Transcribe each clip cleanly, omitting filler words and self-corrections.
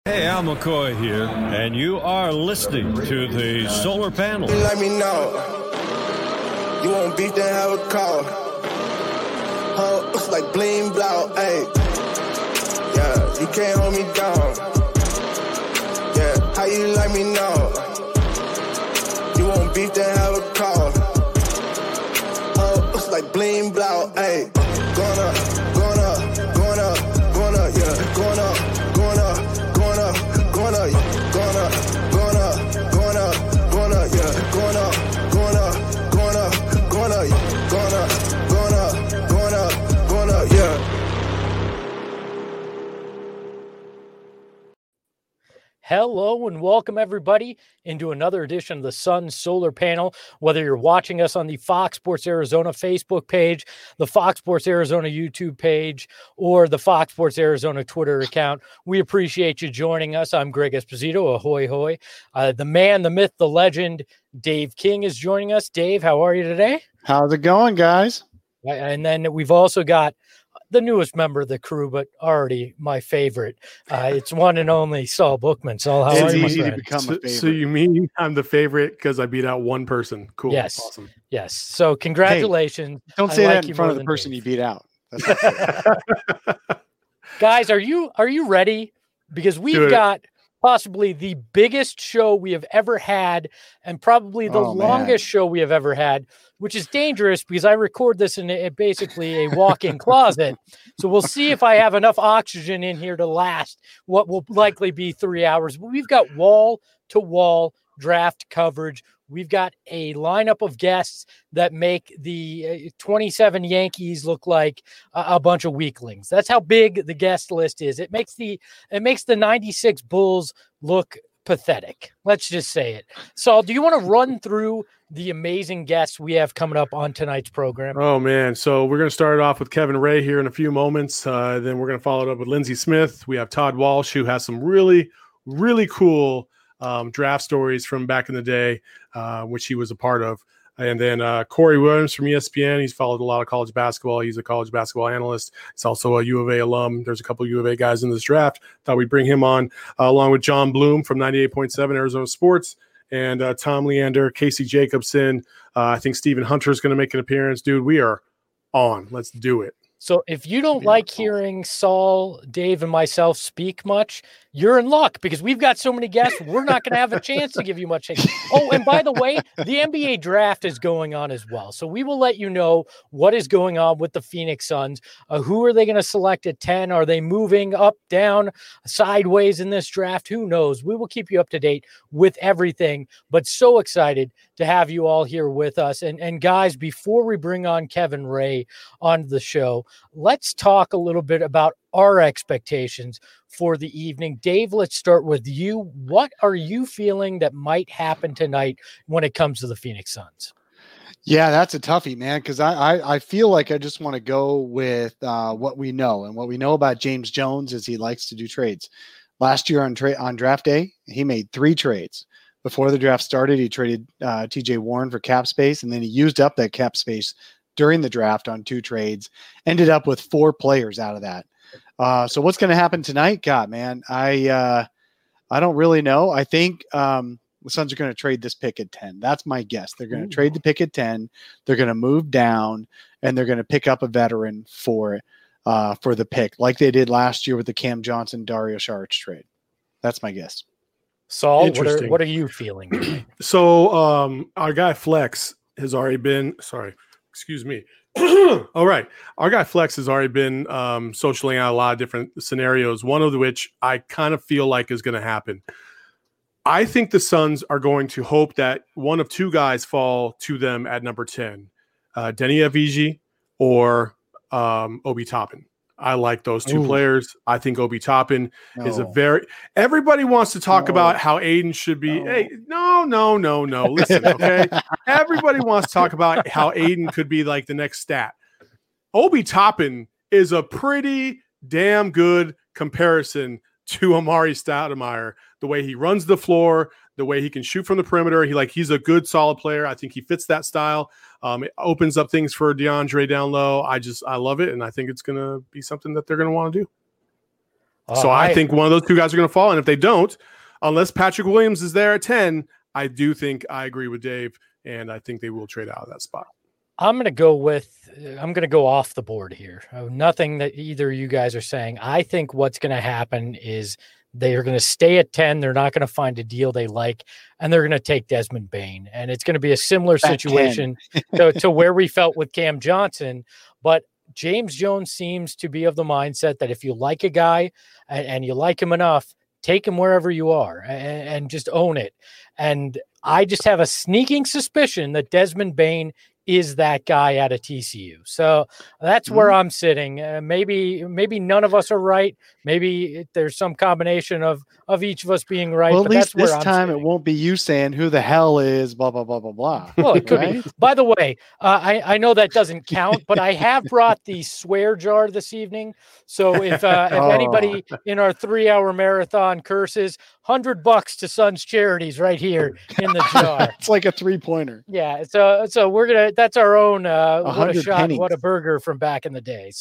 Hey, Al McCoy here, and you are listening to the Solar Panel. Let me know. You want beef, then have a call. Looks like bling blow, ayy. Yeah, you can't hold me down. Yeah, how you let me know? You want beef, then have a call. Looks like bling blow, ayy. Going up, going up, going up, going up, yeah, going up, going up, going up, going up, going up, going up, going up, going up, yeah, going up, going up, going up, going up, going up, going up, going up, going up, yeah. Hello and welcome everybody into another edition of the Sun Solar Panel. Whether you're watching us on the Fox Sports Arizona Facebook page, the Fox Sports Arizona YouTube page, or the Fox Sports Arizona Twitter account, we appreciate you joining us. I'm Greg Esposito, ahoy hoy. The man, the myth, the legend, Dave King is joining us. Dave, how are you today? How's it going, guys? And then we've also got the newest member of the crew, but already my favorite. It's one and only Saul Bookman. Saul, how are you, my friend? To become a favorite. So you mean I'm the favorite because I beat out one person? Cool. Yes. Awesome. Yes. So congratulations. Hey, don't say that in front of the person you beat out. Guys, are you ready? Because we've got possibly the biggest show we have ever had and probably the longest show we have ever had, which is dangerous because I record this in basically a walk-in closet. So we'll see if I have enough oxygen in here to last what will likely be 3 hours. But we've got wall-to-wall draft coverage. We've got a lineup of guests that make the 27 Yankees look like a bunch of weaklings. That's how big the guest list is. It makes the 96 Bulls look pathetic. Let's just say it. Saul, do you want to run through the amazing guests we have coming up on tonight's program? Oh, man. So we're going to start it off with Kevin Ray here in a few moments. Then we're going to follow it up with Lindsey Smith. We have Todd Walsh, who has some really, really cool draft stories from back in the day, which he was a part of. And then Corey Williams from ESPN. He's followed a lot of college basketball. He's a college basketball analyst. He's also a U of A alum. There's a couple of U of A guys in this draft. Thought we'd bring him on along with John Bloom from 98.7 Arizona Sports and Tom Leander, Casey Jacobson. I think Stephen Hunter is going to make an appearance. Dude, we are on. Let's do it. So if you don't like hearing Saul, Dave, and myself speak much, you're in luck because we've got so many guests. We're not going to have a chance to give you much. Oh, and by the way, the NBA draft is going on as well. So we will let you know what is going on with the Phoenix Suns. Who are they going to select at 10? Are they moving up, down, sideways in this draft? Who knows? We will keep you up to date with everything, but so excited to have you all here with us. And guys, before we bring on Kevin Ray on the show, let's talk a little bit about our expectations for the evening. Dave, let's start with you. What are you feeling that might happen tonight when it comes to the Phoenix Suns? Yeah, that's a toughie, man, because I feel like I just want to go with what we know. And what we know about James Jones is he likes to do trades. Last year on draft day, he made 3 trades. Before the draft started, he traded TJ Warren for cap space, and then he used up that cap space during the draft on 2 trades, ended up with 4 players out of that. So what's going to happen tonight? God, man, I don't really know. I think the Suns are going to trade this pick at 10. That's my guess. They're going to trade the pick at 10. They're going to move down, and they're going to pick up a veteran for the pick, like they did last year with the Cam Johnson, Dario Saric trade. That's my guess. Saul, what are you feeling? So our guy Flex has already been – sorry, excuse me. All right. Our guy Flex has already been socialing out a lot of different scenarios, one of which I kind of feel like is going to happen. I think the Suns are going to hope that one of 2 guys fall to them at number 10, Denny Avdija or Obi Toppin. I like those 2 players. I think Obi Toppin is everybody wants to talk about how Aiden should be. Hey, no. Listen, okay. Everybody wants to talk about how Aiden could be like the next stat. Obi Toppin is a pretty damn good comparison to Amari Stoudemire, the way he runs the floor, the way he can shoot from the perimeter. He's a good, solid player. I think he fits that style. It opens up things for DeAndre down low. I love it, and I think it's going to be something that they're going to want to do. So I think one of those two guys are going to fall. And if they don't, unless Patrick Williams is there at 10, I do think I agree with Dave, and I think they will trade out of that spot. I'm going to go off the board here. Nothing that either of you guys are saying. I think what's going to happen is they are going to stay at 10. They're not going to find a deal they like, and they're going to take Desmond Bane. And it's going to be a similar situation to where we felt with Cam Johnson. But James Jones seems to be of the mindset that if you like a guy and you like him enough, take him wherever you are and just own it. And I just have a sneaking suspicion that Desmond Bane is that guy at a TCU. So that's where I'm sitting. Maybe none of us are right. Maybe there's some combination of each of us being right. Well, but at least that's this time it won't be you saying who the hell is blah, blah, blah, blah, blah. Well, it could be. By the way, I know that doesn't count, but I have brought the swear jar this evening. So if anybody in our 3-hour marathon curses, $100 to Sons Charities right here in the jar. It's like a 3-pointer. Yeah. So we're going to, that's our own, what a shot, pennies. What a burger from back in the day.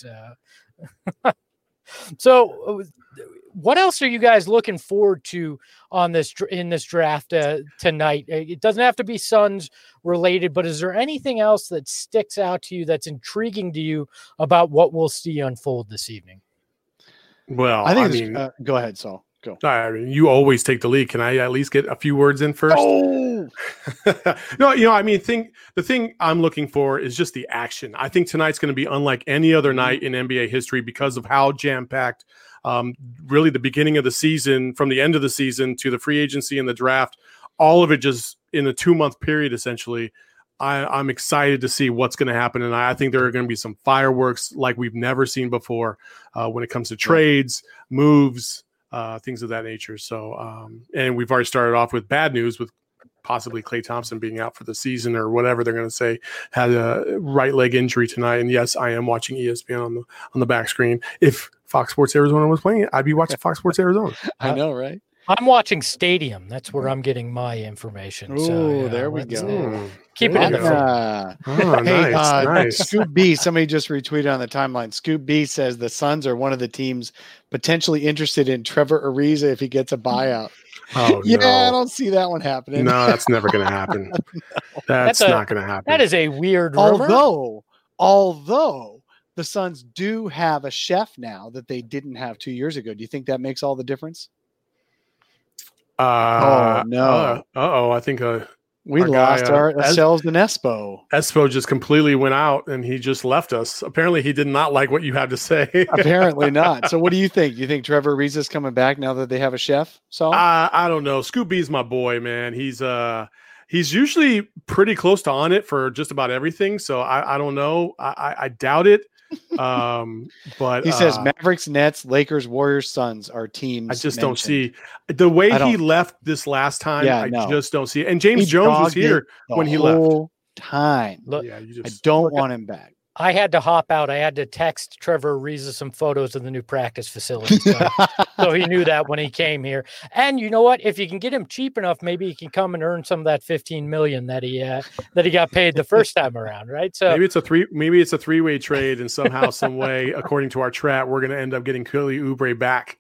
So what else are you guys looking forward to in this draft tonight? It doesn't have to be Suns related, but is there anything else that sticks out to you that's intriguing to you about what we'll see unfold this evening? Well, I mean, go ahead, Saul. Go. I mean, you always take the lead. Can I at least get a few words in first? Oh, no, the thing I'm looking for is just the action. I think tonight's going to be unlike any other night in NBA history because of how jam-packed really the beginning of the season, from the end of the season to the free agency and the draft, all of it just in a 2-month period, essentially. I'm excited to see what's going to happen. And I think there are going to be some fireworks like we've never seen before when it comes to trades, moves, things of that nature. So, and we've already started off with bad news with possibly Klay Thompson being out for the season or whatever they're going to say, had a right leg injury tonight. And yes, I am watching ESPN on the back screen. If Fox Sports Arizona was playing it, I'd be watching Fox Sports Arizona. I know, right? I'm watching Stadium. That's where I'm getting my information. Oh, there we go. Keep it in the Oh, Hey, nice. Scoop B, somebody just retweeted on the timeline. Scoop B says the Suns are one of the teams potentially interested in Trevor Ariza if he gets a buyout. Oh, yeah, no. I don't see that one happening. No, that's never going to happen. That's not going to happen. That is a weird rumor. Although the Suns do have a chef now that they didn't have 2 years ago. Do you think that makes all the difference? Oh, no. I think we lost ourselves in Espo. Espo just completely went out and he just left us. Apparently he did not like what you had to say. Apparently not. So what do you think? Do you think Trevor Ariza's coming back now that they have a chef? So I don't know. Scoop B's my boy, man. He's usually pretty close to on it for just about everything. So I don't know. I doubt it. But he says Mavericks, Nets, Lakers, Warriors, Suns are teams. I just don't see the way he left this last time. I just don't see it. And James Jones was here when he left. Time. Look, I don't want him back. I had to hop out. I had to text Trevor Ariza some photos of the new practice facility. So he knew that when he came here. And you know what? If you can get him cheap enough, maybe he can come and earn some of that $15 million that he got paid the first time around, right? So maybe it's a three-way trade, and somehow, some way, according to our chat, we're going to end up getting Kelly Oubre back.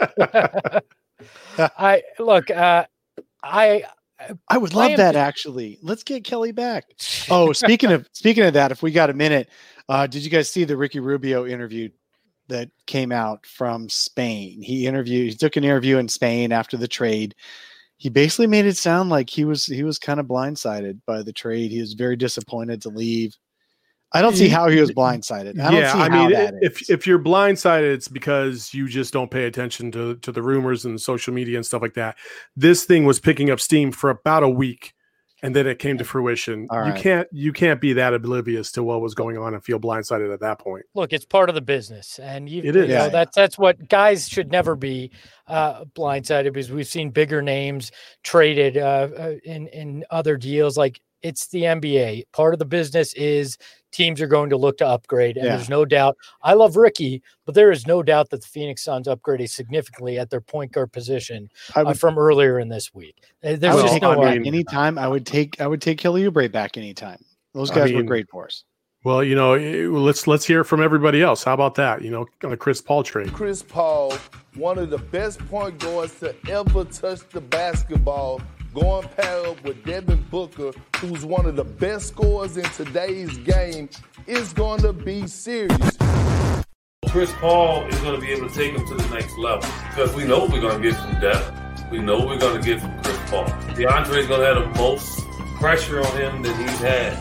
I would love that, actually. Let's get Kelly back. Oh, speaking of that, if we got a minute, did you guys see the Ricky Rubio interview that came out from Spain? He took an interview in Spain after the trade. He basically made it sound like he was kind of blindsided by the trade. He was very disappointed to leave. I don't see how he was blindsided. If you're blindsided, it's because you just don't pay attention to the rumors and social media and stuff like that. This thing was picking up steam for about a week, and then it came to fruition. You can't be that oblivious to what was going on and feel blindsided at that point. Look, it's part of the business, and it is. That's what guys should never be blindsided, because we've seen bigger names traded in other deals. Like, it's the NBA. Part of the business is teams are going to look to upgrade, and there's no doubt. I love Ricky, but there is no doubt that the Phoenix Suns upgraded significantly at their point guard position from earlier in this week. Anytime I would take Kelly Oubre back anytime. Those guys were great for us. Well, let's hear from everybody else. How about that? On a Chris Paul trade. Chris Paul, one of the best point guards to ever touch the basketball, going pair up with Devin Booker, who's one of the best scorers in today's game, is going to be serious. Chris Paul is going to be able to take him to the next level because we know we're going to get from depth. We know we're going to get from Chris Paul. DeAndre is going to have the most pressure on him that he's had.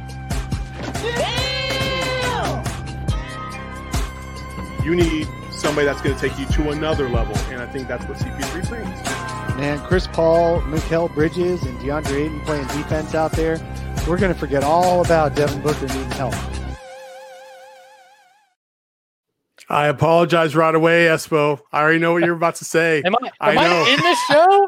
You need somebody that's going to take you to another level, and I think that's what CP3 brings. Man, Chris Paul, Mikal Bridges, and DeAndre Ayton playing defense out there. We're going to forget all about Devin Booker needing help. I apologize right away, Espo. I already know what you're about to say. Am I in this show?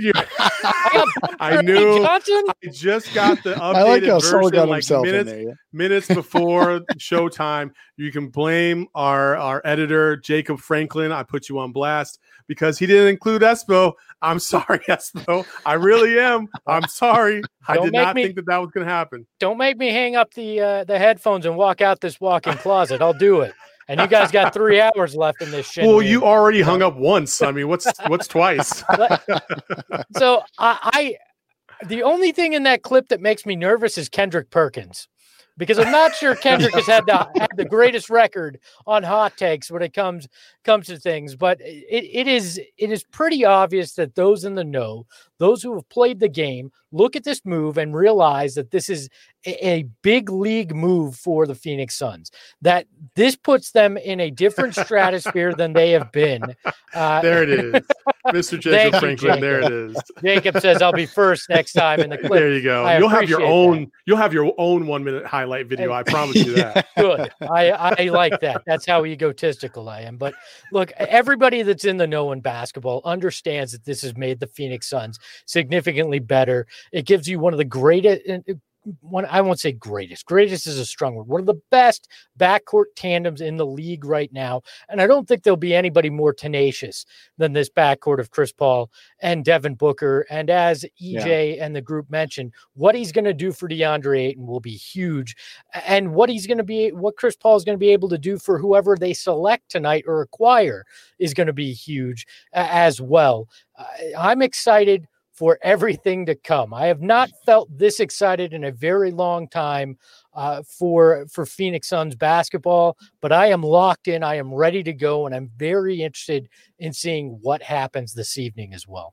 I knew. I just got the updated version minutes before showtime. You can blame our editor, Jacob Franklin. I put you on blast because he didn't include Espo. I'm sorry, Espo. I really am. I'm sorry. I did not think that was going to happen. Don't make me hang up the headphones and walk out this walk-in closet. I'll do it. And you guys got 3 hours left in this shit. Well, you already hung up once. I mean, what's twice? So the only thing in that clip that makes me nervous is Kendrick Perkins, because I'm not sure Kendrick has had the greatest record on hot takes when it comes to things. But it is pretty obvious that those in the know, those who have played the game, look at this move and realize that this is a big league move for the Phoenix Suns, that this puts them in a different stratosphere than they have been. There it is. Mr. Jacob Franklin, there it is. Jacob says, I'll be first next time in the clip. There you go. You'll have your own 1 minute highlight video. I promise you that. Good. I like that. That's how egotistical I am. But look, everybody that's in the know in basketball understands that this has made the Phoenix Suns significantly better. It gives you one of the greatest, I won't say greatest is a strong word, one of the best backcourt tandems in the league right now. And I don't think there'll be anybody more tenacious than this backcourt of Chris Paul and Devin Booker. And as EJ and the group mentioned, what he's going to do for DeAndre Ayton will be huge. And what Chris Paul is going to be able to do for whoever they select tonight or acquire is going to be huge as well. I'm excited for everything to come. I have not felt this excited in a very long time for Phoenix Suns basketball, but I am locked in. I am ready to go, and I'm very interested in seeing what happens this evening as well.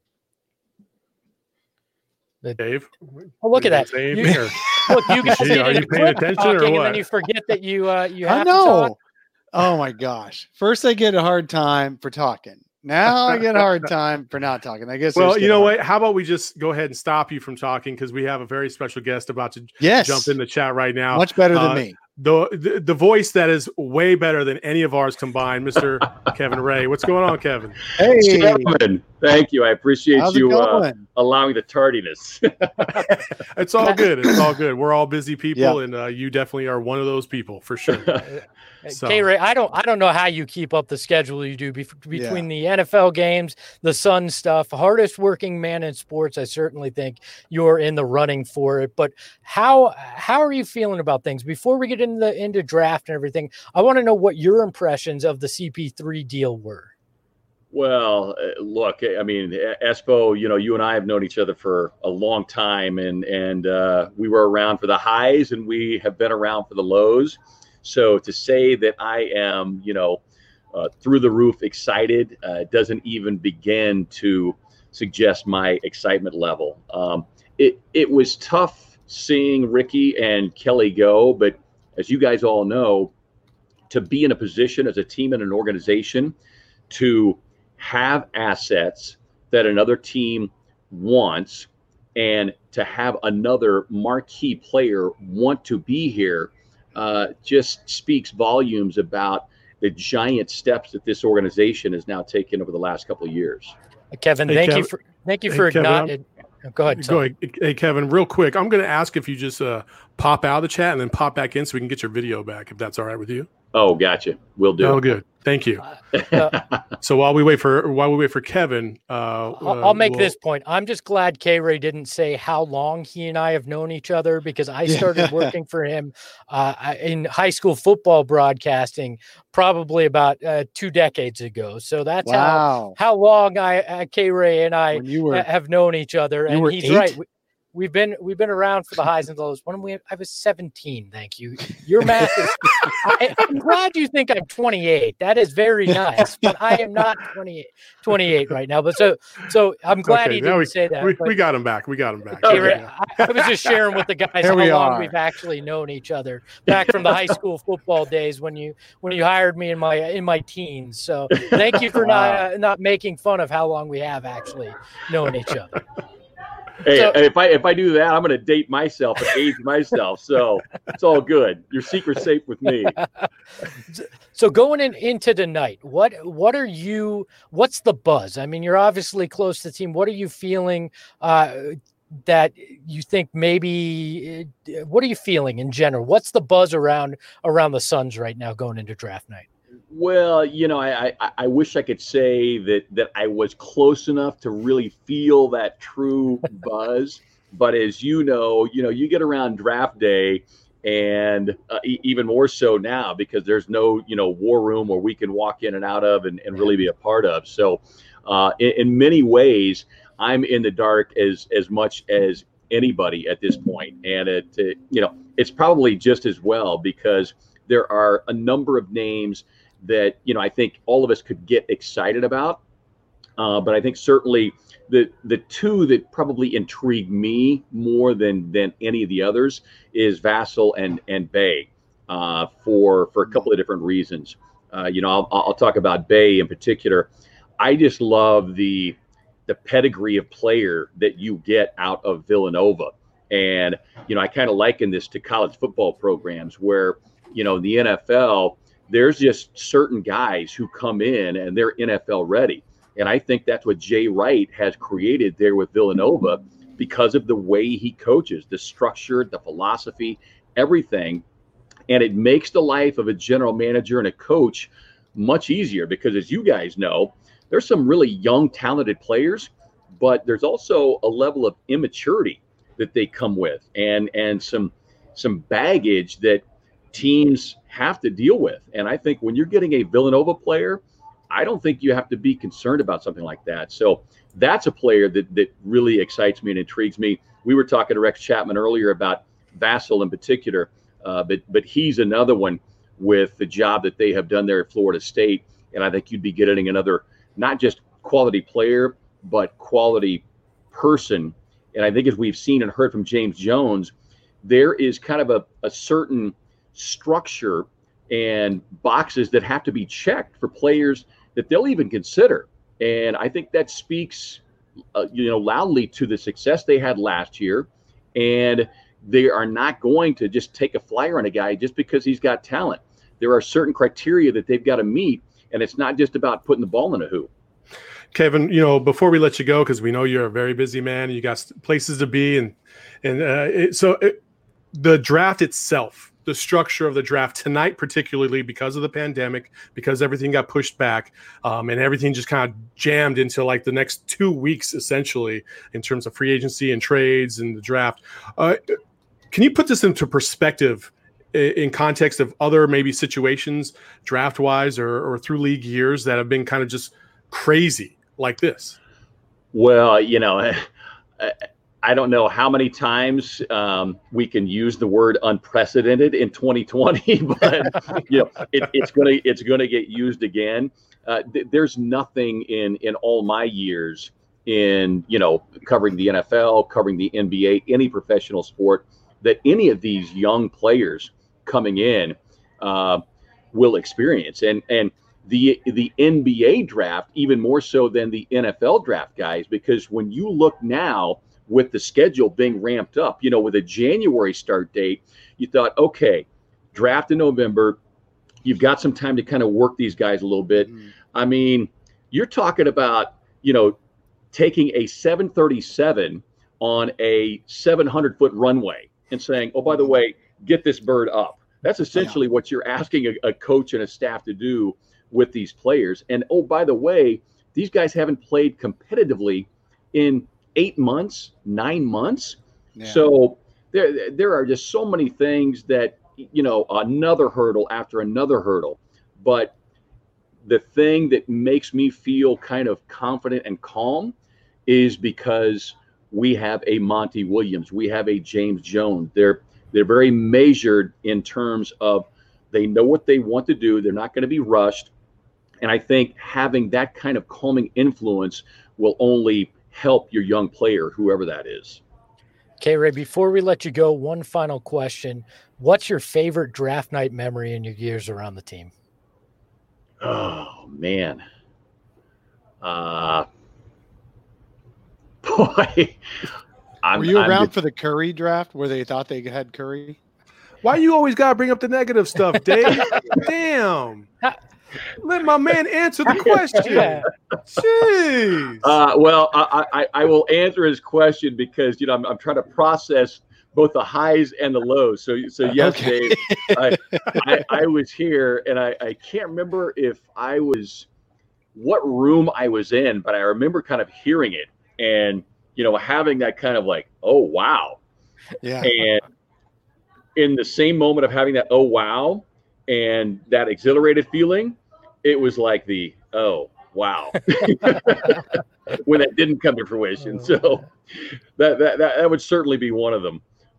Dave? Oh, look at that. Look, you guys are you paying attention or what? And then you forget that you have to talk. Oh, my gosh. First, I get a hard time for talking. Now I get a hard time for not talking. I guess. Well, you know what? How about we just go ahead and stop you from talking because we have a very special guest about to jump in the chat right now. Much better than me. The voice that is way better than any of ours combined, Mr. Kevin Ray. What's going on, Kevin? Hey, Kevin. Thank you. I appreciate you allowing the tardiness. It's all good. It's all good. We're all busy people, and you definitely are one of those people for sure. So. K-Ray, I don't know how you keep up the schedule you do between the NFL games, the Sun stuff. Hardest working man in sports. I certainly think you're in the running for it. But how are you feeling about things before we get into draft and everything? I want to know what your impressions of the CP3 deal were. Well, look, I mean, Espo, you and I have known each other for a long time, and we were around for the highs, and we have been around for the lows. So to say that I am, through the roof excited doesn't even begin to suggest my excitement level. It was tough seeing Ricky and Kelly go, but as you guys all know, to be in a position as a team and an organization to have assets that another team wants and to have another marquee player want to be here just speaks volumes about the giant steps that this organization has now taken over the last couple of years. Kevin, thank you for acknowledging. Go ahead. Go ahead. Hey, Kevin, real quick. I'm going to ask if you just pop out of the chat and then pop back in so we can get your video back, if that's all right with you. Oh, gotcha. Will do. Oh, good. Thank you. So while we wait for Kevin, I'll make this point. I'm just glad K-Ray didn't say how long he and I have known each other, because I started working for him in high school football broadcasting probably about 2 decades ago. So that's how long K-Ray and I have known each other. And he's 8? Right. We've been around for the highs and lows. I was 17. Thank you. Your math is. I'm glad you think I'm 28. That is very nice, but I am not 28 right now. But so I'm glad he didn't say that. We got him back. Okay. I was just sharing with the guys how long we've actually known each other back from the high school football days when you hired me in my teens. So thank you for not making fun of how long we have actually known each other. Hey, if I do that, I'm going to date myself and age myself. So it's all good. Your secret's safe with me. So going into tonight, what's the buzz? I mean, you're obviously close to the team. What are you feeling that you think maybe? What are you feeling in general? What's the buzz around the Suns right now going into draft night? Well, I wish I could say that I was close enough to really feel that true buzz. But as you get around draft day, and even more so now because there's no, war room where we can walk in and out of and really be a part of. So in many ways, I'm in the dark as much as anybody at this point. And it's probably just as well, because there are a number of names that, I think all of us could get excited about. But I think certainly the two that probably intrigue me more than any of the others is Vassell and Bey for a couple of different reasons. I'll talk about Bey in particular. I just love the pedigree of player that you get out of Villanova. And, I kind of liken this to college football programs where, in the NFL, there's just certain guys who come in and they're NFL ready. And I think that's what Jay Wright has created there with Villanova because of the way he coaches, the structure, the philosophy, everything. And it makes the life of a general manager and a coach much easier because, as you guys know, there's some really young, talented players, but there's also a level of immaturity that they come with and some baggage that teams have to deal with. And I think when you're getting a Villanova player, I don't think you have to be concerned about something like that. So that's a player that really excites me and intrigues me. We were talking to Rex Chapman earlier about Vassell in particular, but he's another one with the job that they have done there at Florida State. And I think you'd be getting another, not just quality player, but quality person. And I think as we've seen and heard from James Jones, there is kind of a certain structure and boxes that have to be checked for players that they'll even consider. And I think that speaks, loudly to the success they had last year. And they are not going to just take a flyer on a guy just because he's got talent. There are certain criteria that they've got to meet, and it's not just about putting the ball in a hoop. Kevin, before we let you go, because we know you're a very busy man and you got places to be, the draft itself, the structure of the draft tonight, particularly because of the pandemic, because everything got pushed back and everything just kind of jammed into like the next 2 weeks, essentially, in terms of free agency and trades and the draft. Can you put this into perspective in context of other maybe situations draft wise or through league years that have been kind of just crazy like this? Well, I don't know how many times we can use the word unprecedented in 2020, but it's gonna get used again. There's nothing in all my years in covering the NFL, covering the NBA, any professional sport, that any of these young players coming in will experience. And the NBA draft even more so than the NFL draft, guys, because when you look now with the schedule being ramped up, with a January start date, you thought, okay, draft in November, you've got some time to kind of work these guys a little bit. Mm-hmm. I mean, you're talking about, taking a 737 on a 700-foot runway and saying, oh, by the way, get this bird up. That's essentially what you're asking a coach and a staff to do with these players. And, oh, by the way, these guys haven't played competitively in 8 months, 9 months. Yeah. So there are just so many things that, another hurdle after another hurdle. But the thing that makes me feel kind of confident and calm is because we have a Monty Williams, we have a James Jones. They're very measured in terms of they know what they want to do. They're not going to be rushed. And I think having that kind of calming influence will only help your young player, whoever that is. K-Ray, before we let you go, one final question. What's your favorite draft night memory in your years around the team? Oh, man. Boy. Were you around for the Curry draft where they thought they had Curry? Why you always got to bring up the negative stuff, Dave? Damn. Let my man answer the question. Jeez. Well, I will answer his question because, I'm trying to process both the highs and the lows. So yes, okay. Dave, I was here, and I can't remember what room I was in, but I remember kind of hearing it and, having that kind of like, oh, wow. Yeah. And in the same moment of having that, oh, wow, and that exhilarated feeling, it was like the, oh, wow, when that didn't come to fruition. So that would certainly be one of them.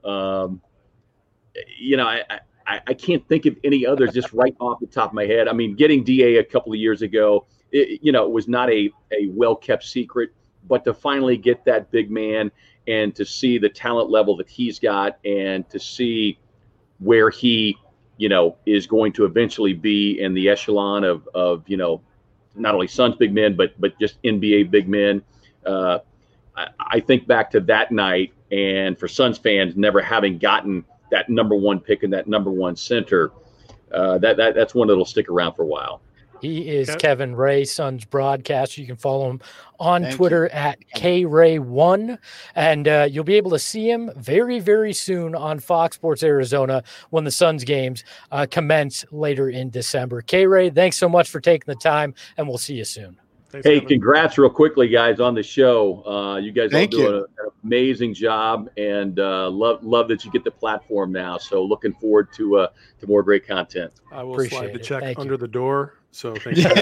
I can't think of any others just right off the top of my head. I mean, getting DA a couple of years ago, it was not a well-kept secret, but to finally get that big man and to see the talent level that he's got and to see where he, is going to eventually be in the echelon of not only Suns big men, but just NBA big men. I think back to that night, and for Suns fans never having gotten that number one pick and that number one center, that's one that'll stick around for a while. He is Kevin Ray, Suns broadcaster. You can follow him on Twitter at KRay1, and you'll be able to see him very, very soon on Fox Sports Arizona when the Suns games commence later in December. K-Ray, thanks so much for taking the time, and we'll see you soon. Thanks, Kevin. Congrats real quickly, guys, on the show. You guys are doing an amazing job, and love that you get the platform now. So looking forward to more great content. I will slide the check under the door. So thank you very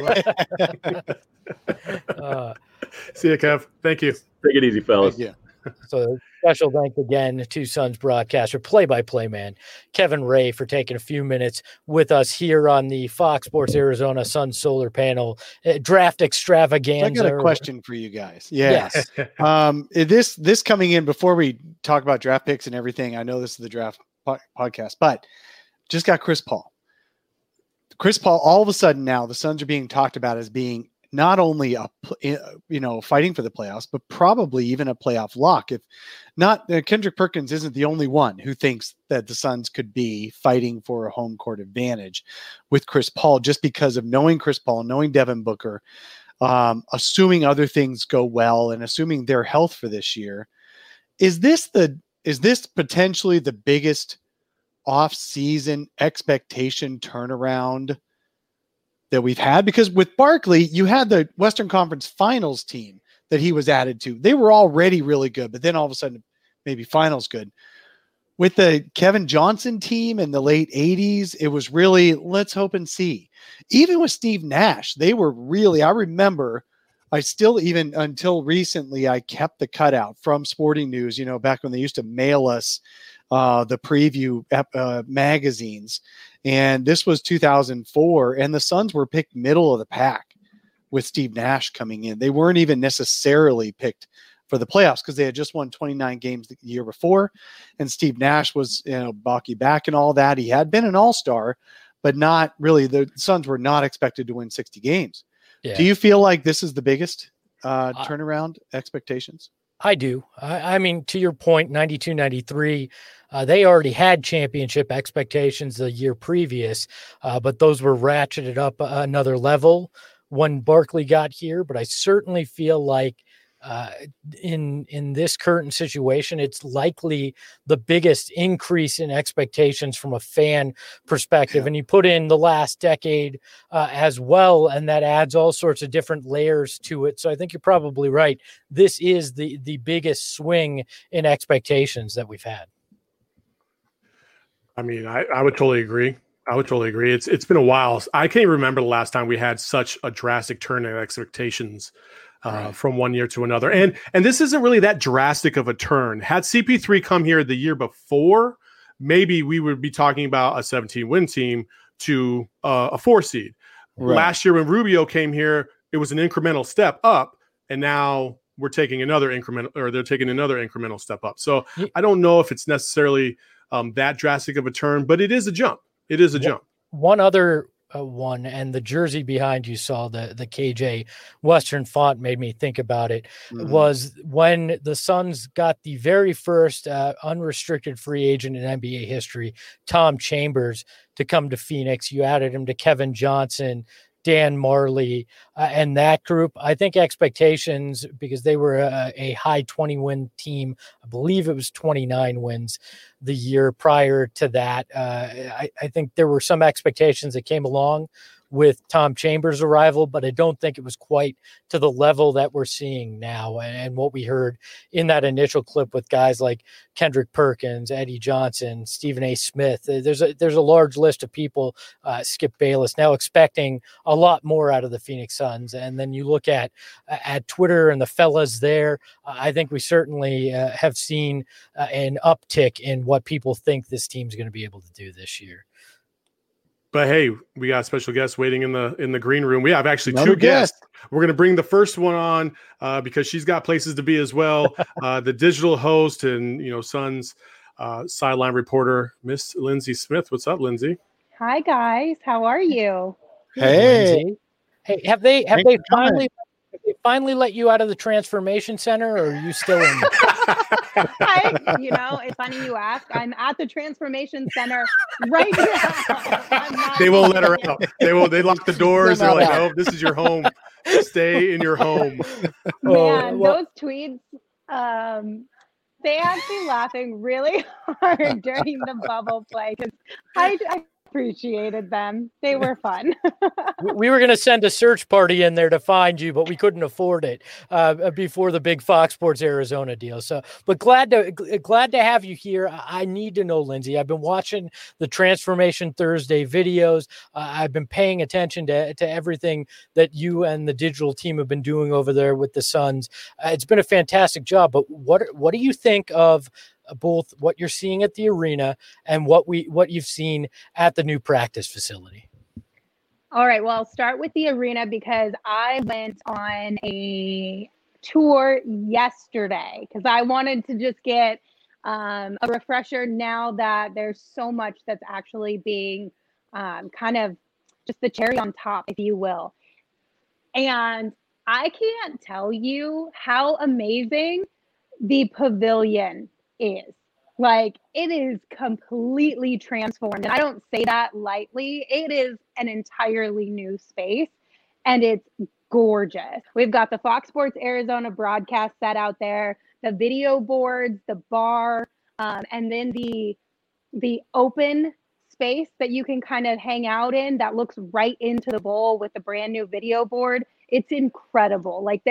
much. See you, Kev. Thank you. Take it easy, fellas. Thank you. So special thanks again to Suns broadcaster, play-by-play man, Kevin Ray, for taking a few minutes with us here on the Fox Sports Arizona Suns Solar Panel Draft Extravaganza. So I got a question for you guys. Yes. This coming in before we talk about draft picks and everything. I know this is the draft podcast, but just got Chris Paul. All of a sudden now the Suns are being talked about as being not only fighting for the playoffs, but probably even a playoff lock. If not, Kendrick Perkins isn't the only one who thinks that the Suns could be fighting for a home court advantage with Chris Paul, just because of knowing Chris Paul, knowing Devin Booker, assuming other things go well and assuming their health for this year. Is this potentially the biggest off-season expectation turnaround that we've had? Because with Barkley, you had the Western Conference Finals team that he was added to. They were already really good, but then all of a sudden, maybe finals good. With the Kevin Johnson team in the late 80s, it was really, let's hope and see. Even with Steve Nash, they were really, I remember, even until recently, I kept the cutout from Sporting News, back when they used to mail us the preview magazines. And this was 2004, and the Suns were picked middle of the pack with Steve Nash coming in. They weren't even necessarily picked for the playoffs because they had just won 29 games the year before. And Steve Nash was, balky back and all that. He had been an all-star, but not really. The Suns were not expected to win 60 games. Yeah. Do you feel like this is the biggest turnaround expectations? I do. I mean, to your point, 92, 93, they already had championship expectations the year previous, but those were ratcheted up another level when Barkley got here. But I certainly feel like in this current situation, it's likely the biggest increase in expectations from a fan perspective. And you put in the last decade as well, and that adds all sorts of different layers to it. So I think you're probably right. This is the biggest swing in expectations that we've had. I mean, I would totally agree. It's been a while. I can't remember the last time we had such a drastic turn in expectations from one year to another. And this isn't really that drastic of a turn. Had CP3 come here the year before, maybe we would be talking about a 17-win team to a 4 seed. Right. Last year when Rubio came here, it was an incremental step up, and now we're taking another incremental step up. So I don't know if it's necessarily that drastic of a turn, but it is a jump. It is a jump. One other one, and the jersey behind you saw the KJ Western font made me think about it, was when the Suns got the very first unrestricted free agent in NBA history, Tom Chambers, to come to Phoenix. You added him to Kevin Johnson, Dan Marley, and that group. I think expectations, because they were a high 20-win team, I believe it was 29 wins the year prior to that. I think there were some expectations that came along with Tom Chambers' arrival, but I don't think it was quite to the level that we're seeing now. And what we heard in that initial clip with guys like Kendrick Perkins, Eddie Johnson, Stephen A. Smith, there's a large list of people, Skip Bayless, now expecting a lot more out of the Phoenix Suns. And then you look at Twitter and the fellas there, I think we certainly have seen an uptick in what people think this team's going to be able to do this year. But hey, we got special guests waiting in the green room. We have actually two guests. We're going to bring the first one on because she's got places to be as well. The digital host and Suns sideline reporter, Miss Lindsay Smith. What's up, Lindsay? Hi guys, how are you? Hey, have they finally let you out of the transformation center, or are you still in there? It's funny you ask. I'm at the transformation center right now. They won't let her out. They lock the doors. They're like, "Oh, this is your home. Stay in your home." Man, those tweets, they had me laughing really hard during the bubble play because I appreciated them. They were fun. We were going to send a search party in there to find you, but we couldn't afford it before the big Fox Sports Arizona deal. So, but glad to have you here. I need to know, Lindsay, I've been watching the Transformation Thursday videos. I've been paying attention to everything that you and the digital team have been doing over there with the Suns. It's been a fantastic job, but what do you think of both what you're seeing at the arena and what you've seen at the new practice facility? All right, well, I'll start with the arena because I went on a tour yesterday because I wanted to just get a refresher now that there's so much that's actually being kind of just the cherry on top, if you will. And I can't tell you how amazing the pavilion is. Like, it is completely transformed. And I don't say that lightly. It is an entirely new space and it's gorgeous. We've got the Fox Sports Arizona broadcast set out there, the video boards, the bar, and then the open space that you can kind of hang out in that looks right into the bowl with the brand new video board. It's incredible. Like,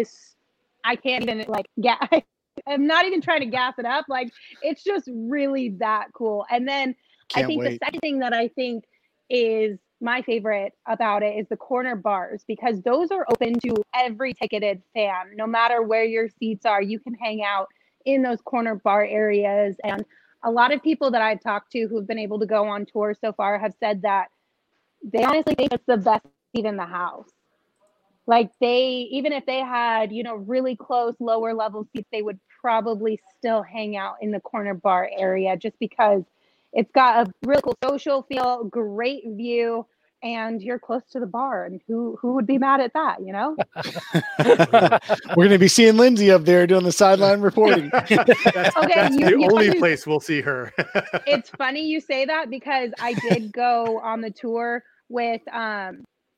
I can't even I'm not even trying to gas it up. Like, it's just really that cool. And then the second thing that I think is my favorite about it is the corner bars, because those are open to every ticketed fan. No matter where your seats are, you can hang out in those corner bar areas. And a lot of people that I've talked to who've been able to go on tour so far have said that they honestly think it's the best seat in the house. Like, even if they had, really close lower level seats, they would probably still hang out in the corner bar area just because it's got a really cool social feel, great view, and you're close to the bar. And who would be mad at that, We're going to be seeing Lindsay up there doing the sideline reporting. That's the only place we'll see her. It's funny you say that because I did go on the tour with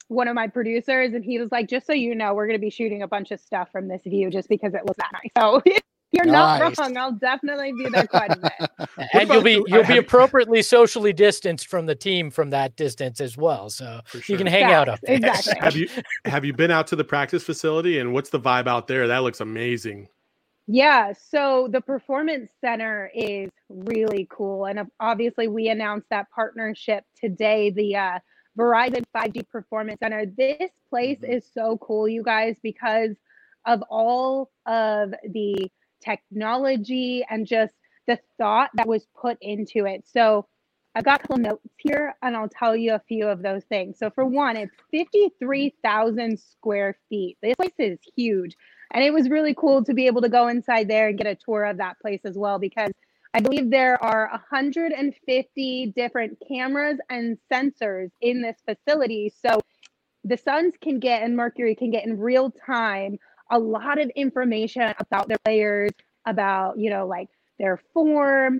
one of my producers, and he was like, just so you know, we're going to be shooting a bunch of stuff from this view just because it looks that nice. So you're not wrong. I'll definitely be there quite a bit. And you'll be appropriately socially distanced from the team from that distance as well. So you can hang out up there. Exactly. Have you been out to the practice facility, and what's the vibe out there? That looks amazing. Yeah, so the Performance Center is really cool. And obviously we announced that partnership today, the Verizon 5G Performance Center. This place is so cool, you guys, because of all of the technology and just the thought that was put into it. So I've got a couple notes here, and I'll tell you a few of those things. So for one, it's 53,000 square feet. This place is huge. And it was really cool to be able to go inside there and get a tour of that place as well, because I believe there are 150 different cameras and sensors in this facility. So the Suns can get, and Mercury can get in real time, a lot of information about their players, about, like their form,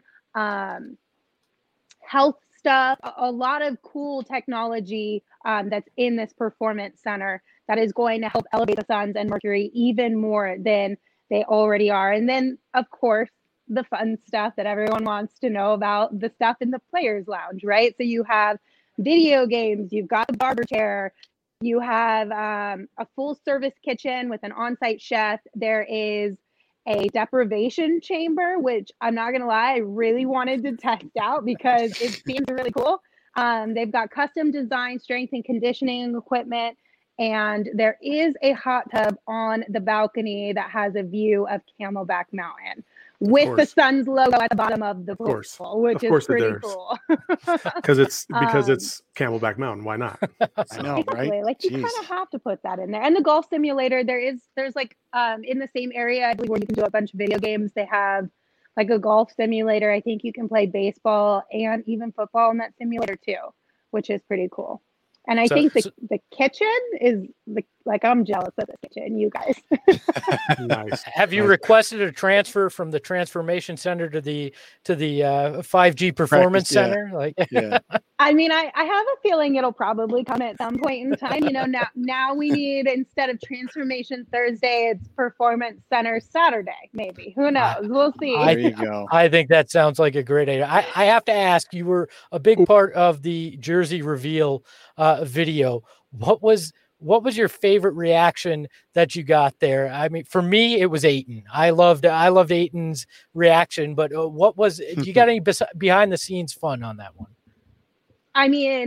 health stuff, a lot of cool technology that's in this Performance Center that is going to help elevate the Suns and Mercury even more than they already are. And then, of course, the fun stuff that everyone wants to know about, the stuff in the Players Lounge, right? So you have video games, you've got the barber chair, you have a full service kitchen with an on-site chef. There is a deprivation chamber, which I'm not going to lie, I really wanted to test out because it seems really cool. They've got custom design, strength and conditioning equipment. And there is a hot tub on the balcony that has a view of Camelback Mountain with the Suns logo at the bottom of the pool, which is pretty cool. Because it's Camelback Mountain. Why not? I know, exactly. right? Like, you kind of have to put that in there. And the golf simulator, there's like in the same area, I believe, where you can do a bunch of video games. They have like a golf simulator. I think you can play baseball and even football in that simulator too, which is pretty cool. And I think the kitchen is like I'm jealous of the kitchen, you guys. Nice. Have you requested a transfer from the Transformation Center to the 5G Performance Center? Like, I mean, I have a feeling it'll probably come at some point in time. Now we need, instead of Transformation Thursday, it's Performance Center Saturday. Maybe, who knows? We'll see. There you go. I think that sounds like a great idea. I have to ask, you were a big part of the jersey reveal video. What was your favorite reaction that you got there? I mean, for me, it was Ayton. I loved Ayton's reaction, but what was, do you got any behind the scenes fun on that one? I mean,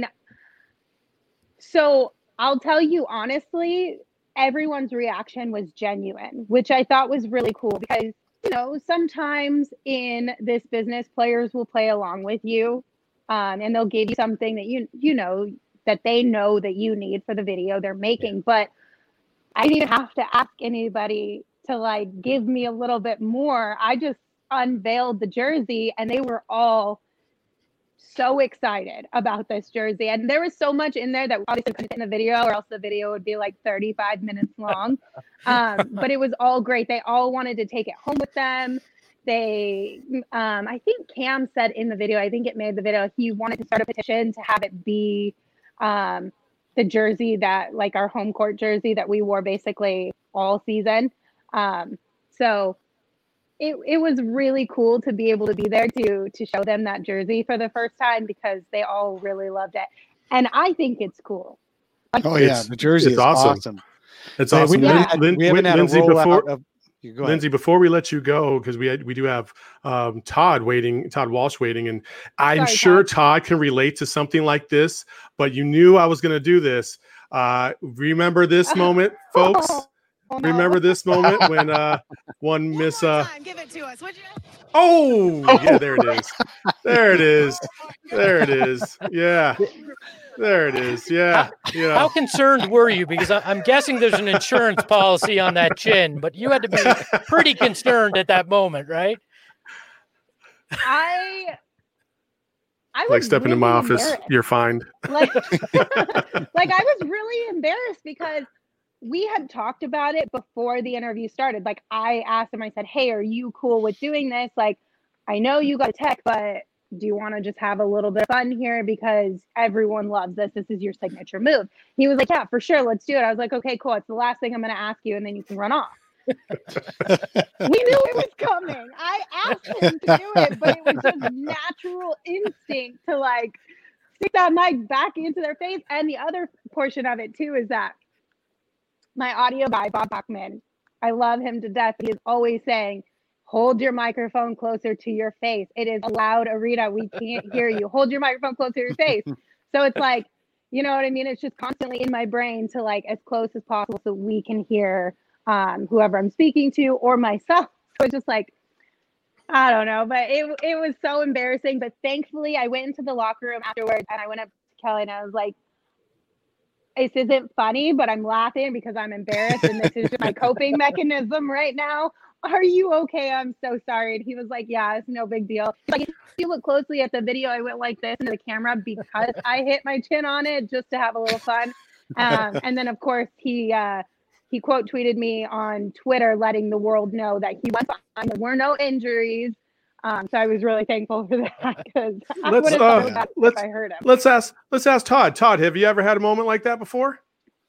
so I'll tell you honestly, everyone's reaction was genuine, which I thought was really cool because, sometimes in this business, players will play along with you, and they'll give you something that that they know that you need for the video they're making. But I didn't even have to ask anybody to give me a little bit more. I just unveiled the jersey and they were all so excited about this jersey. And there was so much in there that obviously couldn't fit in the video, or else the video would be 35 minutes long. But it was all great. They all wanted to take it home with them. They, I think Cam said in the video, I think it made the video, he wanted to start a petition to have it be the jersey that, our home court jersey that we wore basically all season. So it was really cool to be able to be there to show them that jersey for the first time, because they all really loved it. And I think it's cool. The jersey is awesome. It's awesome. We haven't had Lindsay, a rollout of... Lindsay, before we let you go, because we do have Todd Walsh waiting, and I'm sure Todd can relate to something like this, but you knew I was going to do this. Remember this moment, folks? Oh, no. Remember this moment when one Miss... Give it to us, would you? Oh, yeah, there it is. There it is. There it is. Yeah. There it is. Yeah. How concerned were you? Because I'm guessing there's an insurance policy on that chin, but you had to be pretty concerned at that moment, right? I was stepping in my office. You're fine. I was really embarrassed because we had talked about it before the interview started. I asked him, I said, hey, are you cool with doing this? I know you got a tech, but do you want to just have a little bit of fun here because everyone loves this? This is your signature move. He was like, yeah, for sure. Let's do it. I was like, okay, cool. It's the last thing I'm going to ask you, and then you can run off. We knew it was coming. I asked him to do it, but it was just natural instinct to like stick that mic back into their face. And the other portion of it too is that my audio guy, Bob Bachman, I love him to death. He is always saying, hold your microphone closer to your face. It is a loud arena. We can't hear you. Hold your microphone closer to your face. So it's like, you know what I mean? It's just constantly in my brain to like as close as possible so we can hear whoever I'm speaking to or myself. So it's just like, I don't know, but it was so embarrassing. But thankfully I went into the locker room afterwards and I went up to Kelly and I was like, this isn't funny, but I'm laughing because I'm embarrassed and this is just my coping mechanism right now. Are you okay? I'm so sorry. And he was like, yeah, it's no big deal. Like, if you look closely at the video, I went like this into the camera because I hit my chin on it just to have a little fun. And then of course he quote tweeted me on Twitter, letting the world know that he was fine. There were no injuries. So I was really thankful for that because I would have felt bad if I heard him. Let's ask Todd. Todd, have you ever had a moment like that before?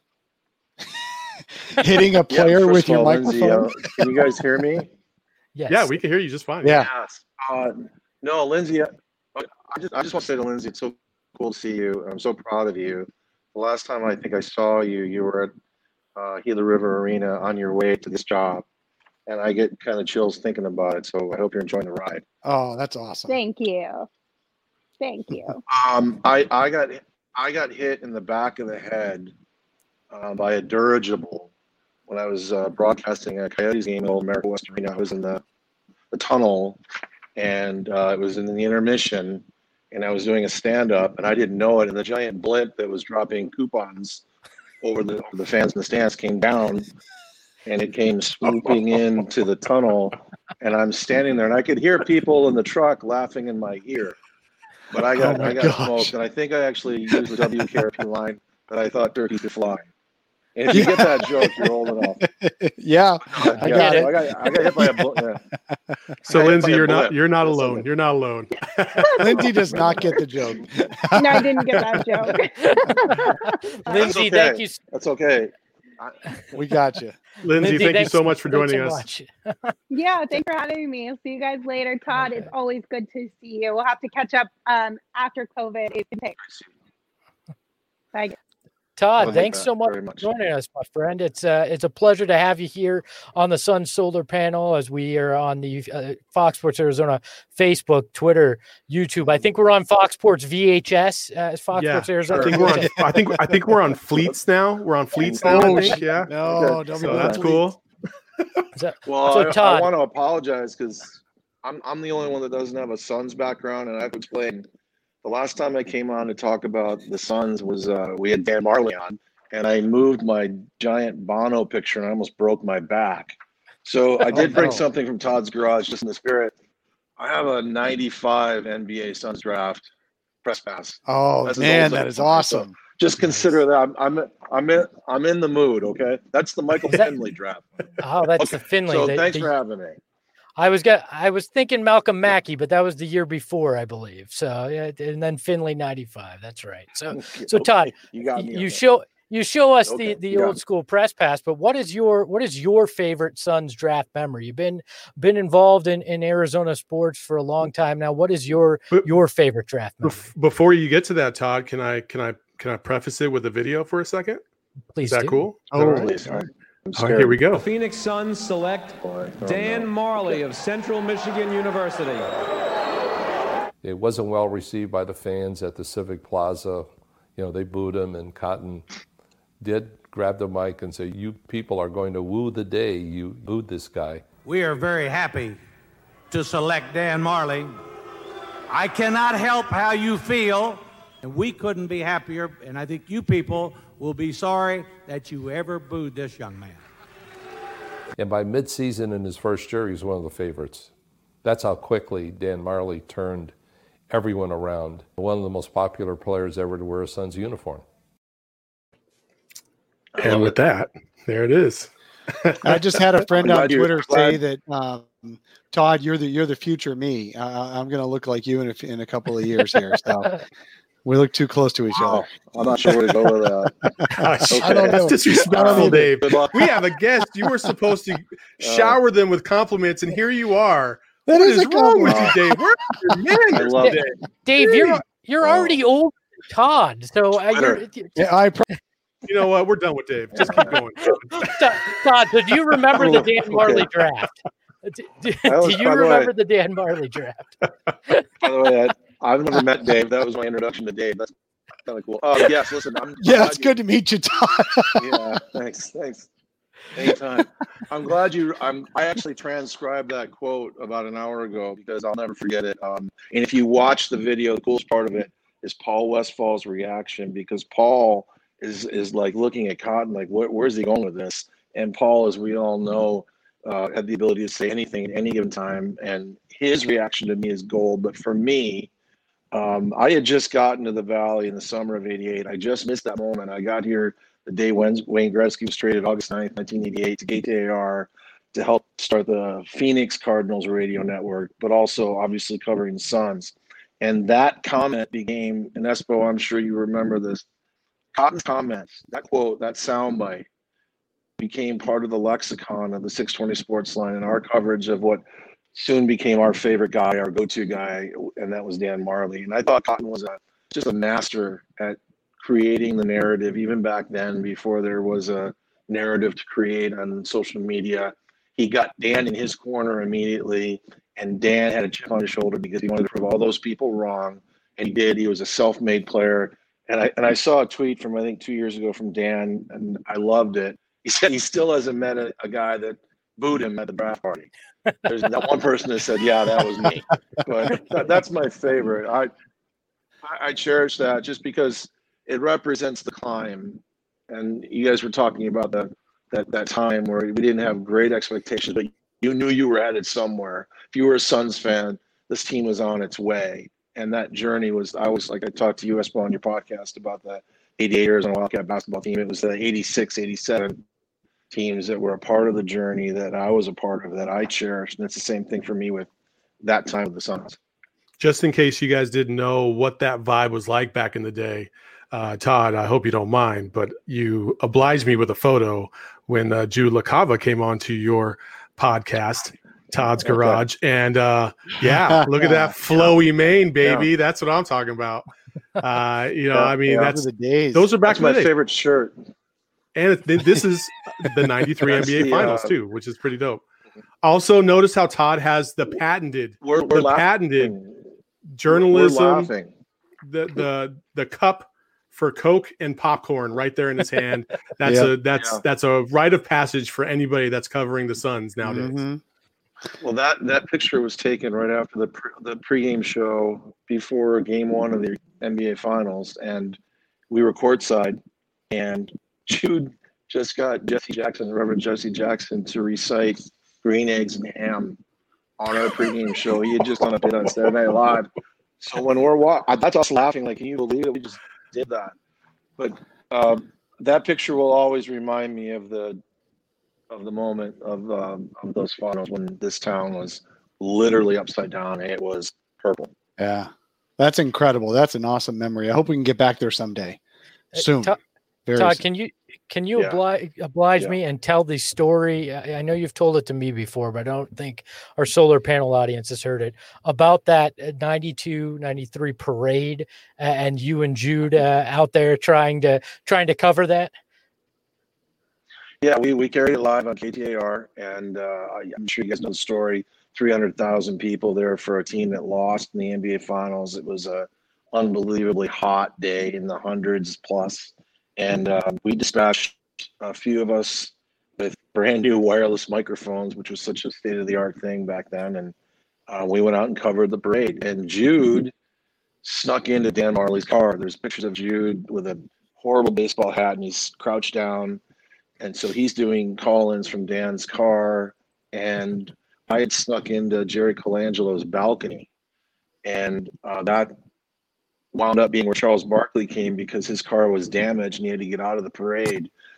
Hitting a player with your microphone. Lindsay, can you guys hear me? Yes. Yeah, we can hear you just fine. Yeah. No, Lindsay, I just want to say to Lindsay, it's so cool to see you. I'm so proud of you. The last time I think I saw you, you were at Gila River Arena on your way to this job. And I get kind of chills thinking about it. So I hope you're enjoying the ride. Oh, that's awesome. Thank you. Thank you. I got hit in the back of the head by a dirigible when I was broadcasting a Coyotes game at Old America West Arena. I was in the tunnel, and it was in the intermission, and I was doing a stand-up, and I didn't know it, and the giant blimp that was dropping coupons over the fans in the stands came down, and it came swooping into the tunnel, and I'm standing there, and I could hear people in the truck laughing in my ear. But I got smoked, and I think I actually used the WKRP line that I thought turkeys could fly. And if you get that joke, you're old enough. Yeah, I got it. I got hit by a bullet. Yeah. So Lindsay, you're not alone. You're not alone. Lindsay does not get the joke. No, I didn't get that joke. Lindsay, okay. thank you. That's okay. We got you. Lindsay, thank you so much for joining us. Yeah, thanks for having me. I'll see you guys later. Todd, It's always good to see you. We'll have to catch up after COVID. Bye. Todd, thanks so much for joining us, my friend. It's a pleasure to have you here on the Sun Solar Panel as we are on the Fox Sports Arizona Facebook, Twitter, YouTube. I think we're on Fox Sports VHS as Fox Sports Arizona. I think we're on Fleets now. We're on Fleets now. I think. Yeah. No, so that's cool. Well, Todd, I want to apologize because I'm the only one that doesn't have a Suns background, and I have to explain. The last time I came on to talk about the Suns was we had Dan Marley on, and I moved my giant Bono picture, and I almost broke my back. So I did bring something from Todd's garage, just in the spirit. I have a '95 NBA Suns draft press pass. Oh man, that is awesome! So just consider that I'm in the mood. Okay, that's the Michael Finley draft. Oh, that's the Finley. So thanks for having me. I was thinking Malcolm Mackey, but that was the year before, I believe. So and then Finley '95. That's right. So Todd, you show us the old school press pass. But what is your favorite Suns draft memory? You've been involved in Arizona sports for a long time now. What is your favorite draft memory? Before you get to that, Todd, can I preface it with a video for a second? Please. Is that cool? Oh, please. All right, here we go. The Phoenix Suns select Dan Marley of Central Michigan University. It wasn't well received by the fans at the Civic Plaza. You know, they booed him, and Cotton did grab the mic and say, "You people are going to woo the day you booed this guy." We are very happy to select Dan Marley. I cannot help how you feel, and we couldn't be happier, and I think you people will be sorry that you ever booed this young man. And by midseason in his first year, he was one of the favorites. That's how quickly Dan Marley turned everyone around. One of the most popular players ever to wear a Suns uniform. And with that, there it is. I just had a friend on Twitter say that Todd, you're the future me. I'm going to look like you in a couple of years here. So we look too close to each other. I'm not sure where to go with that. Okay. I don't know. That's disrespectful, Dave. We have a guest. You were supposed to shower them with compliments, and here you are. What is wrong with you, Dave? Where's your manners today? Dave, you're already old, Todd. So you know what? We're done with Dave. Just keep going. Todd, so do you remember the Dan Marley draft? Do you remember the Dan Marley draft? By the way, I've never met Dave. That was my introduction to Dave. That's kind of cool. Yes, listen. It's good to meet you, Todd. Yeah, thanks. Anytime. I'm glad I actually transcribed that quote about an hour ago because I'll never forget it. And if you watch the video, the coolest part of it is Paul Westfall's reaction, because Paul is like looking at Cotton like, where's he going with this? And Paul, as we all know, had the ability to say anything at any given time, and his reaction to me is gold. But for me, I had just gotten to the Valley in the summer of '88. I just missed that moment. I got here the day Wayne Gretzky was traded August 9th, 1988 to KTAR to help start the Phoenix Cardinals radio network, but also obviously covering the Suns. And that comment became, and Espo, I'm sure you remember this, Cotton's comments, that quote, that soundbite became part of the lexicon of the 620 Sports Line and our coverage of what soon became our favorite guy, our go-to guy, and that was Dan Marley. And I thought Cotton was just a master at creating the narrative, even back then, before there was a narrative to create on social media. He got Dan in his corner immediately, and Dan had a chip on his shoulder because he wanted to prove all those people wrong, and he did. He was a self-made player. And I saw a tweet from, I think, 2 years ago from Dan, and I loved it. He said he still hasn't met a guy that booed him at the draft party. There's not one person that said, yeah, that was me. But that's my favorite. I cherish that just because it represents the climb. And you guys were talking about that time where we didn't have great expectations, but you knew you were headed somewhere. If you were a Suns fan, this team was on its way. And that journey was, I talked to you, Espo, on your podcast about the 88 Arizona Wildcat basketball team. It was the 86, 87 teams that were a part of the journey that I was a part of, that I cherished. And it's the same thing for me with that time with the Suns. Just in case you guys didn't know what that vibe was like back in the day, Todd, I hope you don't mind, but you obliged me with a photo when Jude LaCava came onto your podcast, Todd's Garage. And yeah, look at that flowy mane, baby. Yeah. That's what I'm talking about. That's the days. Those are back in the day. My favorite shirt. And this is the 93 NBA Finals too, which is pretty dope. Also, notice how Todd has the patented journalism, the cup for Coke and popcorn right there in his hand. That's a rite of passage for anybody that's covering the Suns nowadays. Mm-hmm. Well, that picture was taken right after the pregame show before Game 1 of the NBA Finals, and we were courtside, and Jude just got Reverend Jesse Jackson, to recite Green Eggs and Ham on our pregame show. He had just done a bit on Saturday Night Live. So when we're that's us laughing, like, can you believe it? We just did that. But that picture will always remind me of the moment of those finals when this town was literally upside down and it was purple. Yeah, that's incredible. That's an awesome memory. I hope we can get back there someday soon. Todd, can you oblige me and tell the story? I know you've told it to me before, but I don't think our solar panel audience has heard it, about that 92, 93 parade and you and Jude out there trying to cover that. Yeah, we carried it live on KTAR, and I'm sure you guys know the story. 300,000 people there for a team that lost in the NBA Finals. It was a unbelievably hot day in the hundreds plus. And we dispatched a few of us with brand new wireless microphones, which was such a state-of-the-art thing back then. And we went out and covered the parade. And Jude snuck into Dan Marley's car. There's pictures of Jude with a horrible baseball hat, and he's crouched down. And so he's doing call-ins from Dan's car. And I had snuck into Jerry Colangelo's balcony. And that wound up being where Charles Barkley came because his car was damaged and he had to get out of the parade.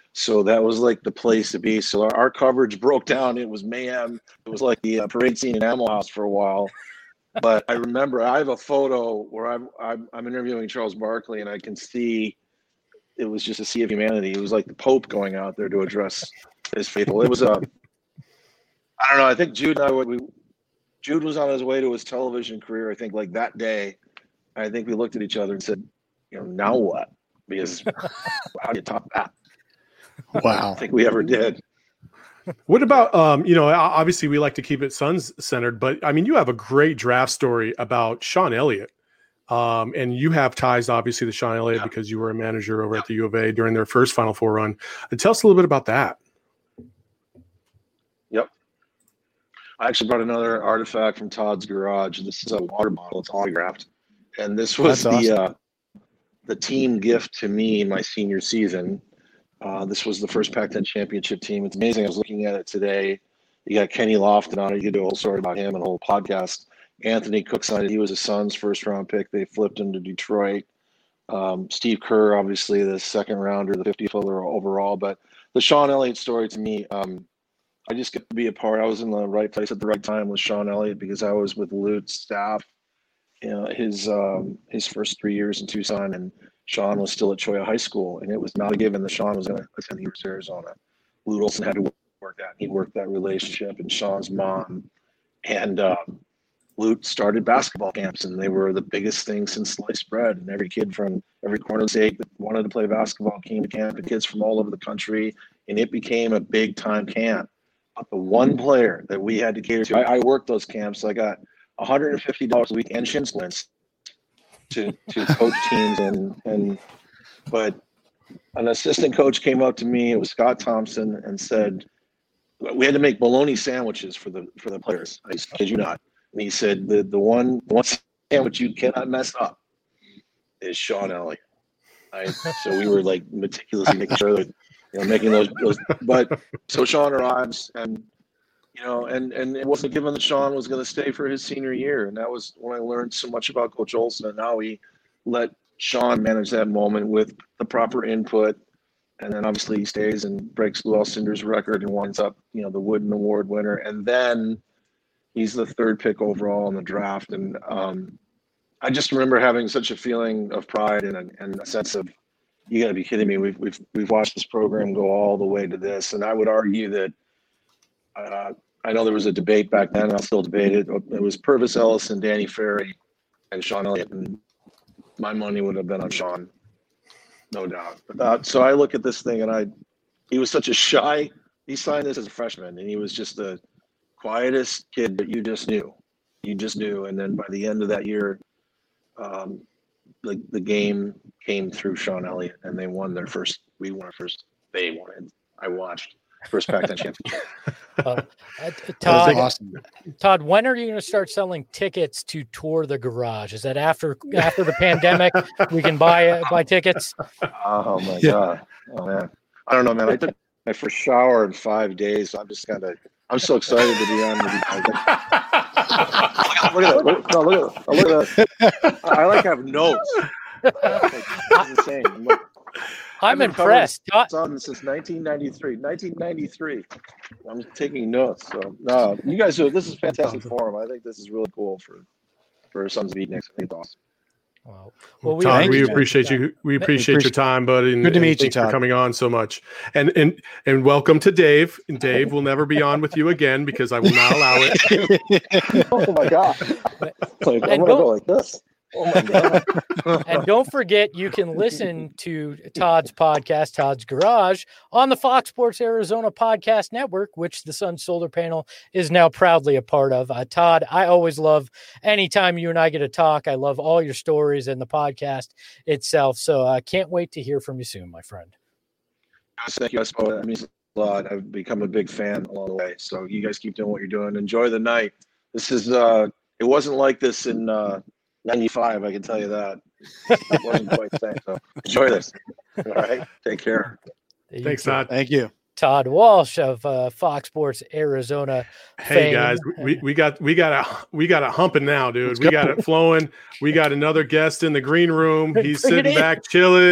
So that was like the place to be. So our coverage broke down. It was mayhem. It was like the parade scene in Animal House for a while. But I remember I have a photo where I'm interviewing Charles Barkley, and I can see it was just a sea of humanity. It was like the Pope going out there to address his faithful. It was I don't know. I think Jude and I Jude was on his way to his television career. I think like that day, I think we looked at each other and said, now what? Because how do you top that? Wow. I don't think we ever did. What about, obviously we like to keep it Suns centered, but I mean, you have a great draft story about Sean Elliott. And you have ties, obviously, to Sean Elliott because you were a manager over at the U of A during their first Final Four run. Tell us a little bit about that. Yep. I actually brought another artifact from Todd's garage. This is a water bottle. It's autographed. And this was the team gift to me in my senior season. This was the first Pac-10 championship team. It's amazing. I was looking at it today. You got Kenny Lofton on it. You could do a whole story about him and a whole podcast. Anthony Cook signed it. He was a Suns first-round pick. They flipped him to Detroit. Steve Kerr, obviously, the second rounder, the 50th overall. But the Sean Elliott story to me, I just get to be a part. I was in the right place at the right time with Sean Elliott because I was with Lute's staff, his first 3 years in Tucson, and Sean was still at Cholla High School, and it was not a given that Sean was going to attend the University of Arizona. Lute Olson had to work that. He worked that relationship, and Sean's mom and Lute started basketball camps, and they were the biggest thing since sliced bread. And every kid from every corner of the state that wanted to play basketball came to camp, and kids from all over the country, and it became a big-time camp. But the one player that we had to cater to, I worked those camps. So I got $150 a week and shin splints to coach teams, but an assistant coach came up to me. It was Scott Thompson, and said we had to make bologna sandwiches for the players. I kid you not. And he said the one sandwich you cannot mess up is Sean Elliott. So we were like meticulously making sure that making those. But so Sean arrives, and and it wasn't given that Sean was going to stay for his senior year. And that was when I learned so much about Coach Olson and how he let Sean manage that moment with the proper input. And then obviously he stays and breaks Lou Alcindor's record and winds up, the Wooden Award winner. And then he's the third pick overall in the draft. And I just remember having such a feeling of pride and a sense of, you got to be kidding me. We've watched this program go all the way to this. And I would argue that, I know there was a debate back then, and I'll still debate it. It was Purvis Ellison, Danny Ferry, and Sean Elliott. And my money would have been on Sean, no doubt. So I look at this thing, and he was such a shy. He signed this as a freshman, and he was just the quietest kid that you just knew. And then by the end of that year, the game came through Sean Elliott, and they won their first. We won our first. They won it. I watched. First Pac-10 championship. Todd, when are you going to start selling tickets to tour the garage? Is that after the pandemic? We can buy tickets. Oh my God! Oh man, I don't know, man. I took my first shower in 5 days. So I'm so excited to be on. Look at that! I like have notes. It's insane. I'm impressed. Since 1993. I'm taking notes. So no, you guys this is fantastic forum. I think this is really cool for Sons of Beatniks. I think it's awesome. Well, Todd, we appreciate you. We appreciate your time, buddy. And, good to meet you, Todd. Todd. For coming on so much. And welcome to Dave. And Dave will never be on with you again because I will not allow it. Oh my God! I'm gonna go like this. Oh my God. And don't forget, you can listen to Todd's podcast, Todd's Garage, on the Fox Sports Arizona Podcast Network, which the Sun Solar Panel is now proudly a part of. Todd, I always love anytime you and I get to talk. I love all your stories and the podcast itself. So I can't wait to hear from you soon, my friend. Thank you. That means a lot. I've become a big fan along the way. So you guys keep doing what you're doing. Enjoy the night. This is, it wasn't like this in, 95, I can tell you that. It wasn't quite the same. So enjoy this. All right. Take care. Thanks, Todd. Thank you. Todd Walsh of Fox Sports Arizona. Hey guys, we got it humping now, dude. We got it flowing. We got another guest in the green room. He's sitting back chilling.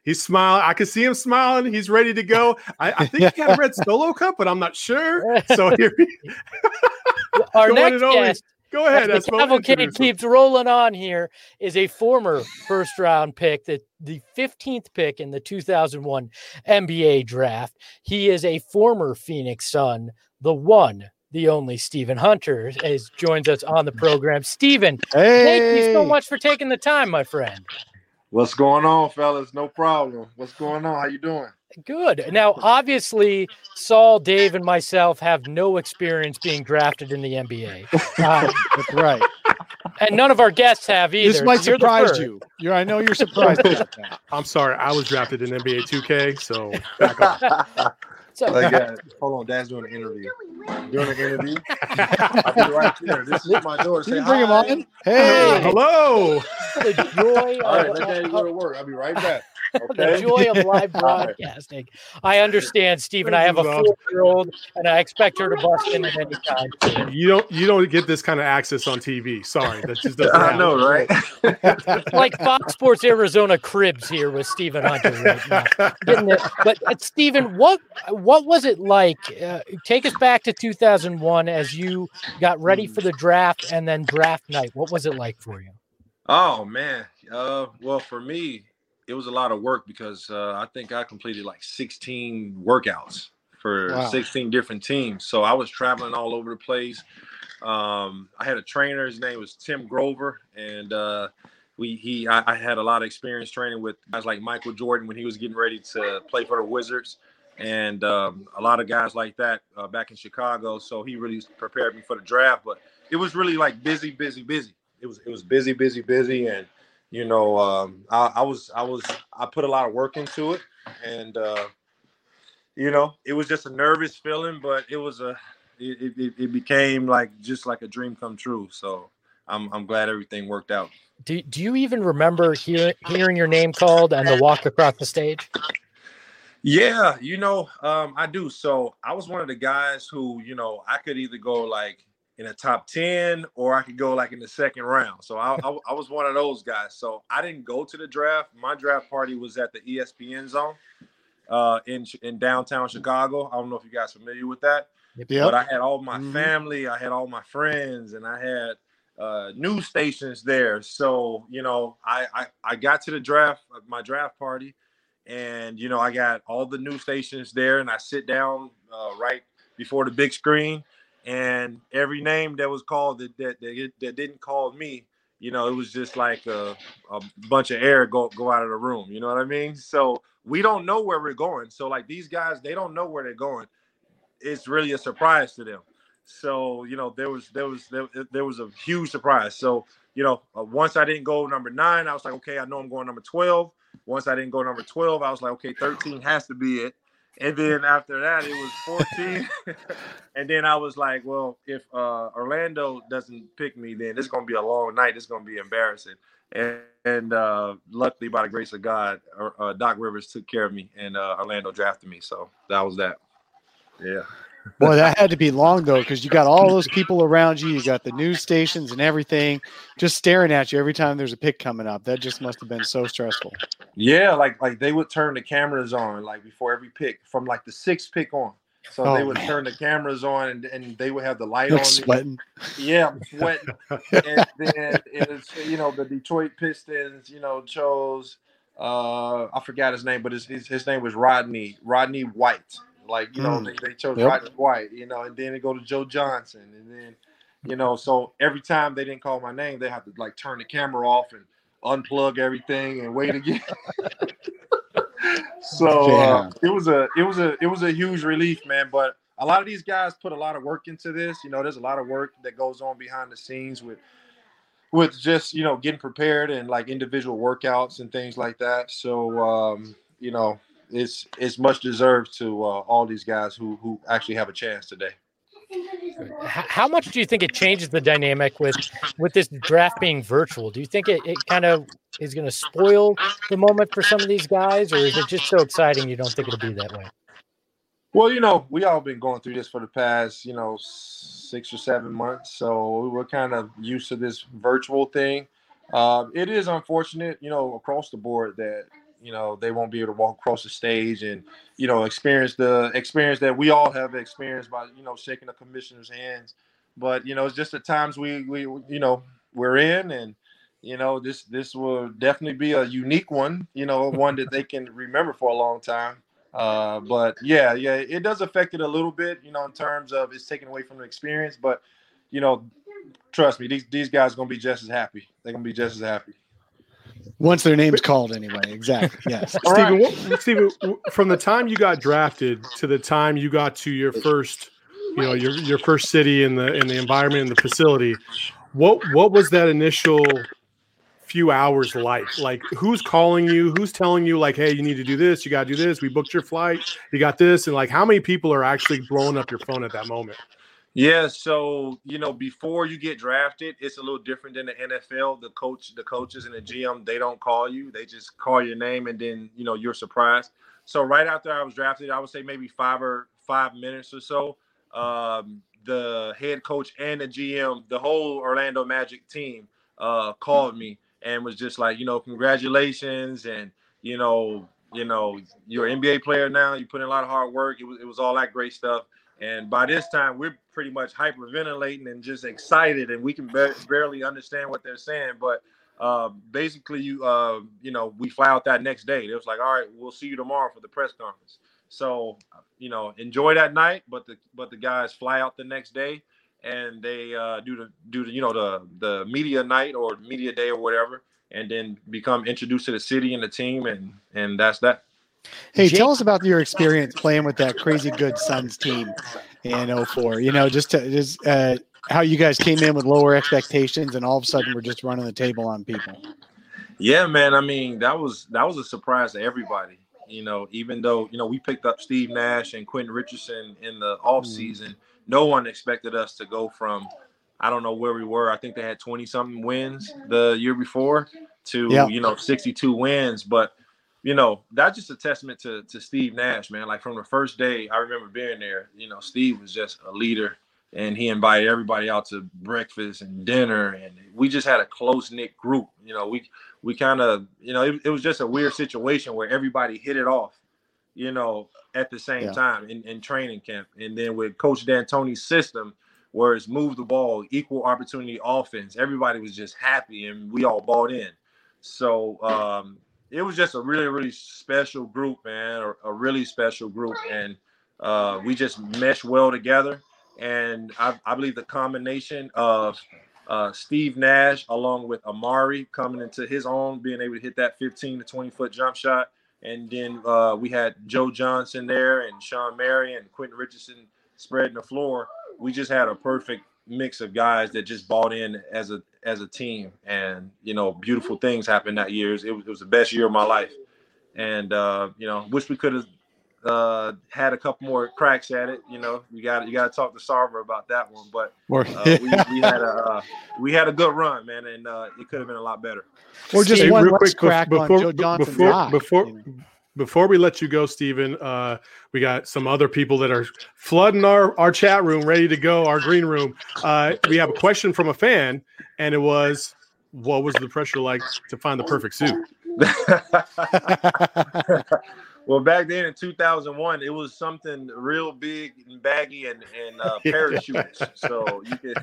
He's smiling. I can see him smiling. He's ready to go. I think he had a red Solo cup, but I'm not sure. So here, our next guest. Go ahead. The cavalcade keeps rolling on here. Is a former first-round pick, the 15th pick in the 2001 NBA draft. He is a former Phoenix Sun, the one, the only Stephen Hunter joins us on the program. Stephen, thank you so much for taking the time, my friend. What's going on, fellas? No problem. What's going on? How you doing? Good. Now, obviously, Saul, Dave, and myself have no experience being drafted in the NBA. That's right. And none of our guests have either. This might surprise you. I know you're surprised about that. I'm sorry. I was drafted in NBA 2K, so back off. Hold on. Dad's doing an interview. Doing an interview? I'll be right there. This is my daughter. Can you bring him on? Hey. Hello. The joy All right, let Daddy go to work. I'll be right back. Okay. The joy of live broadcasting. I understand, Stephen. I have a 4-year-old, and I expect her to bust in at any time. You don't get this kind of access on TV. Sorry, that just doesn't happen. I know, right? Like Fox Sports Arizona Cribs here with Stephen Hunter right now. But Stephen, what was it like? Take us back to 2001 as you got ready for the draft and then draft night. What was it like for you? Oh man. Well, for me, it was a lot of work because I think I completed like 16 workouts for 16 different teams. So I was traveling all over the place. I had a trainer. His name was Tim Grover, and I had a lot of experience training with guys like Michael Jordan when he was getting ready to play for the Wizards, and a lot of guys like that back in Chicago. So he really prepared me for the draft. But it was really like busy. It was busy, and you know, I put a lot of work into it, and you know, it was just a nervous feeling, but it became just like a dream come true. So I'm glad everything worked out. Do you even remember hearing your name called and the walk across the stage? Yeah, you know, I do. So I was one of the guys who, you know, I could either go like in the top 10 or I could go like in the second round. So I was one of those guys. So I didn't go to the draft. My draft party was at the ESPN Zone in downtown Chicago. I don't know if you guys are familiar with that. Yep. But I had all my family, I had all my friends, and I had news stations there. So, you know, I got to the draft, my draft party, and, you know, I got all the news stations there, and I sit down right before the big screen. And every name that was called that didn't call me, you know, it was just like a bunch of air go out of the room. You know what I mean? So we don't know where we're going. So like these guys, they don't know where they're going. It's really a surprise to them. So, you know, there was a huge surprise. So, you know, once I didn't go number 9, I was like, okay, I know I'm going number 12. Once I didn't go number 12, I was like, okay, 13 has to be it. And then after that, it was 14. And then I was like, well, if Orlando doesn't pick me, then it's going to be a long night. It's going to be embarrassing. And luckily, by the grace of God, Doc Rivers took care of me, and Orlando drafted me. So that was that. Yeah. Boy, that had to be long, though, because you got all those people around you. You got the news stations and everything just staring at you every time there's a pick coming up. That just must have been so stressful. Yeah, like they would turn the cameras on like before every pick from like the 6th pick on. So they would turn the cameras on and they would have the light on. Sweating. Yeah, I'm sweating. And then it was, you know, the Detroit Pistons, you know, chose I forgot his name, but his name was Rodney White. Like, you know, they chose Rodney White, you know, and then they go to Joe Johnson. And then, you know, so every time they didn't call my name, they have to like turn the camera off and unplug everything and wait again. So it was a huge relief, man. But a lot of these guys put a lot of work into this. You know, there's a lot of work that goes on behind the scenes with just, you know, getting prepared and like individual workouts and things like that. So, you know, it's much deserved to all these guys who actually have a chance today. How much do you think it changes the dynamic with this draft being virtual? Do you think it kind of is going to spoil the moment for some of these guys, or is it just so exciting you don't think it'll be that way? Well, you know, we all been going through this for the past, you know, 6 or 7 months. So we're kind of used to this virtual thing. It is unfortunate, you know, across the board that, they won't be able to walk across the stage and, experience the experience that we all have experienced by, shaking the commissioner's hands. But, it's just the times we're in, and, this will definitely be a unique one, one that they can remember for a long time. But yeah, it does affect it a little bit, in terms of it's taken away from the experience. But, trust me, these guys are going to be just as happy. They're going to be just as happy. Once their name's called, anyway. Exactly. Yes. Steven, from the time you got drafted to the time you got to your first, your first city in the environment and the facility, what was that initial few hours like? Like, who's calling you? Who's telling you, like, hey, you need to do this, you got to do this, we booked your flight, you got this, and like, how many people are actually blowing up your phone at that moment? Yeah, so before you get drafted, it's a little different than the NFL. The coaches and the GM, they don't call you; they just call your name, and then you're surprised. So right after I was drafted, I would say maybe 5 minutes or so. The head coach and the GM, the whole Orlando Magic team, called me and was just like, congratulations, and you're an NBA player now. You put in a lot of hard work. It was all that great stuff. And by this time, we're pretty much hyperventilating and just excited, and we can barely understand what they're saying. But basically, we fly out that next day. It was like, all right, we'll see you tomorrow for the press conference. So, enjoy that night. But the guys fly out the next day, and they do the media night or media day or whatever, and then become introduced to the city and the team, and that's that. Hey, tell us about your experience playing with that crazy good Suns team in 2004. Just how you guys came in with lower expectations, and all of a sudden we're just running the table on people. Yeah, man. I mean, that was a surprise to everybody. Even though we picked up Steve Nash and Quentin Richardson in the offseason, no one expected us to go from, I don't know where we were. I think they had 20-something wins the year before to 62 wins, but. That's just a testament to Steve Nash, man. Like, from the first day, I remember being there, Steve was just a leader, and he invited everybody out to breakfast and dinner, and we just had a close-knit group. We kind of, it was just a weird situation where everybody hit it off, at the same time in training camp. And then with Coach D'Antoni's system, where it's move the ball, equal opportunity offense, everybody was just happy, and we all bought in. So, it was just a really, really special group, man, a really special group. And we just meshed well together. And I believe the combination of Steve Nash along with Amari coming into his own, being able to hit that 15 to 20-foot jump shot. And then we had Joe Johnson there and Sean Mary and Quentin Richardson spreading the floor. We just had a perfect mix of guys that just bought in as a team, and beautiful things happened that year. It was the best year of my life, and wish we could have had a couple more cracks at it. You got to talk to Sarver about that one, but we had a good run, man, and it could have been a lot better. Or just one quick crack on Joe Johnson's Before we let you go, Steven, we got some other people that are flooding our chat room, ready to go, our green room. We have a question from a fan, and it was, what was the pressure like to find the perfect suit? Well, back then in 2001, it was something real big and baggy and parachutes. So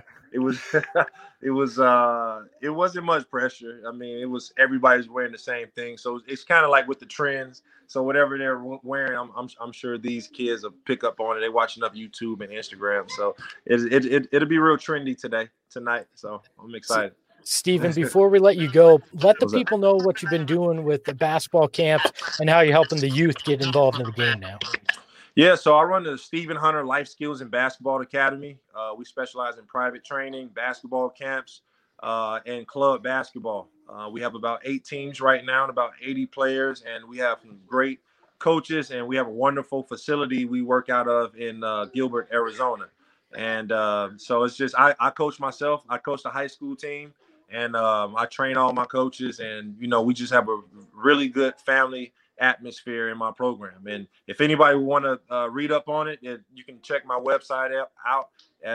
it wasn't much pressure. I mean, it was everybody's wearing the same thing. So it's kind of like with the trends. So whatever they're wearing, I'm sure these kids will pick up on it. They watch enough YouTube and Instagram. So it'll be real trendy tonight. So I'm excited. Steven, before we let you go, let the people know what you've been doing with the basketball camps and how you're helping the youth get involved in the game now. Yeah, so I run the Stephen Hunter Life Skills and Basketball Academy. We specialize in private training, basketball camps, and club basketball. We have about 8 teams right now and about 80 players, and we have some great coaches, and we have a wonderful facility we work out of in Gilbert, Arizona. And so it's just I coach myself. I coach the high school team. And I train all my coaches, and, we just have a really good family atmosphere in my program. And if anybody want to read up on it, you can check my website out at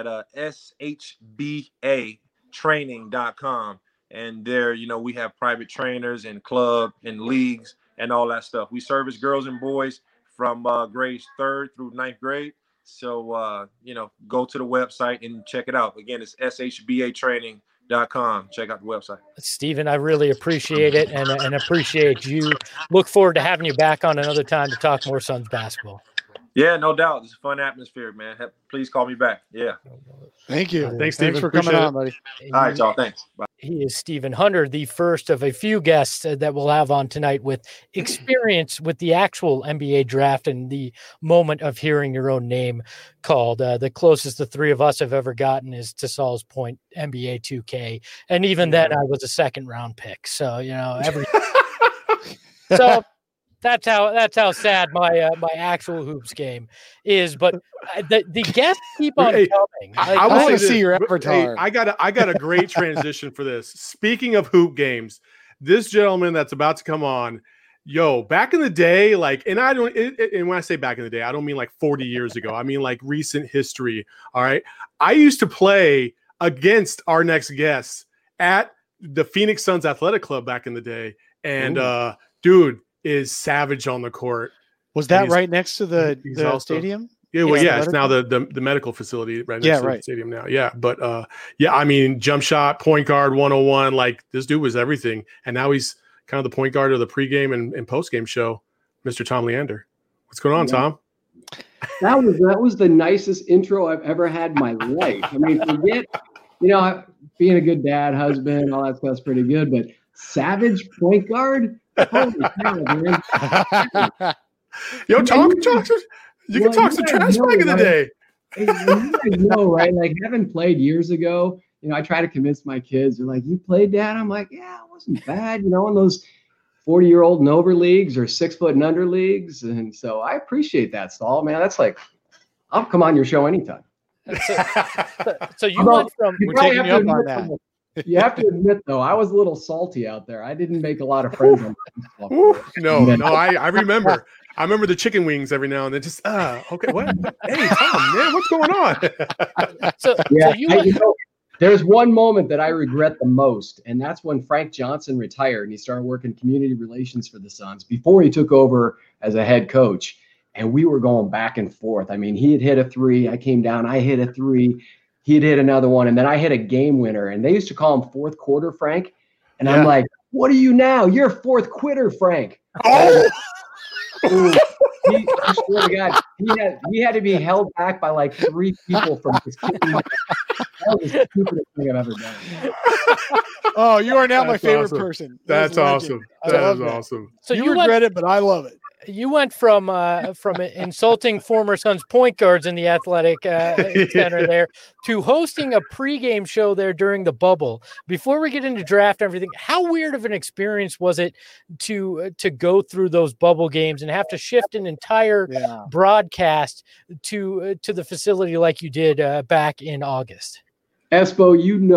shbatraining.com. And there, we have private trainers and club and leagues and all that stuff. We service girls and boys from grades 3rd through 9th grade. So, go to the website and check it out. Again, it's shbatraining.com. Check out the website. Stephen, I really appreciate it and appreciate you. Look forward to having you back on another time to talk more Suns basketball. Yeah, no doubt. It's a fun atmosphere, man. Please call me back. Yeah. Thank you. Thanks, Stephen. For coming on, buddy. All right, y'all. Thanks. Bye. He is Stephen Hunter, the first of a few guests that we'll have on tonight with experience with the actual NBA draft and the moment of hearing your own name called. The closest the three of us have ever gotten is, to Saul's point, NBA 2K. And even then I was a 2nd round pick. So, so that's how sad my actual hoops game is. But the guests keep on coming. I want to see your avatar. I got a great transition for this. Speaking of hoop games, this gentleman that's about to come on, back in the day, and when I say back in the day, I don't mean like 40 years ago. I mean like recent history. All right. I used to play against our next guest at the Phoenix Suns Athletic Club back in the day. And dude is savage on the court. Was that right next to the stadium? Yeah, well, it's now the medical facility right next to the stadium now. Yeah, but I mean, jump shot, point guard, 101. Like, this dude was everything, and now he's kind of the point guard of the pregame and postgame show. Mr. Tom Leander, what's going on, Tom? That was the nicest intro I've ever had in my life. I mean, forget being a good dad, husband, all that stuff's pretty good, but savage point guard. Holy cow, man. Tom, you can talk some trash back in the day. You guys know, right? Like, having played years ago, I try to convince my kids. They're like, "You played, Dad?" I'm like, "Yeah, it wasn't bad." In those 40-year-old and over leagues or 6 foot and under leagues. And so I appreciate that, Saul, man. That's like, I'll come on your show anytime. So you went from, we're taking you up on that. You have to admit, though, I was a little salty out there. I didn't make a lot of friends. I remember. I remember the chicken wings every now and then. Just okay, what? Hey, Tom, man, what's going on? There's one moment that I regret the most, and that's when Frank Johnson retired and he started working community relations for the Suns before he took over as a head coach. And we were going back and forth. I mean, he had hit a 3. I came down. I hit a 3. He had hit another one, and then I hit a game winner. And they used to call him fourth quarter Frank. And I'm like, "What are you now? You're a fourth quitter, Frank." Oh! I swear to God, he had to be held back by like 3 people from just kicking my ass. That was the stupidest thing I've ever done. Oh, you are now my favorite person. That's awesome. That is awesome. So you regret it, but I love it. You went from insulting former Suns point guards in the athletic center there to hosting a pregame show there during the bubble. Before we get into draft and everything, how weird of an experience was it to go through those bubble games and have to shift an entire broadcast to the facility like you did back in August? Espo,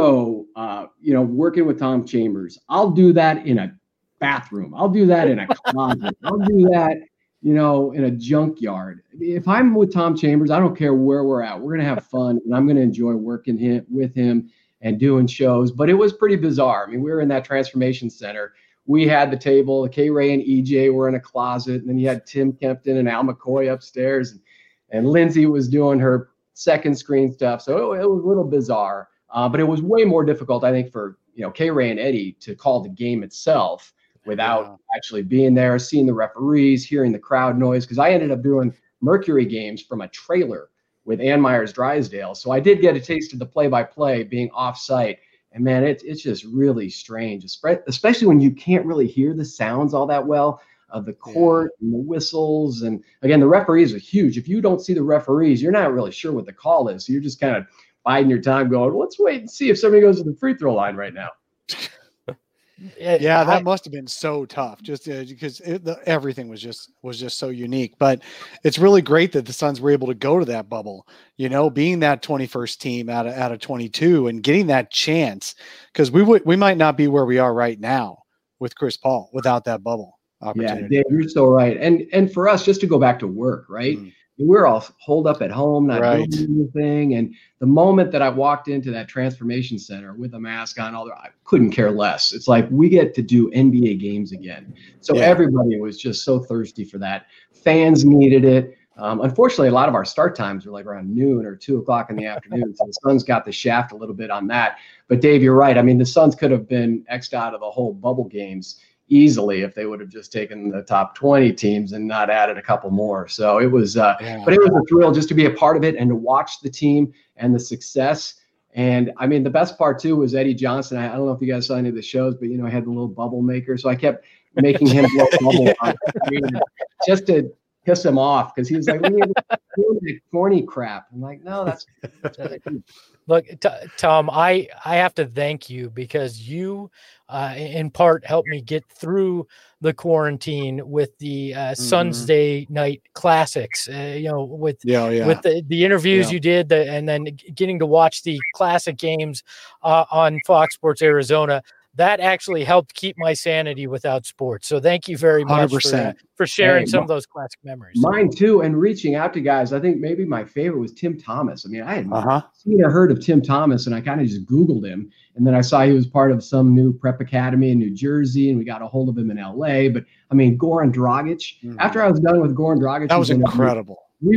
working with Tom Chambers, I'll do that in a bathroom. I'll do that in a closet. I'll do that, in a junkyard. If I'm with Tom Chambers, I don't care where we're at. We're going to have fun, and I'm going to enjoy working with him and doing shows. But it was pretty bizarre. I mean, we were in that transformation center. We had the table. K-Ray and EJ were in a closet, and then you had Tim Kempton and Al McCoy upstairs, and Lindsay was doing her second screen stuff. So it was a little bizarre, but it was way more difficult, I think, for K-Ray and Eddie to call the game itself without actually being there, seeing the referees, hearing the crowd noise. Because I ended up doing Mercury games from a trailer with Ann Myers Drysdale. So I did get a taste of the play-by-play being off-site. And, man, it's just really strange, especially when you can't really hear the sounds all that well of the court and the whistles. And, again, the referees are huge. If you don't see the referees, you're not really sure what the call is. So you're just kind of biding your time going, let's wait and see if somebody goes to the free throw line right now. Yeah, that must have been so tough, just because everything was just so unique. But it's really great that the Suns were able to go to that bubble, being that 21st team out of 22 and getting that chance, because we might not be where we are right now with Chris Paul without that bubble opportunity. Yeah, Dave, you're so right. And for us, just to go back to work, right? we were all holed up at home, not Right. doing anything. And the moment that I walked into that transformation center with a mask on, I couldn't care less. It's like we get to do NBA games again. So Yeah. everybody was just so thirsty for that. Fans needed it. Unfortunately, a lot of our start times were like around noon or 2 o'clock in the afternoon. So the Suns got the shaft a little bit on that. But Dave, you're right. I mean, the Suns could have been X'd out of the whole bubble games easily if they would have just taken the top 20 teams and not added a couple more. So it was, but it was a thrill just to be a part of it and to watch the team and the success. And I mean, the best part too was Eddie Johnson. I don't know if you guys saw any of the shows, but I had the little bubble maker. So I kept making him blow bubble on the screen just to piss him off because he was like, "We corny crap." I'm like, "No, that's what I do." Look, Tom, I have to thank you because you, in part, helped me get through the quarantine with the Suns Day Night Classics. With the interviews you did, and then getting to watch the classic games on Fox Sports Arizona. That actually helped keep my sanity without sports. So thank you very much for sharing some of those classic memories. Mine too, and reaching out to guys. I think maybe my favorite was Tim Thomas. I mean, I had seen or heard of Tim Thomas, and I kind of just Googled him. And then I saw he was part of some new prep academy in New Jersey, and we got a hold of him in LA. But I mean, Goran Dragic, after I was done with Goran Dragic, that was incredible.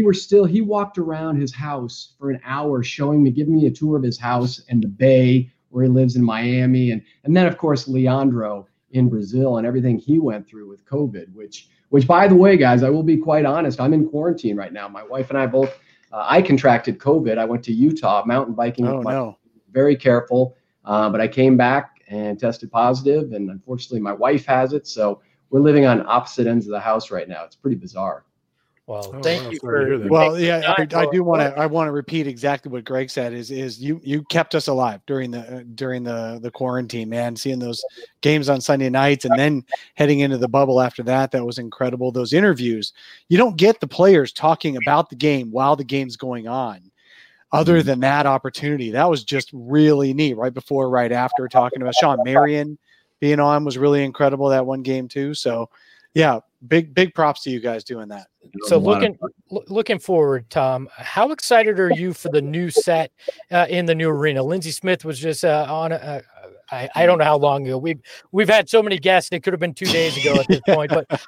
He walked around his house for an hour showing me, giving me a tour of his house and the Bay, where he lives in Miami. And then, of course, Leandro in Brazil and everything he went through with COVID, which, by the way, guys, I will be quite honest, I'm in quarantine right now. My wife and I both, I contracted COVID. I went to Utah mountain biking. Very careful. But I came back and tested positive, and unfortunately my wife has it. So we're living on opposite ends of the house right now. It's pretty bizarre. Well, thank you for. Well, yeah, I do want to. I want to repeat exactly what Greg said. Is you kept us alive during the quarantine, man. Seeing those games on Sunday nights and then heading into the bubble after that was incredible. Those interviews, you don't get the players talking about the game while the game's going on. Other than that opportunity, that was just really neat. Right before, right after, talking about Sean Marion being on was really incredible. That one game too. So, yeah, big props to you guys doing that. So looking forward, Tom, how excited are you for the new set in the new arena? Lindsey Smith was just on I don't know how long ago. We've had so many guests. It could have been 2 days ago at this point,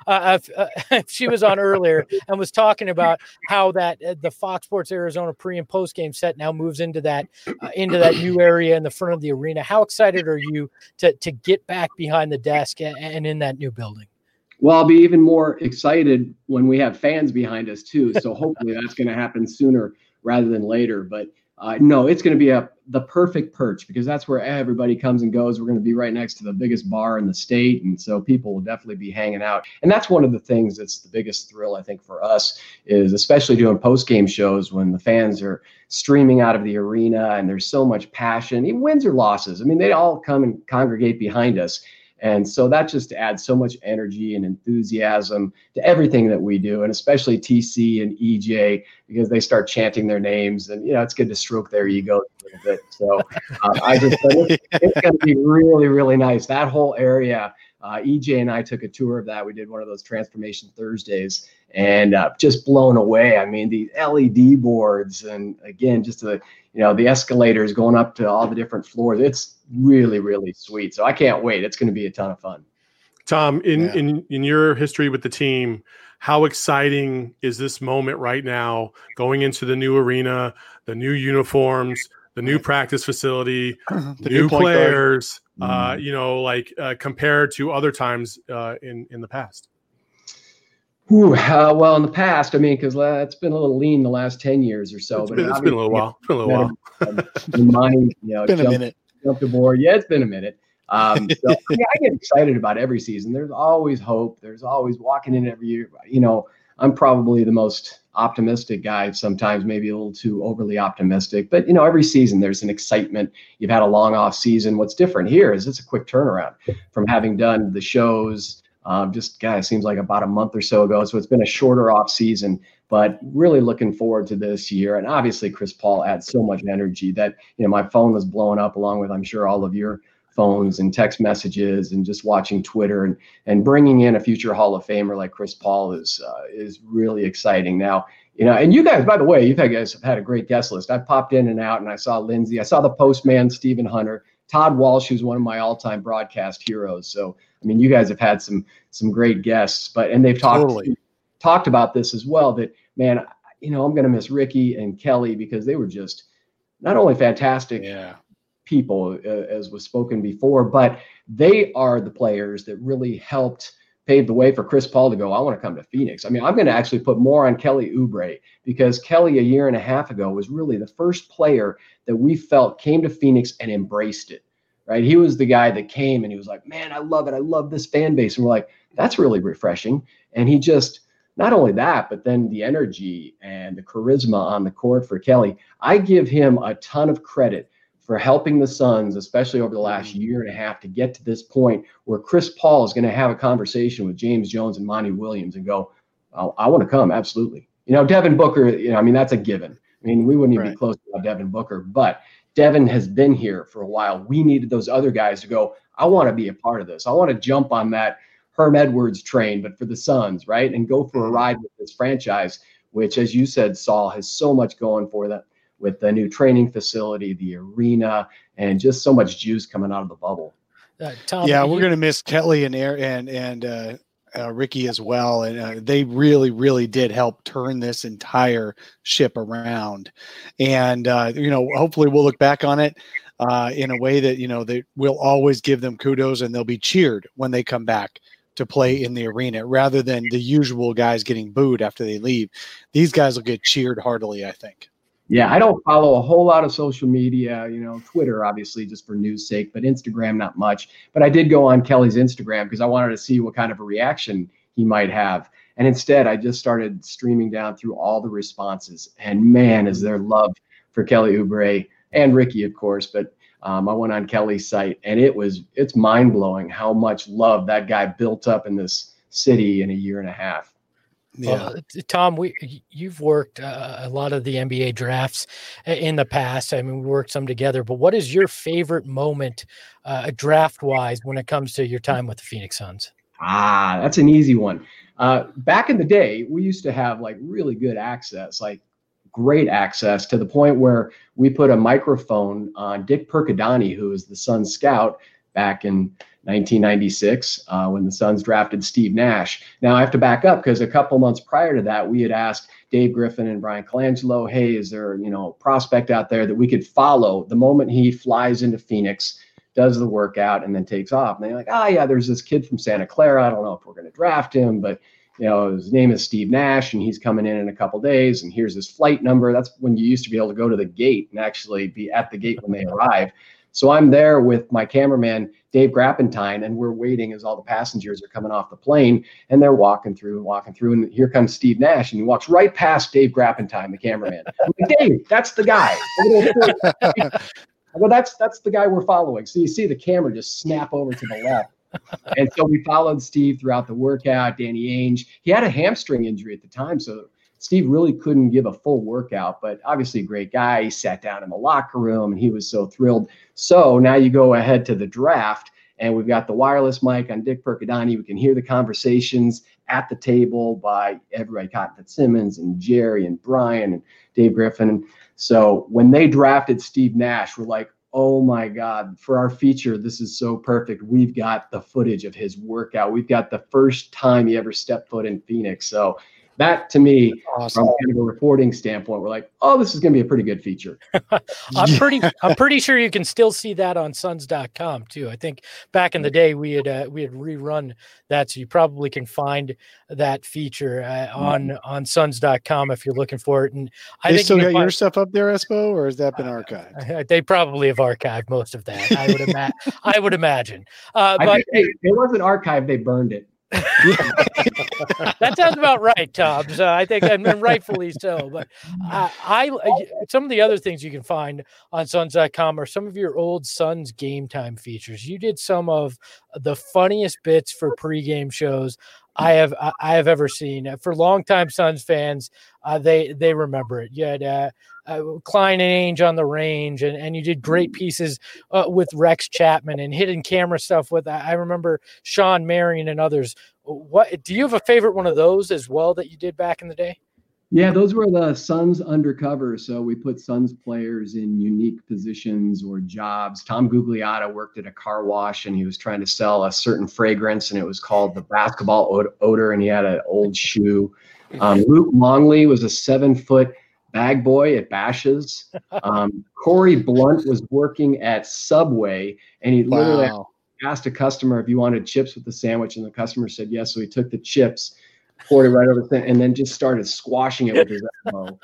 but she was on earlier and was talking about how that the Fox Sports Arizona pre and post game set now moves into that new area in the front of the arena. How excited are you to get back behind the desk and in that new building? Well, I'll be even more excited when we have fans behind us too. So hopefully that's going to happen sooner rather than later. But no, it's going to be the perfect perch because that's where everybody comes and goes. We're going to be right next to the biggest bar in the state. And so people will definitely be hanging out. And that's one of the things that's the biggest thrill, I think, for us is especially doing post-game shows when the fans are streaming out of the arena and there's so much passion, even wins or losses. I mean, they all come and congregate behind us. And so that just adds so much energy and enthusiasm to everything that we do, and especially TC and EJ, because they start chanting their names, and it's good to stroke their ego a little bit. So I just think it's going to be really, really nice. That whole area, EJ and I took a tour of that. We did one of those Transformation Thursdays, and just blown away. I mean, the LED boards, and again, just the escalators going up to all the different floors. It's really, really sweet. So I can't wait. It's going to be a ton of fun. Tom, in your history with the team, how exciting is this moment right now going into the new arena, the new uniforms, the new practice facility, the new players, compared to other times in the past? Well, in the past, I mean, because it's been a little lean the last 10 years or so. It's been a little while. Money, been a minute. Jumped aboard. Yeah, it's been a minute. So I get excited about every season. There's always hope. There's always walking in every year. I'm probably the most optimistic guy sometimes, maybe a little too overly optimistic. But, every season there's an excitement. You've had a long off season. What's different here is it's a quick turnaround from having done the shows. It seems like about a month or so ago. So it's been a shorter off season, but really looking forward to this year. And obviously Chris Paul adds so much energy that, my phone was blowing up along with, I'm sure, all of your phones and text messages and just watching Twitter and bringing in a future Hall of Famer like Chris Paul is really exciting. Now, You know, and you guys, by the way, you guys have had a great guest list. I popped in and out, and I saw Lindsay. I saw the postman, Stephen Hunter, Todd Walsh, who's one of my all-time broadcast heroes. So, I mean, you guys have had some great guests, and they've talked about this as well. That, man, you know, I'm going to miss Ricky and Kelly because they were just not only fantastic people, as was spoken before, but they are the players that really helped pave the way for Chris Paul to go, I want to come to Phoenix. I mean, I'm going to actually put more on Kelly Oubre, because Kelly a year and a half ago was really the first player that we felt came to Phoenix and embraced it, right? He was the guy that came and he was like, man, I love it. I love this fan base. And we're like, that's really refreshing. And he just, not only that, but then the energy and the charisma on the court for Kelly. I give him a ton of credit for helping the Suns, especially over the last year and a half, to get to this point where Chris Paul is going to have a conversation with James Jones and Monty Williams and go, oh, I want to come. Absolutely. You know, Devin Booker, you know, I mean, that's a given. I mean, we wouldn't even be close to Devin Booker, but Devin has been here for a while. We needed those other guys to go, I want to be a part of this. I want to jump on that Herm Edwards train, but for the Suns, right? And go for a ride with this franchise, which, as you said, Saul, has so much going for them, with the new training facility, the arena, and just so much juice coming out of the bubble. Tom, we're going to miss Kelly and Ricky as well. And they really, really did help turn this entire ship around. And, you know, hopefully we'll look back on it in a way that, you know, they will always give them kudos and they'll be cheered when they come back to play in the arena, rather than the usual guys getting booed after they leave. These guys will get cheered heartily, I think. Yeah, I don't follow a whole lot of social media, you know, Twitter, obviously, just for news sake, but Instagram, not much. But I did go on Kelly's Instagram because I wanted to see what kind of a reaction he might have. And instead, I just started streaming down through all the responses. And man, is there love for Kelly Oubre and Ricky, of course. But I went on Kelly's site, and it's mind-blowing how much love that guy built up in this city in a year and a half. Yeah, Tom, you've worked a lot of the NBA drafts in the past. I mean, we worked some together, but what is your favorite moment draft-wise when it comes to your time with the Phoenix Suns? That's an easy one. Back in the day, we used to have like really good access, like great access, to the point where we put a microphone on Dick Percadani, who was the Suns scout back in 1996 when the Suns drafted Steve Nash. Now I have to back up because a couple months prior to that, we had asked Dave Griffin and Brian Colangelo, hey, is there, you know, a prospect out there that we could follow the moment he flies into Phoenix, does the workout, and then takes off? And they're like, yeah, there's this kid from Santa Clara. I don't know if we're going to draft him, but you know, his name is Steve Nash, and he's coming in a couple days, and here's his flight number. That's when you used to be able to go to the gate and actually be at the gate when they arrive. So I'm there with my cameraman, Dave Grappentine, and we're waiting as all the passengers are coming off the plane, and they're walking through, and here comes Steve Nash, and he walks right past Dave Grappentine, the cameraman. I'm like, Dave, that's the guy. Well, that's the guy we're following. So you see the camera just snap over to the left. And so we followed Steve throughout the workout. Danny Ainge, he had a hamstring injury at the time, so Steve really couldn't give a full workout, but obviously a great guy. He sat down in the locker room, and he was so thrilled. So now you go ahead to the draft, and we've got the wireless mic on Dick Percadani. We can hear the conversations at the table by everybody, Cotton Fitzsimmons and Jerry and Brian and Dave Griffin. So when they drafted Steve Nash, we're like, oh my God, for our feature, this is so perfect. We've got the footage of his workout. We've got the first time he ever stepped foot in Phoenix. So that, to me, awesome. From kind of a reporting standpoint, we're like, oh, this is going to be a pretty good feature. I'm pretty sure you can still see that on Suns.com too. I think back in the day we had rerun that, so you probably can find that feature on Suns.com if you're looking for it. And I think still got your stuff up there, Espo, or has that been archived? They probably have archived most of that. I would imagine. But it wasn't archived; they burned it. That sounds about right, Tom. So I think, and rightfully so. But some of the other things you can find on Suns.com are some of your old Suns game time features. You did some of the funniest bits for pregame shows I have ever seen. For longtime Suns fans, they remember it. You had Klein and Ainge on the range, and you did great pieces with Rex Chapman and hidden camera stuff with, I remember, Sean Marion and others. What do you have a favorite one of those as well that you did back in the day? Yeah, those were the Suns undercover. So we put Suns players in unique positions or jobs. Tom Gugliotta worked at a car wash, and he was trying to sell a certain fragrance, and it was called the basketball odor, and he had an old shoe. Luke Longley was a 7-foot bag boy at Bash's. Corey Blunt was working at Subway, and he literally asked a customer if you wanted chips with the sandwich, and the customer said yes. So he took the chips, poured it right over the thing, and then just started squashing it with his elbow.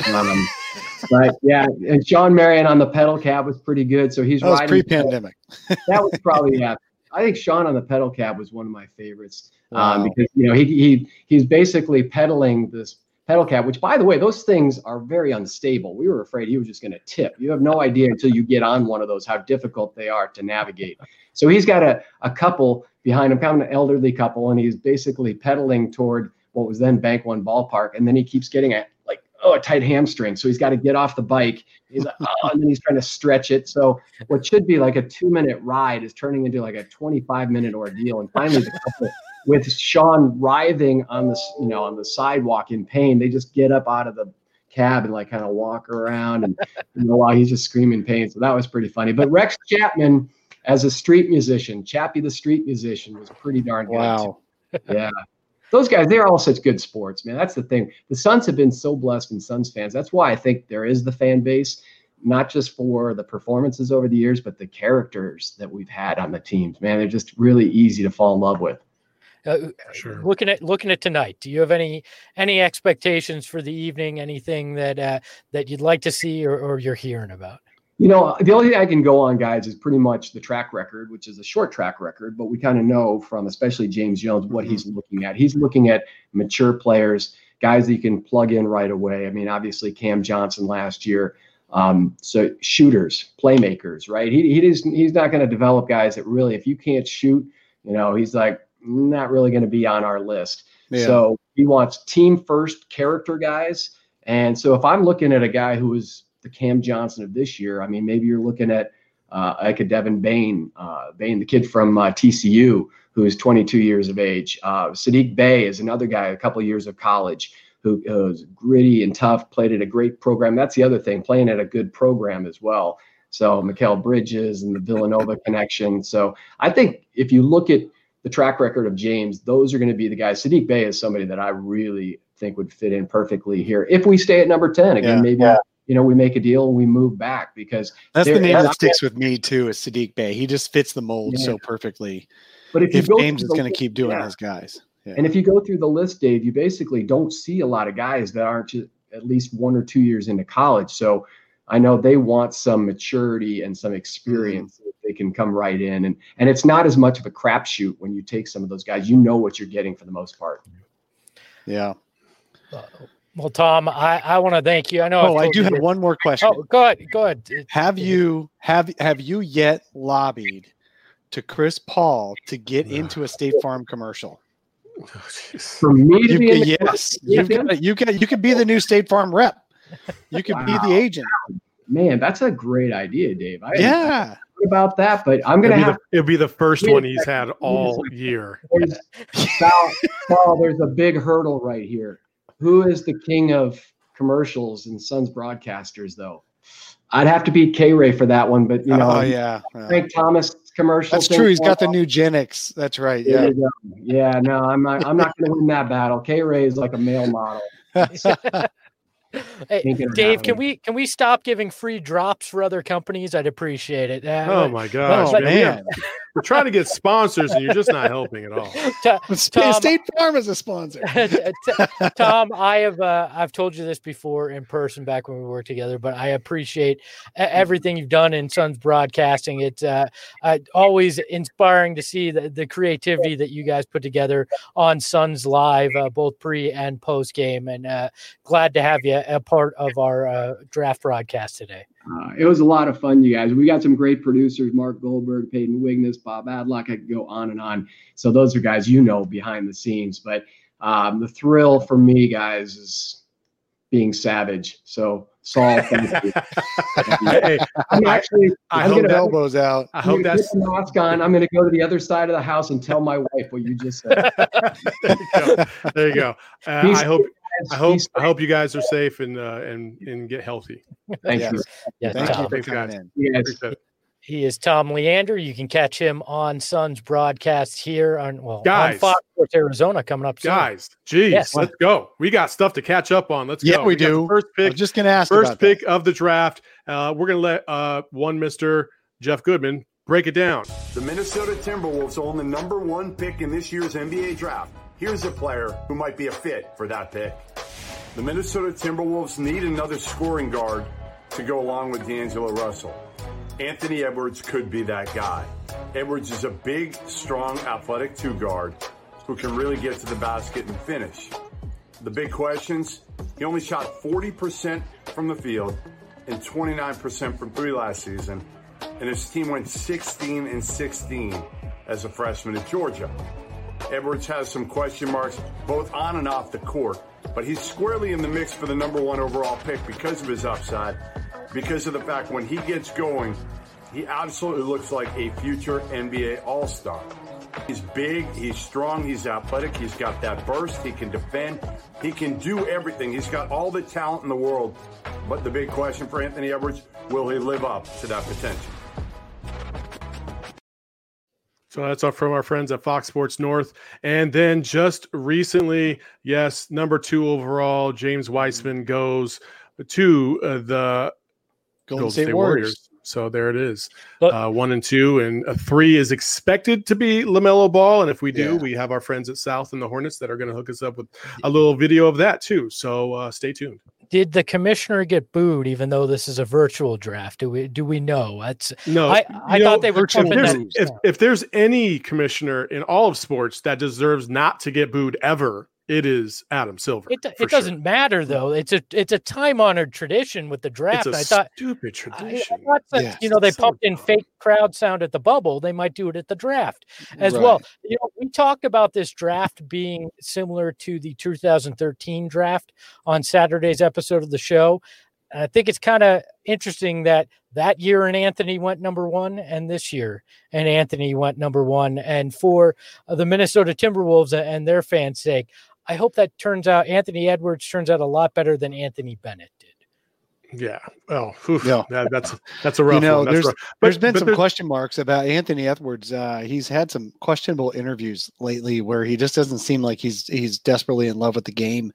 But yeah, and Sean Marion on the pedal cab was pretty good. So he's riding pre-pandemic. That was probably, yeah. I think Sean on the pedal cab was one of my favorites because he's basically pedaling this pedal cab, which, by the way, those things are very unstable. We were afraid he was just going to tip. You have no idea until you get on one of those how difficult they are to navigate. So he's got a couple behind him, kind of an elderly couple, and he's basically pedaling toward what was then Bank One Ballpark, and then he keeps getting a tight hamstring. So he's got to get off the bike. He's like, and then he's trying to stretch it. So what should be like a 2-minute ride is turning into like a 25-minute ordeal. And finally, the couple, with Sean writhing on the sidewalk in pain, they just get up out of the cab and like kind of walk around, and while he's just screaming pain. So that was pretty funny. But Rex Chapman, as a street musician, Chappie the street musician, was pretty darn good. Wow. Yeah. Those guys, they're all such good sports, man. That's the thing. The Suns have been so blessed in Suns fans. That's why I think there is the fan base, not just for the performances over the years, but the characters that we've had on the teams, man. They're just really easy to fall in love with. Sure. Looking at tonight, do you have any expectations for the evening? Anything that you'd like to see or you're hearing about? The only thing I can go on, guys, is pretty much the track record, which is a short track record, but we kind of know from especially James Jones what he's looking at. He's looking at mature players, guys that you can plug in right away. I mean, obviously Cam Johnson last year. So shooters, playmakers, right? He's not going to develop guys that really, if you can't shoot, he's like not really going to be on our list. Yeah. So he wants team first character guys. And so if I'm looking at a guy who is the Cam Johnson of this year, I mean, maybe you're looking at like a Devin Bain, the kid from TCU, who is 22 years of age. Sadiq Bey is another guy, a couple of years of college, who was gritty and tough, played at a great program. That's the other thing, playing at a good program as well. So Mikal Bridges and the Villanova connection. So I think if you look at the track record of James, those are going to be the guys. Sadiq Bey is somebody that I really think would fit in perfectly here. If we stay at number 10, again, we make a deal and we move back, because that's the name that sticks with me too, is Sadiq Bey. He just fits the mold so perfectly. But if James is going to keep doing his guys. Yeah. And if you go through the list, Dave, you basically don't see a lot of guys that aren't just at least 1 or 2 years into college. So I know they want some maturity and some experience that they can come right in. And it's not as much of a crapshoot when you take some of those guys. You know what you're getting for the most part. Yeah. Well, Tom, I want to thank you. I know. I do have one more question. Oh, go ahead. Have you yet lobbied to Chris Paul to get into a State Farm commercial? For me to be yes, you could be the new State Farm rep. You could be the agent. Man, that's a great idea, Dave. Yeah. About that, but I'm gonna have it'll be the first one he's had all year. Paul, there's a big hurdle right here. Who is the king of commercials and Suns broadcasters, though? I'd have to beat K-Ray for that one, but Frank Thomas commercial. That's true. He's got the new Gen X. That's right. Yeah. Yeah. No, I'm not going to win that battle. K-Ray is like a male model. Hey, Dave, can we stop giving free drops for other companies? I'd appreciate it. Oh my gosh, man. We're trying to get sponsors and you're just not helping at all. Tom, State Farm is a sponsor. Tom, I've told you this before in person back when we worked together, but I appreciate everything you've done in Suns broadcasting. It's always inspiring to see the creativity that you guys put together on Suns Live, both pre and post game, and glad to have you a part of our draft broadcast today. It was a lot of fun, you guys. We got some great producers, Mark Goldberg, Peyton Wignes, Bob Adlock. I could go on and on. So those are guys behind the scenes. But the thrill for me, guys, is being savage. So Saul, thank you. I'm going to elbows out. I hope that's the mask on. I'm going to go to the other side of the house and tell my wife what you just said. There you go. I hope you guys are safe and get healthy. Thank you. Yes, Thank Tom. you for Thanks, coming guys. in. Yes. Appreciate it. He is Tom Leander. You can catch him on Suns broadcast here on Guys. Fox Sports Arizona coming up soon. Guys, geez, Yes. let's go. We got stuff to catch up on. Let's Yeah, go. we got do. the first I pick. was just going to ask First about pick that. of the draft. We're going to let one Mr. Jeff Goodman break it down. The Minnesota Timberwolves own the number 1 pick in this year's NBA draft. Here's a player who might be a fit for that pick. The Minnesota Timberwolves need another scoring guard to go along with D'Angelo Russell. Anthony Edwards could be that guy. Edwards is a big, strong, athletic 2-guard who can really get to the basket and finish. The big questions, he only shot 40% from the field and 29% from 3 last season, and his team went 16-16 as a freshman at Georgia. Edwards has some question marks both on and off the court, but he's squarely in the mix for the number 1 overall pick because of his upside, because of the fact when he gets going, he absolutely looks like a future NBA All-Star. He's big, he's strong, he's athletic, he's got that burst, he can defend, he can do everything. He's got all the talent in the world, but the big question for Anthony Edwards, will he live up to that potential? So that's from our friends at Fox Sports North. And then just recently, yes, number 2 overall, James Weissman goes to the Golden State Warriors. So there it is. 1 and 2, and 3 is expected to be LaMelo Ball. And if we do, we have our friends at South and the Hornets that are going to hook us up with a little video of that too. So stay tuned. Did the commissioner get booed, even though this is a virtual draft? Do we know? No. I thought they were. If there's any commissioner in all of sports that deserves not to get booed ever, it is Adam Silver. It doesn't matter though. It's a time-honored tradition with the draft. It's a stupid tradition. I thought that, they pumped in fake crowd sound at the bubble. They might do it at the draft as well. We talked about this draft being similar to the 2013 draft on Saturday's episode of the show. And I think it's kind of interesting that year and Anthony went number 1 and this year and Anthony went number 1. And for the Minnesota Timberwolves and their fans' sake, I hope that Anthony Edwards turns out a lot better than Anthony Bennett did. Yeah. Well, that's a rough one. There's been some question marks about Anthony Edwards. He's had some questionable interviews lately where he just doesn't seem like he's desperately in love with the game.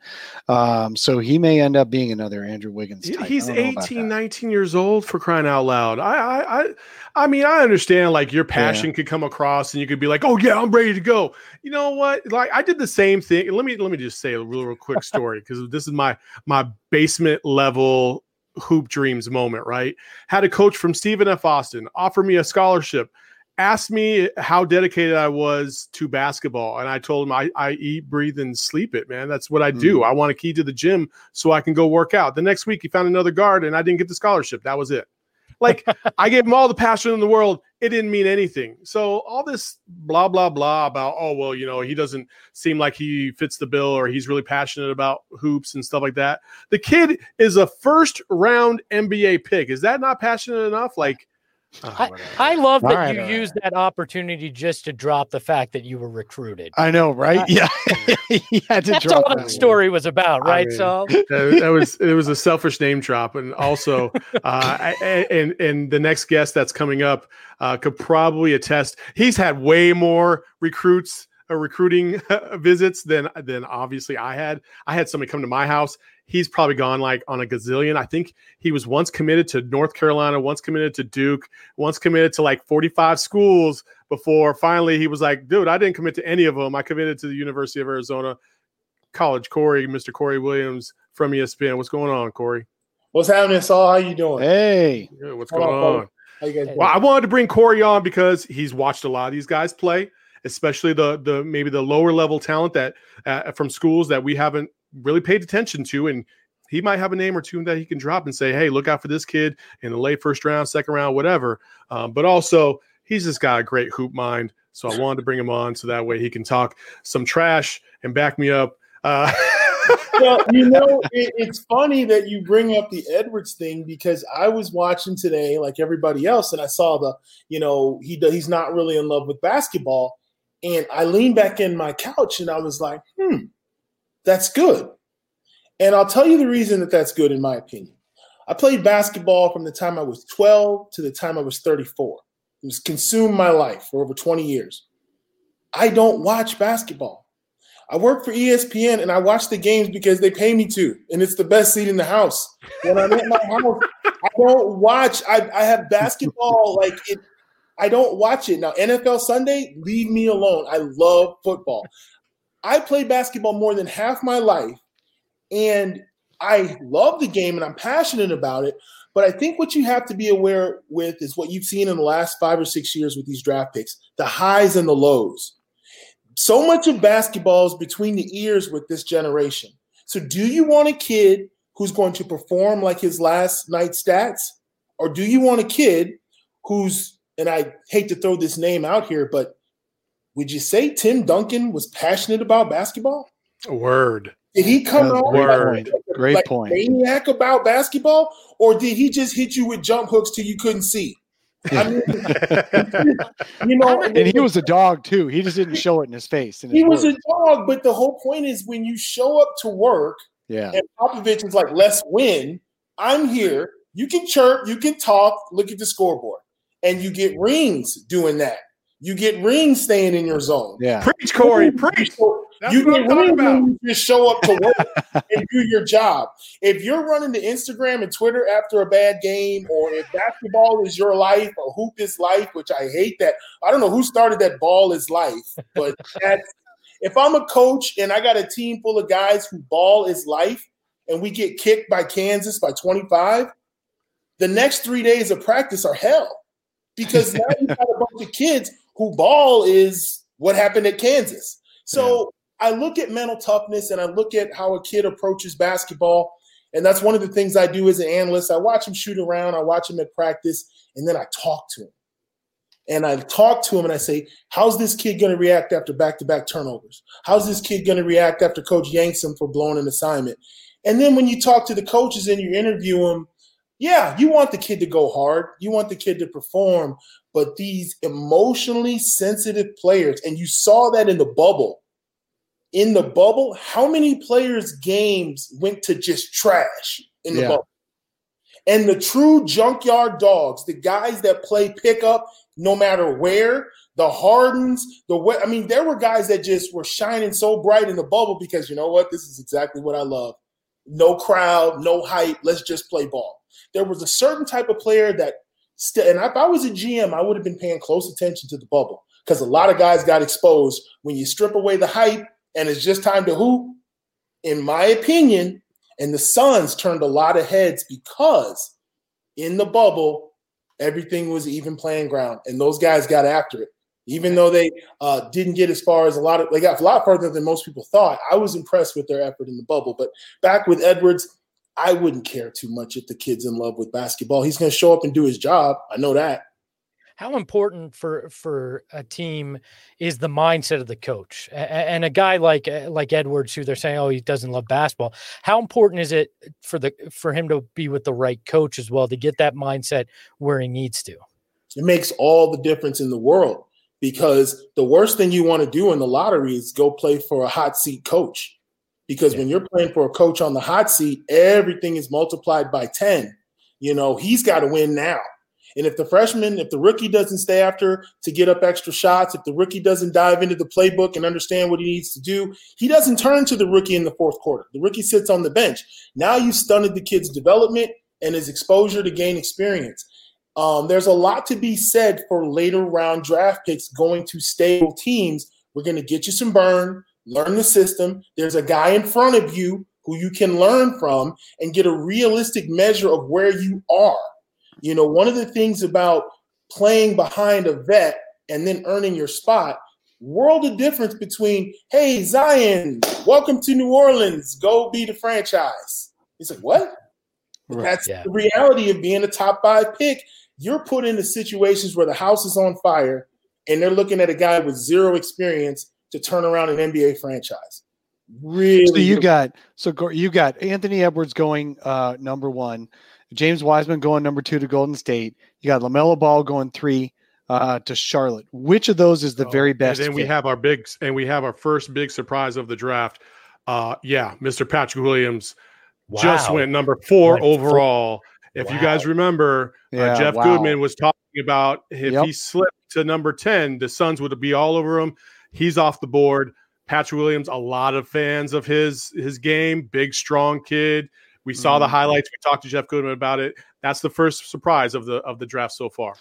So he may end up being another Andrew Wiggins type. He's 18, 19 years old, for crying out loud. I mean, I understand like your passion could come across and you could be like, oh yeah, I'm ready to go. You know what? Like I did the same thing. Let me just say a real quick story because this is my basement level hoop dreams moment, right? Had a coach from Stephen F. Austin offer me a scholarship, asked me how dedicated I was to basketball. And I told him I eat, breathe, and sleep it, man. That's what I do. I want a key to the gym so I can go work out. The next week he found another guard and I didn't get the scholarship. That was it. Like I gave him all the passion in the world. It didn't mean anything. So all this blah, blah, blah about, oh, well, he doesn't seem like he fits the bill or he's really passionate about hoops and stuff like that. The kid is a first round NBA pick. Is that not passionate enough? Like, I love that you used that opportunity just to drop the fact that you were recruited. I know, right? That's all that story was about, right? So it was a selfish name drop, and also, and the next guest that's coming up could probably attest. He's had way more recruiting visits than obviously I had. I had somebody come to my house. He's probably gone like on a gazillion. I think he was once committed to North Carolina, once committed to Duke, once committed to like 45 schools before finally he was like, dude, I didn't commit to any of them. I committed to the University of Arizona College. Mr. Corey Williams from ESPN. What's going on, Corey? What's happening, Saul? How you doing? Hey. Good. What's going on? How you guys doing? Well, I wanted to bring Corey on because he's watched a lot of these guys play, especially the maybe the lower level talent that from schools that we haven't really paid attention to, and he might have a name or two that he can drop and say, hey, look out for this kid in the late first round, second round, whatever. But also he's just got a great hoop mind. So I wanted to bring him on so that way he can talk some trash and back me up. Well, it's funny that you bring up the Edwards thing because I was watching today like everybody else, and I saw he's not really in love with basketball. And I leaned back in my couch and I was like, that's good. And I'll tell you the reason that that's good, in my opinion. I played basketball from the time I was 12 to the time I was 34. It was consumed my life for over 20 years. I don't watch basketball. I work for ESPN and I watch the games because they pay me to, and it's the best seat in the house. When I'm at my house, I don't watch. I have basketball I don't watch it. Now, NFL Sunday, leave me alone. I love football. I played basketball more than half my life, and I love the game and I'm passionate about it. But I think what you have to be aware with is what you've seen in the last 5 or 6 years with these draft picks, the highs and the lows. So much of basketball is between the ears with this generation. So do you want a kid who's going to perform like his last night's stats? Or do you want a kid who's, and I hate to throw this name out here, but would you say Tim Duncan was passionate about basketball? Word. Did he come out Great point. Maniac about basketball, or did he just hit you with jump hooks till you couldn't see? I mean, and he was a dog too. He just didn't show it in his face. He was a dog, but the whole point is when you show up to work, and Popovich is like, "Let's win." I'm here. You can chirp, you can talk, look at the scoreboard, and you get rings doing that. You get rings staying in your zone. Yeah, preach, Corey, preach. You get rings when you just show up to work and do your job. If you're running to Instagram and Twitter after a bad game, or if basketball is your life or hoop is life, which I hate that. I don't know who started that ball is life, but if I'm a coach and I got a team full of guys who ball is life and we get kicked by Kansas by 25, the next 3 days of practice are hell, because now you've got a bunch of kids who ball is what happened at Kansas. So I look at mental toughness and I look at how a kid approaches basketball. And that's one of the things I do as an analyst. I watch him shoot around. I watch him at practice, and then I talk to him. And I talk to him and I say, how's this kid going to react after back-to-back turnovers? How's this kid going to react after coach yanks him for blowing an assignment? And then when you talk to the coaches and you interview them, yeah, you want the kid to go hard. You want the kid to perform. But these emotionally sensitive players, and you saw that in the bubble. In the bubble, how many players' games went to just trash in the bubble? And the true junkyard dogs, the guys that play pickup no matter where, the Hardens, there were guys that just were shining so bright in the bubble because, you know what, this is exactly what I love. No crowd, no hype, let's just play ball. There was a certain type of player that, and if I was a GM, I would have been paying close attention to the bubble, because a lot of guys got exposed when you strip away the hype and it's just time to hoop, in my opinion. And the Suns turned a lot of heads because in the bubble, everything was even playing ground, and those guys got after it. Even though they didn't get as far as they got a lot further than most people thought. I was impressed with their effort in the bubble. But back with Edwards, I wouldn't care too much if the kid's in love with basketball. He's going to show up and do his job. I know that. How important for a team is the mindset of the coach, and a guy like Edwards, who they're saying, oh, he doesn't love basketball. How important is it for him to be with the right coach as well to get that mindset where he needs to? It makes all the difference in the world, because the worst thing you want to do in the lottery is go play for a hot seat coach, because when you're playing for a coach on the hot seat, everything is multiplied by 10. He's got to win now. And if the rookie doesn't stay after to get up extra shots, if the rookie doesn't dive into the playbook and understand what he needs to do, he doesn't turn to the rookie in the fourth quarter. The rookie sits on the bench. Now you stunted the kid's development and his exposure to gain experience. There's a lot to be said for later round draft picks going to stable teams. We're going to get you some burn, learn the system. There's a guy in front of you who you can learn from and get a realistic measure of where you are. One of the things about playing behind a vet and then earning your spot, world of difference between, hey, Zion, welcome to New Orleans, go be the franchise. It's like, what? Right. That's the reality of being a top 5 pick. You're put into situations where the house is on fire and they're looking at a guy with zero experience to turn around an NBA franchise. Really? So you got Anthony Edwards going number 1. James Wiseman going number 2 to Golden State. You got LaMelo Ball going 3 to Charlotte. Which of those is the very best? And then we have our first big surprise of the draft. Mr. Patrick Williams just went number 4 overall. If you guys remember, Jeff Goodman was talking about if he slipped to number 10, the Suns would be all over him. He's off the board. Patrick Williams, a lot of fans of his game, big, strong kid. We saw the highlights. We talked to Jeff Goodman about it. That's the first surprise of the draft so far.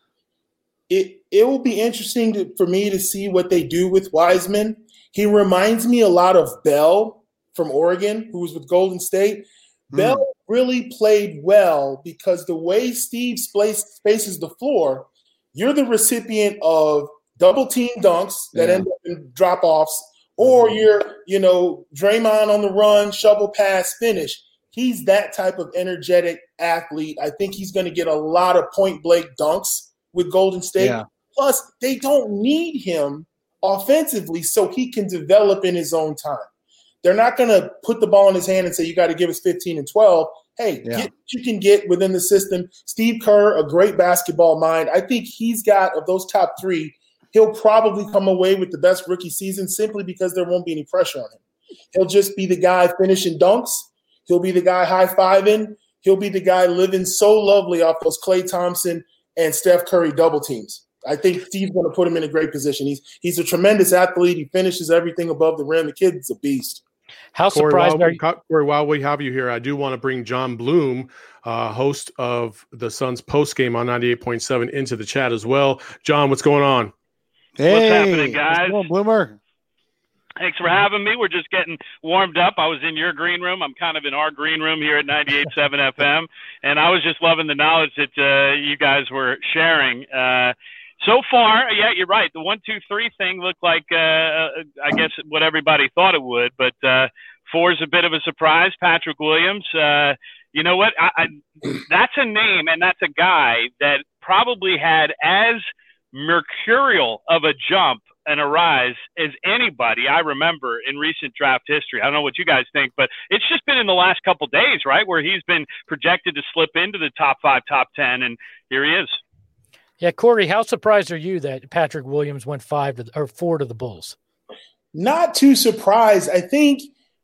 It will be interesting for me to see what they do with Wiseman. He reminds me a lot of Bell from Oregon, who was with Golden State. Bell really played well because the way Steve spaces the floor, you're the recipient of double-team dunks that end up in drop-offs, or you're, Draymond on the run, shovel pass, finish. He's that type of energetic athlete. I think he's going to get a lot of point-blank dunks with Golden State. Yeah. Plus, they don't need him offensively so he can develop in his own time. They're not going to put the ball in his hand and say, you got to give us 15 and 12. Hey, get what you can get within the system. Steve Kerr, a great basketball mind. I think he's got, of those top 3, he'll probably come away with the best rookie season simply because there won't be any pressure on him. He'll just be the guy finishing dunks. He'll be the guy high-fiving. He'll be the guy living so lovely off those Klay Thompson and Steph Curry double teams. I think Steve's going to put him in a great position. He's a tremendous athlete. He finishes everything above the rim. The kid's a beast. How surprised are you? Corey, while we have you here, I do want to bring John Bloom, host of the Suns postgame on 98.7, into the chat as well. John, what's going on? Hey, what's happening, guys? What's going on, Bloomer? Thanks for having me. We're just getting warmed up. I was in your green room. I'm kind of in our green room here at 98.7 FM, and I was just loving the knowledge that you guys were sharing. So far, yeah, you're right. The 1, 2, 3 thing looked like, I guess, what everybody thought it would, but 4 is a bit of a surprise. Patrick Williams, you know what? That's a name, and that's a guy that probably had as mercurial of a jump and a rise as anybody I remember in recent draft history. I don't know what you guys think, but it's just been in the last couple of days, right, where he's been projected to slip into the top 5, top 10, and here he is. Yeah, Corey, how surprised are you that Patrick Williams went 4 to the Bulls? Not too surprised. I think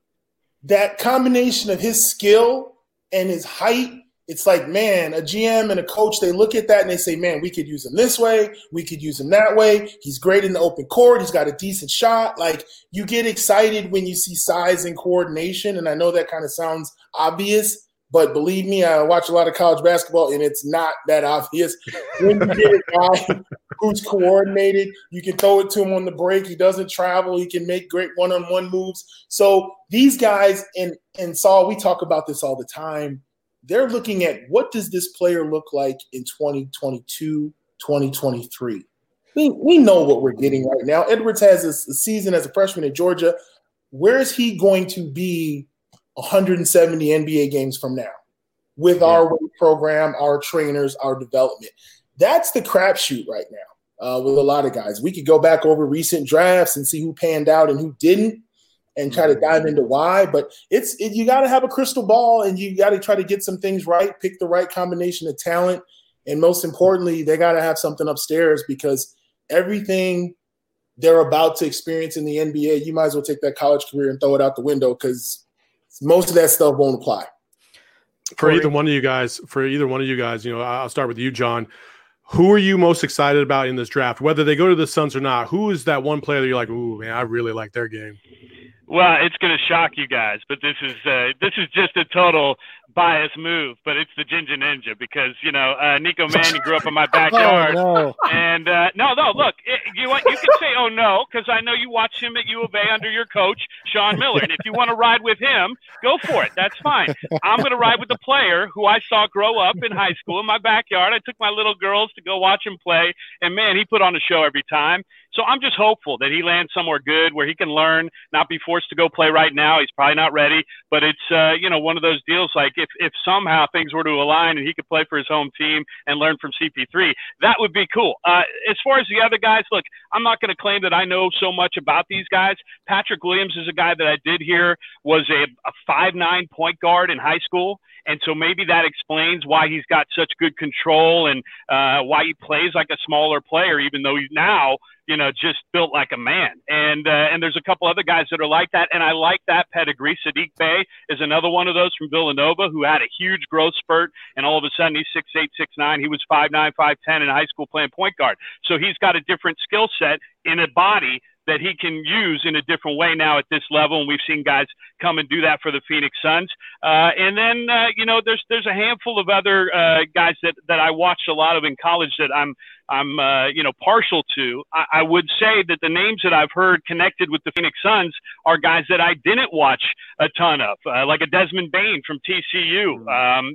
that combination of his skill and his height, it's like, man, a GM and a coach, they look at that and they say, man, we could use him this way. We could use him that way. He's great in the open court. He's got a decent shot. Like, you get excited when you see size and coordination. And I know that kind of sounds obvious, but believe me, I watch a lot of college basketball and it's not that obvious. When you get a guy who's coordinated, you can throw it to him on the break. He doesn't travel. He can make great one-on-one moves. So these guys, and Saul, we talk about this all the time. They're looking at what does this player look like in 2022, 2023. We know what we're getting right now. Edwards has a season as a freshman at Georgia. Where is he going to be 170 NBA games from now with our weight program, our trainers, our development? That's the crapshoot right now with a lot of guys. We could go back over recent drafts and see who panned out and who didn't, and try to dive into why. But you got to have a crystal ball, and you got to try to get some things right, pick the right combination of talent, and most importantly, they got to have something upstairs, because everything they're about to experience in the NBA, you might as well take that college career and throw it out the window, because most of that stuff won't apply. For either one of you guys, I'll start with you, John. Who are you most excited about in this draft? Whether they go to the Suns or not, who is that one player that you're like, ooh, man, I really like their game? Well, it's going to shock you guys, but this is just a total bias move, but it's the Ginger Ninja, because, Nico Mannion grew up in my backyard. Oh, no. And no, look, you can say, oh, no, because I know you watch him at U of A under your coach, Sean Miller. And if you want to ride with him, go for it. That's fine. I'm going to ride with the player who I saw grow up in high school in my backyard. I took my little girls to go watch him play, and, man, he put on a show every time. So I'm just hopeful that he lands somewhere good where he can learn, not be forced to go play right now. He's probably not ready, but it's, one of those deals like if somehow things were to align and he could play for his home team and learn from CP3, that would be cool. As far as the other guys, look, I'm not going to claim that I know so much about these guys. Patrick Williams is a guy that I did hear was a 5'9" point guard in high school. And so maybe that explains why he's got such good control and why he plays like a smaller player, even though he's now just built like a man. And there's a couple other guys that are like that. And I like that pedigree. Sadiq Bey is another one of those from Villanova who had a huge growth spurt. And all of a sudden he's 6'8", 6'9". He was 5'9", 5'10" in high school playing point guard. So he's got a different skill set in a body that he can use in a different way now at this level. And we've seen guys come and do that for the Phoenix Suns. And then, there's a handful of other guys that I watched a lot of in college that I'm partial to. I would say that the names that I've heard connected with the Phoenix Suns are guys that I didn't watch a ton of, like a Desmond Bane from TCU.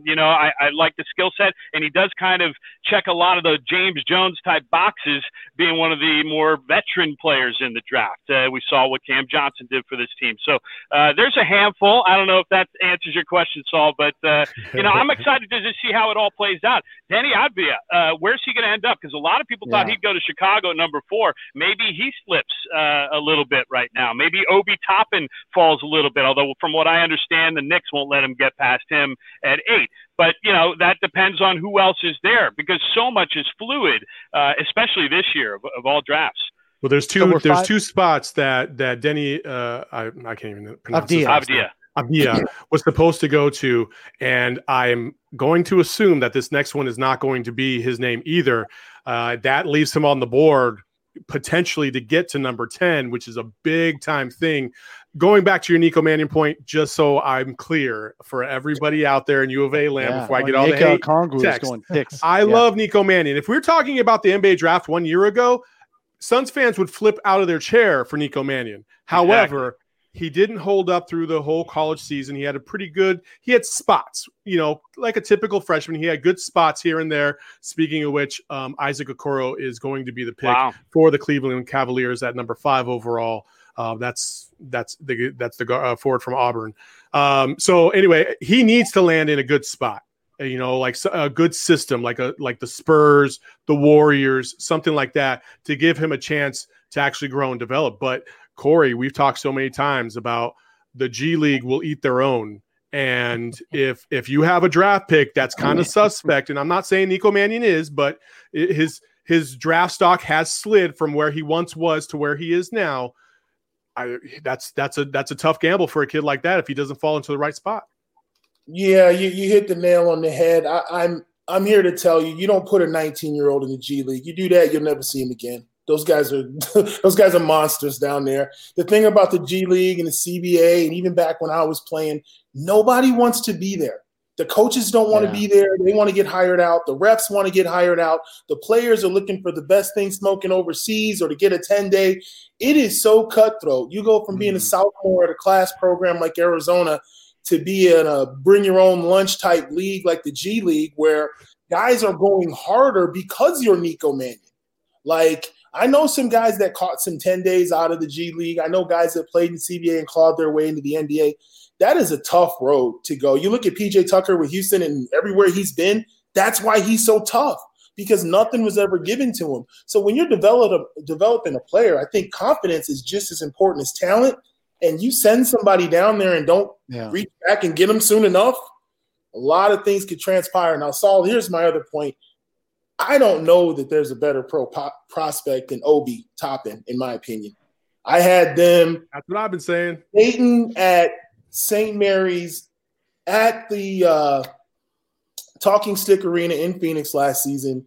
I like the skill set, and he does kind of check a lot of the James Jones type boxes, being one of the more veteran players in the draft. We saw what Cam Johnson did for this team. So there's a handful. I don't know if that answers your question, Saul, but I'm excited to just see how it all plays out. Deni Avdija, where's he going to end up? Because a lot of people thought he'd go to Chicago at number 4. Maybe he slips a little bit right now. Maybe Obi Toppin falls a little bit, although from what I understand, the Knicks won't let him get past him at 8. But, that depends on who else is there, because so much is fluid, especially this year of all drafts. Well, there's two spots that Deni, I can't even pronounce Avdija was supposed to go to, and I'm going to assume that this next one is not going to be his name either. That leaves him on the board potentially to get to number 10, which is a big time thing. Going back to your Nico Mannion point, just so I'm clear for everybody out there in U of A land, before I get all the hate text, I love Nico Mannion. If we're talking about the NBA draft 1 year ago, Suns fans would flip out of their chair for Nico Mannion. However, he didn't hold up through the whole college season. He had spots, like a typical freshman. He had good spots here and there. Speaking of which, Isaac Okoro is going to be the pick for the Cleveland Cavaliers at number 5 overall. That's the forward from Auburn. So anyway, he needs to land in a good spot. Like a good system, like the Spurs, the Warriors, something like that, to give him a chance to actually grow and develop. But Corey, we've talked so many times about the G League will eat their own. And if you have a draft pick that's kind of suspect, and I'm not saying Nico Mannion is, but his draft stock has slid from where he once was to where he is now. That's a tough gamble for a kid like that if he doesn't fall into the right spot. Yeah, you hit the nail on the head. I'm here to tell you, you don't put a 19-year-old in the G League. You do that, you'll never see him again. Those guys are monsters down there. The thing about the G League and the CBA, and even back when I was playing, nobody wants to be there. The coaches don't want to be there. They want to get hired out. The refs want to get hired out. The players are looking for the best thing smoking overseas or to get a 10-day. It is so cutthroat. You go from being a sophomore at a class program like Arizona to be in a bring-your-own-lunch type league like the G League, where guys are going harder because you're Nico Mannion. Like, I know some guys that caught some 10 days out of the G League. I know guys that played in CBA and clawed their way into the NBA. That is a tough road to go. You look at PJ Tucker with Houston and everywhere he's been, that's why he's so tough, because nothing was ever given to him. So when you're developing a player, I think confidence is just as important as talent. And you send somebody down there and don't reach back and get them soon enough, a lot of things could transpire. Now, Saul, here's my other point. I don't know that there's a better prospect than Obi Toppin, in my opinion. I had them. That's what I've been saying. Dayton at St. Mary's at the Talking Stick Arena in Phoenix last season.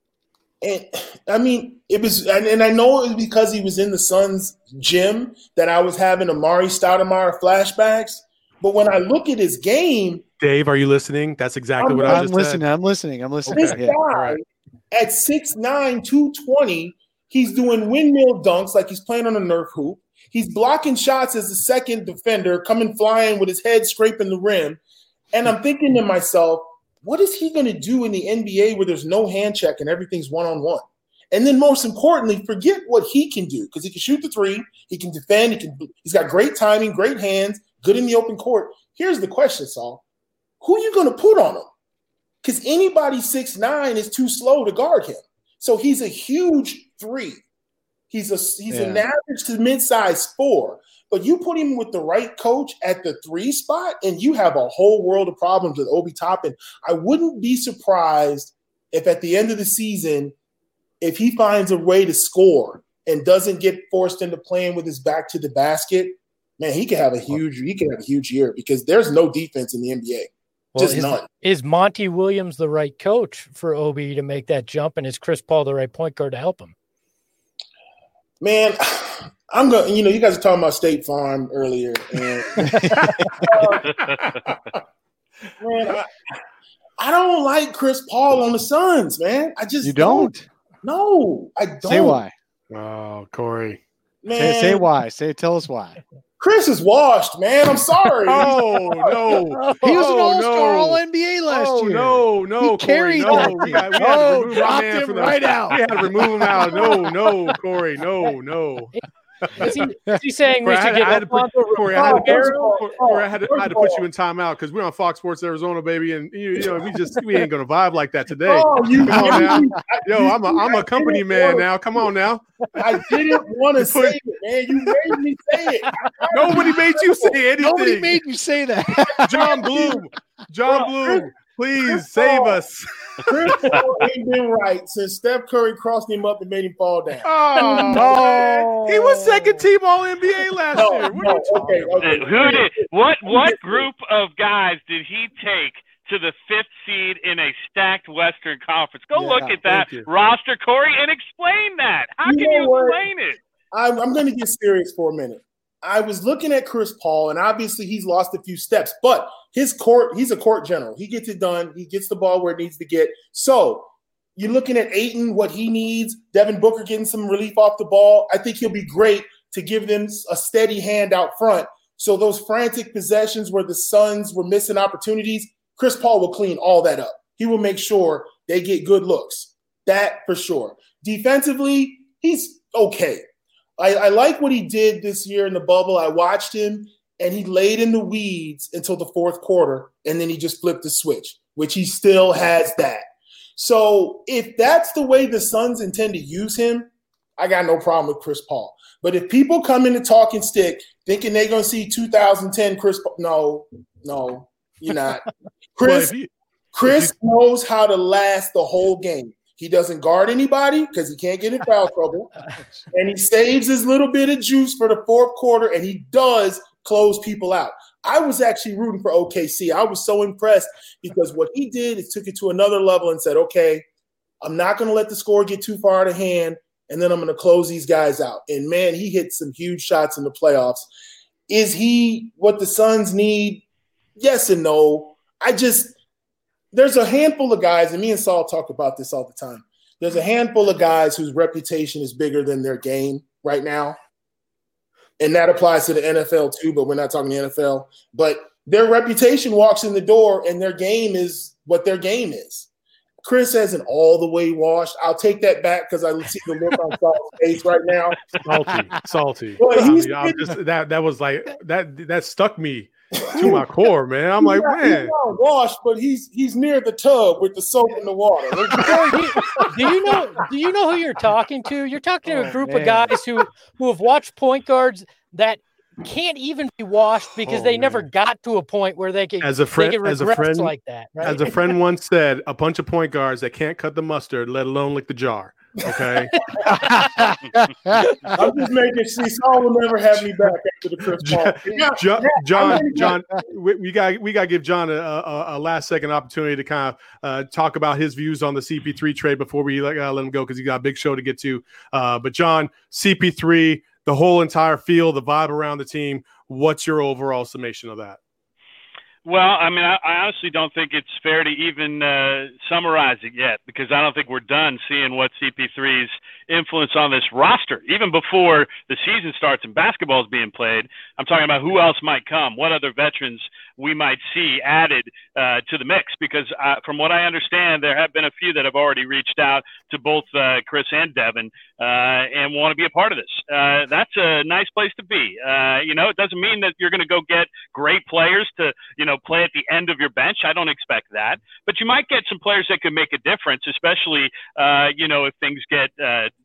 And I mean, it was, and I know it was because he was in the Suns gym that I was having Amari Stoudemire flashbacks. But when I look at his game, Dave, are you listening? That's exactly what I just said. I'm listening. This guy at 6'9", 220, he's doing windmill dunks like he's playing on a Nerf hoop. He's blocking shots as the second defender, coming flying with his head scraping the rim. And I'm thinking to myself, what is he going to do in the NBA where there's no hand check and everything's one-on-one? And then most importantly, forget what he can do, because he can shoot the three, he can defend, he's got great timing, great hands, good in the open court. Here's the question, Saul. Who are you going to put on him? Because anybody 6'9" is too slow to guard him. So he's a huge 3. He's an average to mid-size 4. But you put him with the right coach at the 3 spot, and you have a whole world of problems with Obi Toppin. I wouldn't be surprised if at the end of the season, if he finds a way to score and doesn't get forced into playing with his back to the basket, man, he could have a huge year because there's no defense in the NBA. Well, Just none. Is Monty Williams the right coach for Obi to make that jump, and is Chris Paul the right point guard to help him? Man, I'm going. You guys were talking about State Farm earlier, and man, I don't like Chris Paul on the Suns, man. I just don't. No, I don't. Say why. Oh, Corey. Man, say why. Tell us why. Chris is washed, man. I'm sorry. Oh no, he was an all-star, all-NBA last year. No, he carried Corey, that. We had to remove dropped my man him from right out. We had to remove him out. No, Corey, no. Is he saying we should get Corey, I had to put you in timeout because we're on Fox Sports Arizona, baby, and we ain't gonna vibe like that today. Come on now. Yo, I'm a company man now. Come on now. I didn't want to say it, man. You made me say it. Nobody made you say anything. Nobody made you say that. John Bloom, please save us. Chris Paul ain't been right since Steph Curry crossed him up and made him fall down. Oh, he was second team All NBA last year. What group of guys did he take to the 5th seed in a stacked Western Conference? Go look at that roster, Corey, and explain that. How can you explain it? I'm going to get serious for a minute. I was looking at Chris Paul, and obviously he's lost a few steps, but he's a court general. He gets it done. He gets the ball where it needs to get. So you're looking at Ayton, what he needs, Devin Booker getting some relief off the ball. I think he'll be great to give them a steady hand out front. So those frantic possessions where the Suns were missing opportunities, Chris Paul will clean all that up. He will make sure they get good looks. That for sure. Defensively, he's okay. I like what he did this year in the bubble. I watched him, and he laid in the weeds until the 4th quarter, and then he just flipped the switch, which he still has that. So if that's the way the Suns intend to use him, I got no problem with Chris Paul. But if people come in the talking stick thinking they're going to see 2010 Chris Paul, no, you're not. Chris knows how to last the whole game. He doesn't guard anybody because he can't get in foul trouble. And he saves his little bit of juice for the 4th quarter, and he does close people out. I was actually rooting for OKC. I was so impressed because what he did is took it to another level and said, okay, I'm not going to let the score get too far out of hand, and then I'm going to close these guys out. And, man, he hit some huge shots in the playoffs. Is he what the Suns need? Yes and no. There's a handful of guys, and me and Saul talk about this all the time. There's a handful of guys whose reputation is bigger than their game right now. And that applies to the NFL too, but we're not talking the NFL. But their reputation walks in the door, and their game is what their game is. Chris hasn't all the way washed. I'll take that back because I see the look on Saul's face right now. Salty. Well, that stuck me to my core, man. I'm like, man, he's not washed, but he's near the tub with the soap in the water. Do you know who you're talking to? You're talking to a group of guys who have watched point guards that can't even be washed because they never got to a point where they could regress like that. Right? As a friend once said, a bunch of point guards that can't cut the mustard, let alone lick the jar. Okay. I'm just making sure Saul will never have me back after the Chris Paul. John, we got to give John a last second opportunity to kind of talk about his views on the CP3 trade before we let him go because he got a big show to get to. But John, CP3, the whole entire feel, the vibe around the team. What's your overall summation of that? Well, I mean, I honestly don't think it's fair to even summarize it yet because I don't think we're done seeing what CP3's influence on this roster. Even before the season starts and basketball is being played, I'm talking about who else might come, what other veterans we might see added to the mix because from what I understand, there have been a few that have already reached out to both Chris and Devin and want to be a part of this. That's a nice place to be. It doesn't mean that you're going to go get great players to, play at the end of your bench. I don't expect that. But you might get some players that could make a difference, especially, if things get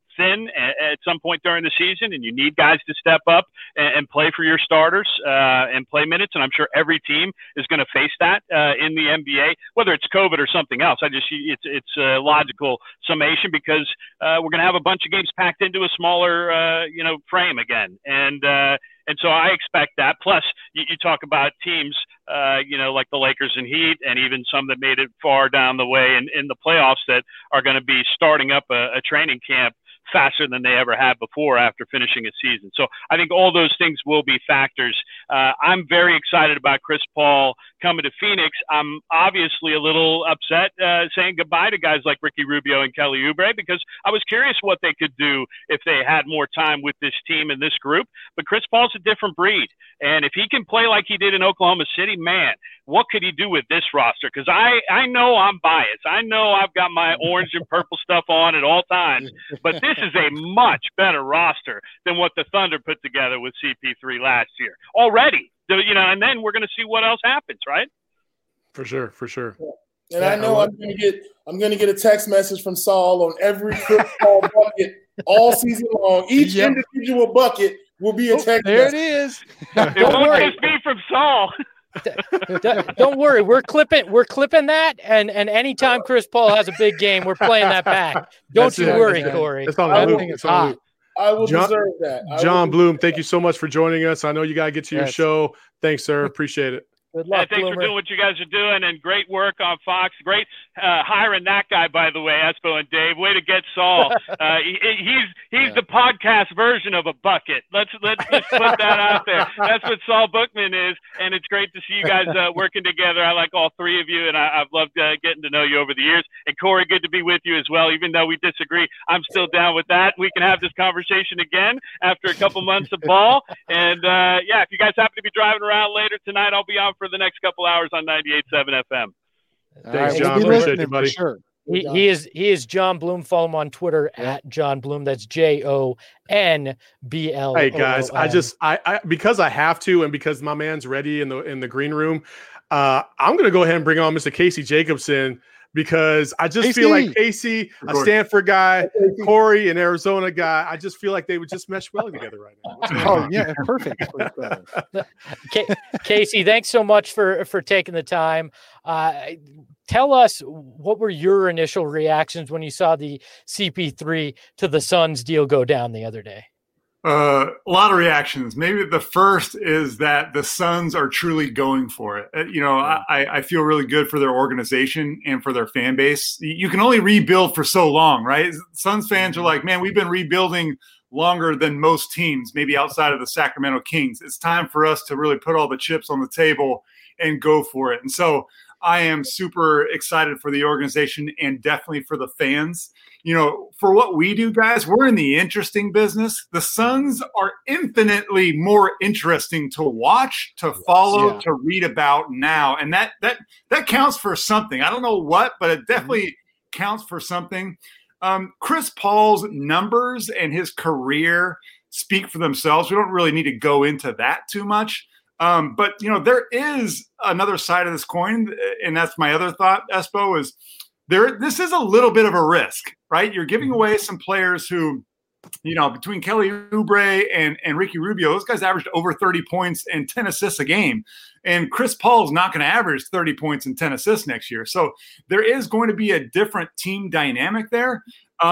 thin at some point during the season, and you need guys to step up and play for your starters and play minutes. And I'm sure every team is going to face that in the NBA, whether it's COVID or something else. It's a logical summation because we're going to have a bunch of games packed into a smaller frame again, and so I expect that. Plus, you talk about teams, like the Lakers and Heat, and even some that made it far down the way in the playoffs that are going to be starting up a training camp faster than they ever had before after finishing a season. So I think all those things will be factors. I'm very excited about Chris Paul coming to Phoenix. I'm obviously a little upset saying goodbye to guys like Ricky Rubio and Kelly Oubre because I was curious what they could do if they had more time with this team and this group. But Chris Paul's a different breed. And if he can play like he did in Oklahoma City, man, what could he do with this roster? Because I know I'm biased. I know I've got my orange and purple stuff on at all times, but this is a much better roster than what the Thunder put together with CP3 last year already. And then we're going to see what else happens, right? For sure. And I know I'm going to get a text message from Saul on every Chris Paul bucket all season long. Each individual bucket will be a text there message. It is. It won't just be from Saul. Don't worry, we're clipping that, and anytime Chris Paul has a big game, we're playing that back. Don't you worry, Corey. It's on the loop. I will deserve that. John Bloom, thank you so much for joining us. I know you got to get to your show. Thanks, sir. Appreciate it. Good luck, thanks for doing what you guys are doing, and great work on Fox. Great hiring that guy, by the way, Espo and Dave. Way to get Saul. He's the podcast version of a bucket. Let's just put that out there. That's what Saul Bookman is, and it's great to see you guys working together. I like all three of you, and I've loved getting to know you over the years. And Corey, good to be with you as well. Even though we disagree, I'm still down with that. We can have this conversation again after a couple months of ball. And if you guys happen to be driving around later tonight, I'll be on for the next couple hours on 98.7 FM. Thanks, John. Appreciate you, buddy. Sure. He is John Bloom. Follow him on Twitter at John Bloom. That's JONBL. Hey guys, I because I have to, and because my man's ready in the green room, I'm going to go ahead and bring on Mr. Casey Jacobson because I just feel like Casey, a Stanford guy, Corey, an Arizona guy, I just feel like they would just mesh well together right now. Oh yeah, perfect. Casey, thanks so much for taking the time. Tell us, what were your initial reactions when you saw the CP3 to the Suns deal go down the other day? A lot of reactions. Maybe the first is that the Suns are truly going for it. I feel really good for their organization and for their fan base. You can only rebuild for so long, right? Suns fans are like, man, we've been rebuilding longer than most teams, maybe outside of the Sacramento Kings. It's time for us to really put all the chips on the table and go for it. And so I am super excited for the organization and definitely for the fans. For what we do, guys, we're in the interesting business. The Suns are infinitely more interesting to watch, to follow, to read about now. And that counts for something. I don't know what, but it definitely counts for something. Chris Paul's numbers and his career speak for themselves. We don't really need to go into that too much. But there is another side of this coin, and that's my other thought, Espo, is this is a little bit of a risk, right? You're giving away some players who, between Kelly Oubre and Ricky Rubio, those guys averaged over 30 points and 10 assists a game. And Chris Paul is not going to average 30 points and 10 assists next year. So there is going to be a different team dynamic there.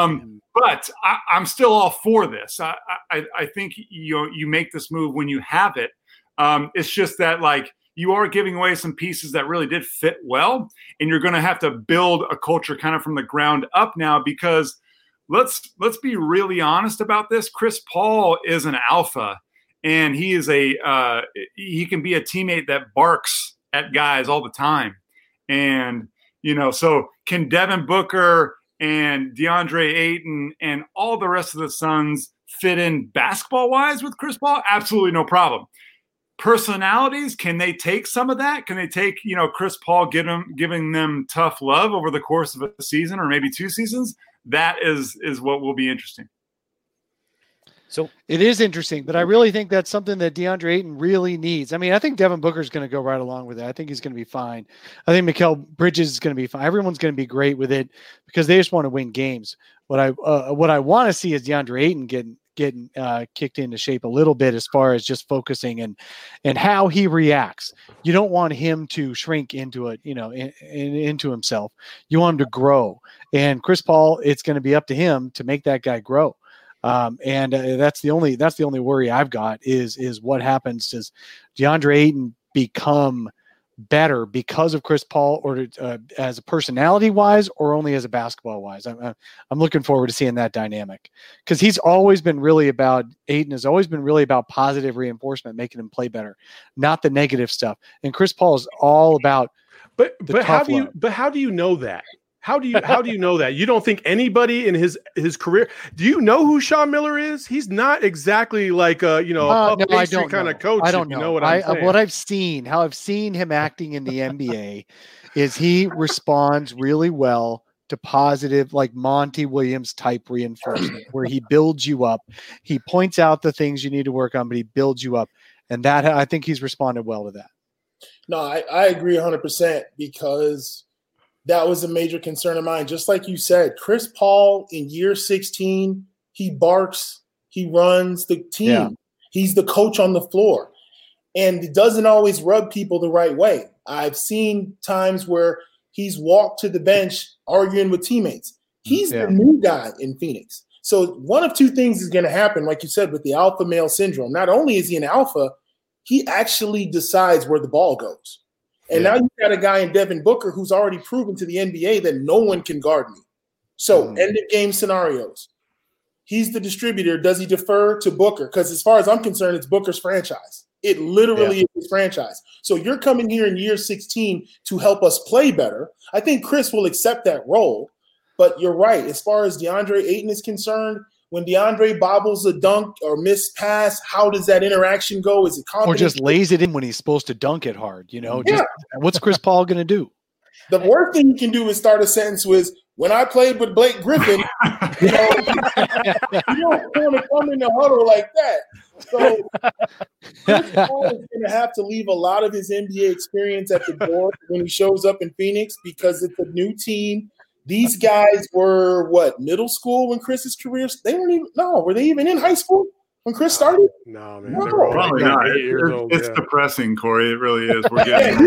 But I'm still all for this. I think you make this move when you have it. It's just that, you are giving away some pieces that really did fit well, and you're going to have to build a culture kind of from the ground up now, because let's be really honest about this. Chris Paul is an alpha, and he is he can be a teammate that barks at guys all the time. And, so can Devin Booker and DeAndre Ayton and all the rest of the Suns fit in basketball-wise with Chris Paul? Absolutely no problem. Personalities, can they take some of that? Can they take, Chris Paul giving them tough love over the course of a season or maybe two seasons? That is what will be interesting. So it is interesting, but I really think that's something that DeAndre Ayton really needs. I mean, I think Devin Booker is going to go right along with it. I think he's going to be fine. I think Mikal Bridges is going to be fine. Everyone's going to be great with it because they just want to win games. What I want to see is DeAndre Ayton getting kicked into shape a little bit as far as just focusing and how he reacts. You don't want him to shrink into it, into himself. You want him to grow. And Chris Paul, it's going to be up to him to make that guy grow. That's the only worry I've got is what happens. Does DeAndre Ayton become better because of Chris Paul, or as a personality wise, or only as a basketball wise? I'm looking forward to seeing that dynamic, because Ayton has always been really about positive reinforcement, making him play better, not the negative stuff. And Chris Paul is all about. But how do you know that? How do you know that? You don't think anybody in his career? Do you know who Sean Miller is? He's not exactly like a pastry kind of coach. I don't know. You know what I'm saying? What I've seen him acting in the NBA is he responds really well to positive, like Monty Williams type reinforcement, where he builds you up. He points out the things you need to work on, but he builds you up, and that I think he's responded well to that. No, I agree 100% because that was a major concern of mine. Just like you said, Chris Paul in year 16, he barks, he runs the team. Yeah. He's the coach on the floor. And it doesn't always rub people the right way. I've seen times where he's walked to the bench arguing with teammates. He's the new guy in Phoenix. So one of two things is going to happen, like you said, with the alpha male syndrome. Not only is he an alpha, he actually decides where the ball goes. And now you've got a guy in Devin Booker who's already proven to the NBA that no one can guard me. So end of game scenarios. He's the distributor. Does he defer to Booker? Because as far as I'm concerned, it's Booker's franchise. It literally is his franchise. So you're coming here in year 16 to help us play better. I think Chris will accept that role. But you're right. As far as DeAndre Ayton is concerned, when DeAndre bobbles a dunk or missed pass, how does that interaction go? Is it confident? Or just lays it in when he's supposed to dunk it hard? Just what's Chris Paul going to do? The worst thing you can do is start a sentence with, when I played with Blake Griffin, you don't want to come in the huddle like that. So Chris Paul is going to have to leave a lot of his NBA experience at the door when he shows up in Phoenix, because it's a new team. These guys were middle school when Chris's career? Were they even in high school when Chris started? No, man. No. Probably not. It's depressing, Corey. It really is. We're getting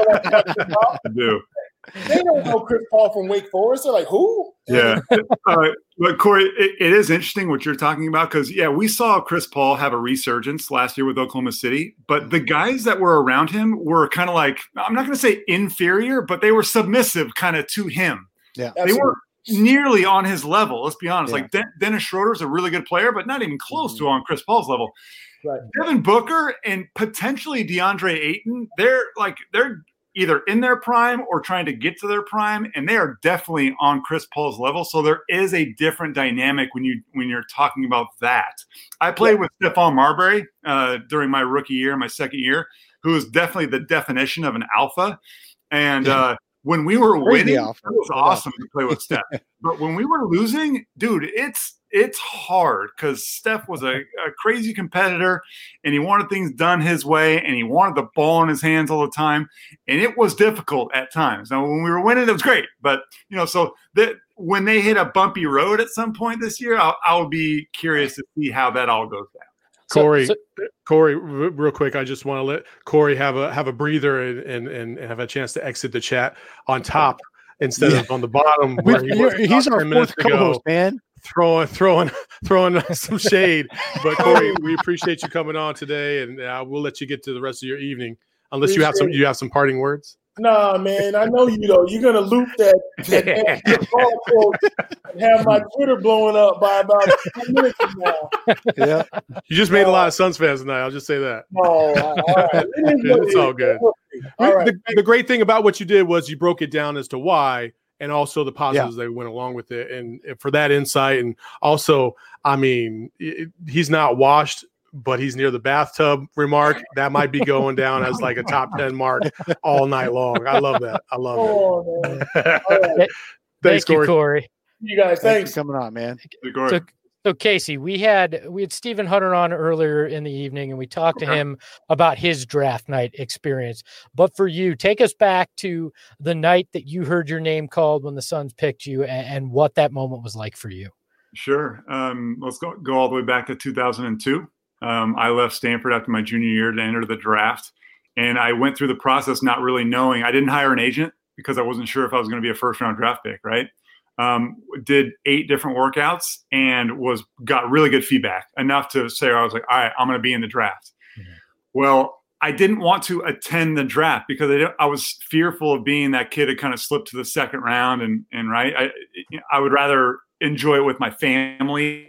They don't know Chris Paul from Wake Forest. They're like, who? Yeah. But Corey, it is interesting what you're talking about, because we saw Chris Paul have a resurgence last year with Oklahoma City, but the guys that were around him were kind of like, I'm not going to say inferior, but they were submissive kind of to him. Yeah, they weren't nearly on his level. Let's be honest. Like Dennis Schroeder's a really good player, but not even close to on Chris Paul's level. Right. Devin Booker and potentially DeAndre Ayton, they're either in their prime or trying to get to their prime, and they are definitely on Chris Paul's level. So there is a different dynamic when you're talking about that. I played with Stephon Marbury during my rookie year, my second year, who is definitely the definition of an alpha, and. When we were winning, it was awesome to play with Steph. But when we were losing, dude, it's hard, because Steph was a crazy competitor, and he wanted things done his way, and he wanted the ball in his hands all the time, and it was difficult at times. Now, when we were winning, it was great. But, so when they hit a bumpy road at some point this year, I'll be curious to see how that all goes down. Corey, real quick, I just want to let Corey have a breather and have a chance to exit the chat on top instead of on the bottom. Where he's our fourth co-host, man. Throwing some shade. But Corey, we appreciate you coming on today, and we'll let you get to the rest of your evening, unless you have some parting words. Nah, man, I know you though. You're gonna loop that and have my Twitter blowing up by about 10 minutes from now. Yeah, you just made a lot of Suns fans tonight. I'll just say that. Oh, all right. It's all good. All right. The great thing about what you did was you broke it down as to why, and also the positives that went along with it, and for that insight. And also, I mean, he's not washed, but he's near the bathtub remark. That might be going down as like a top 10 mark all night long. I love that. I love it. Man. Thanks, Thank you, Corey. You guys, thanks for coming on, man. So So Casey, we had Stephen Hunter on earlier in the evening, and we talked to him about his draft night experience. But for you, take us back to the night that you heard your name called when the Suns picked you, and what that moment was like for you. Sure. Let's go all the way back to 2002. I left Stanford after my junior year to enter the draft, and I went through the process not really knowing. I didn't hire an agent because I wasn't sure if I was going to be a first-round draft pick, right? Did 8 different workouts and got really good feedback, enough to say, I was like, all right, I'm going to be in the draft. Mm-hmm. Well, I didn't want to attend the draft because I was fearful of being that kid that kind of slipped to the second round. And right. I would rather enjoy it with my family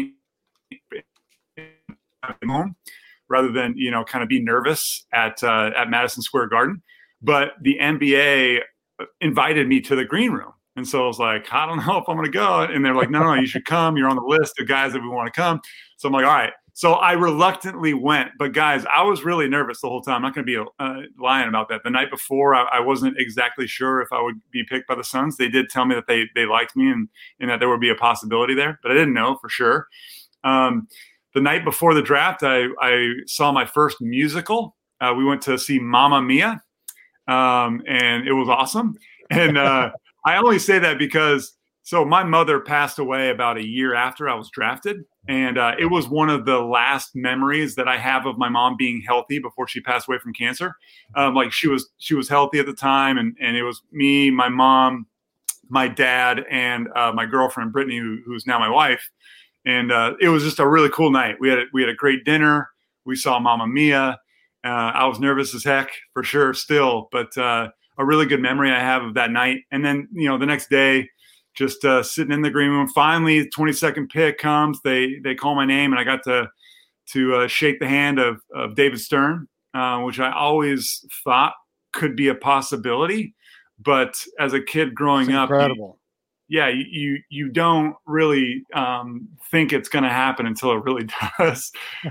home rather than, kind of be nervous at Madison Square Garden. But the NBA invited me to the green room. And so I was like, I don't know if I'm going to go. And they're like, no, you should come. You're on the list of guys that we want to come. So I'm like, all right. So I reluctantly went. But guys, I was really nervous the whole time. I'm not going to be lying about that. The night before, I wasn't exactly sure if I would be picked by the Suns. They did tell me that they liked me and that there would be a possibility there. But I didn't know for sure. The night before the draft, I saw my first musical. We went to see Mamma Mia. And it was awesome. And I only say that because my mother passed away about a year after I was drafted. And it was one of the last memories that I have of my mom being healthy before she passed away from cancer. Like she was healthy at the time. And it was me, my mom, my dad, and my girlfriend, Brittany, who's now my wife. And it was just a really cool night. We had a great dinner. We saw Mamma Mia. I was nervous as heck for sure still, but a really good memory I have of that night. And then, the next day, just sitting in the green room, finally 22nd pick comes, they call my name, and I got to shake the hand of David Stern, which I always thought could be a possibility. But as a kid growing up, you don't really think it's going to happen until it really does.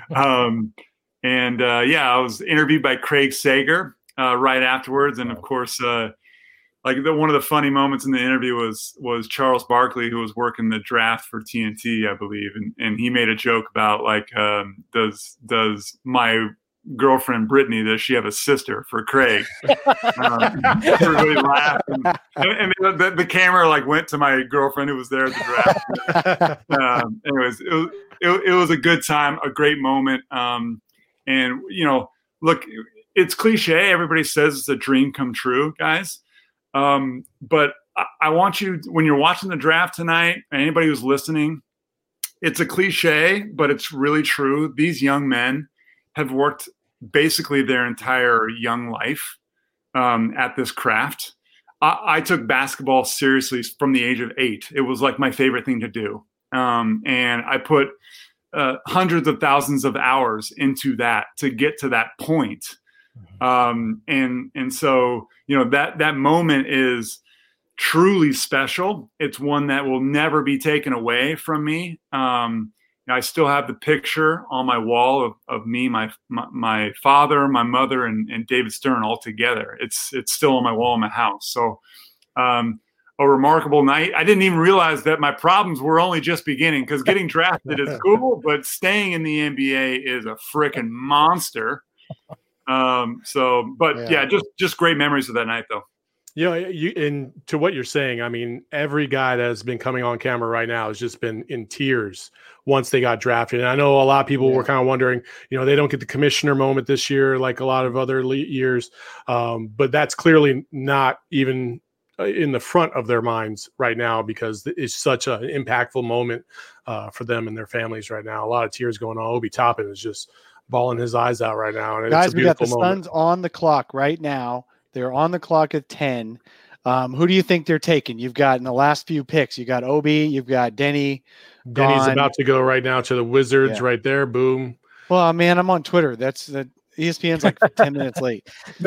I was interviewed by Craig Sager right afterwards. And of course, one of the funny moments in the interview was Charles Barkley, who was working the draft for TNT, I believe. And he made a joke about does my girlfriend Brittany, does she have a sister for Craig? Everybody laughed. And the camera went to my girlfriend who was there at the draft. Anyways, it was a good time, a great moment. And, look, it's cliche. Everybody says it's a dream come true, guys. But I want you, when you're watching the draft tonight, anybody who's listening, it's a cliche, but it's really true. These young men have worked basically their entire young life at this craft. I took basketball seriously from the age of 8. It was like my favorite thing to do. And I put hundreds of thousands of hours into that to get to that point. And so, that moment is truly special. It's one that will never be taken away from me. I still have the picture on my wall of me, my father, my mother, and David Stern all together. It's still on my wall in my house. So, a remarkable night. I didn't even realize that my problems were only just beginning, because getting drafted is cool, but staying in the NBA is a freaking monster. Just great memories of that night, though. And to what you're saying, I mean, every guy that has been coming on camera right now has just been in tears once they got drafted. And I know a lot of people were kind of wondering, they don't get the commissioner moment this year like a lot of other years, but that's clearly not even in the front of their minds right now, because it's such an impactful moment for them and their families right now. A lot of tears going on. Obi Toppin is just bawling his eyes out right now. And guys, it's a we got the moment. Suns on the clock right now. They're on the clock at 10. Who do you think they're taking? You've got in the last few picks, you got Obi, you've got Denny. Denny's about to go right now to the Wizards right there. Boom. Well, man, I'm on Twitter. That's the ESPN's like 10 minutes late.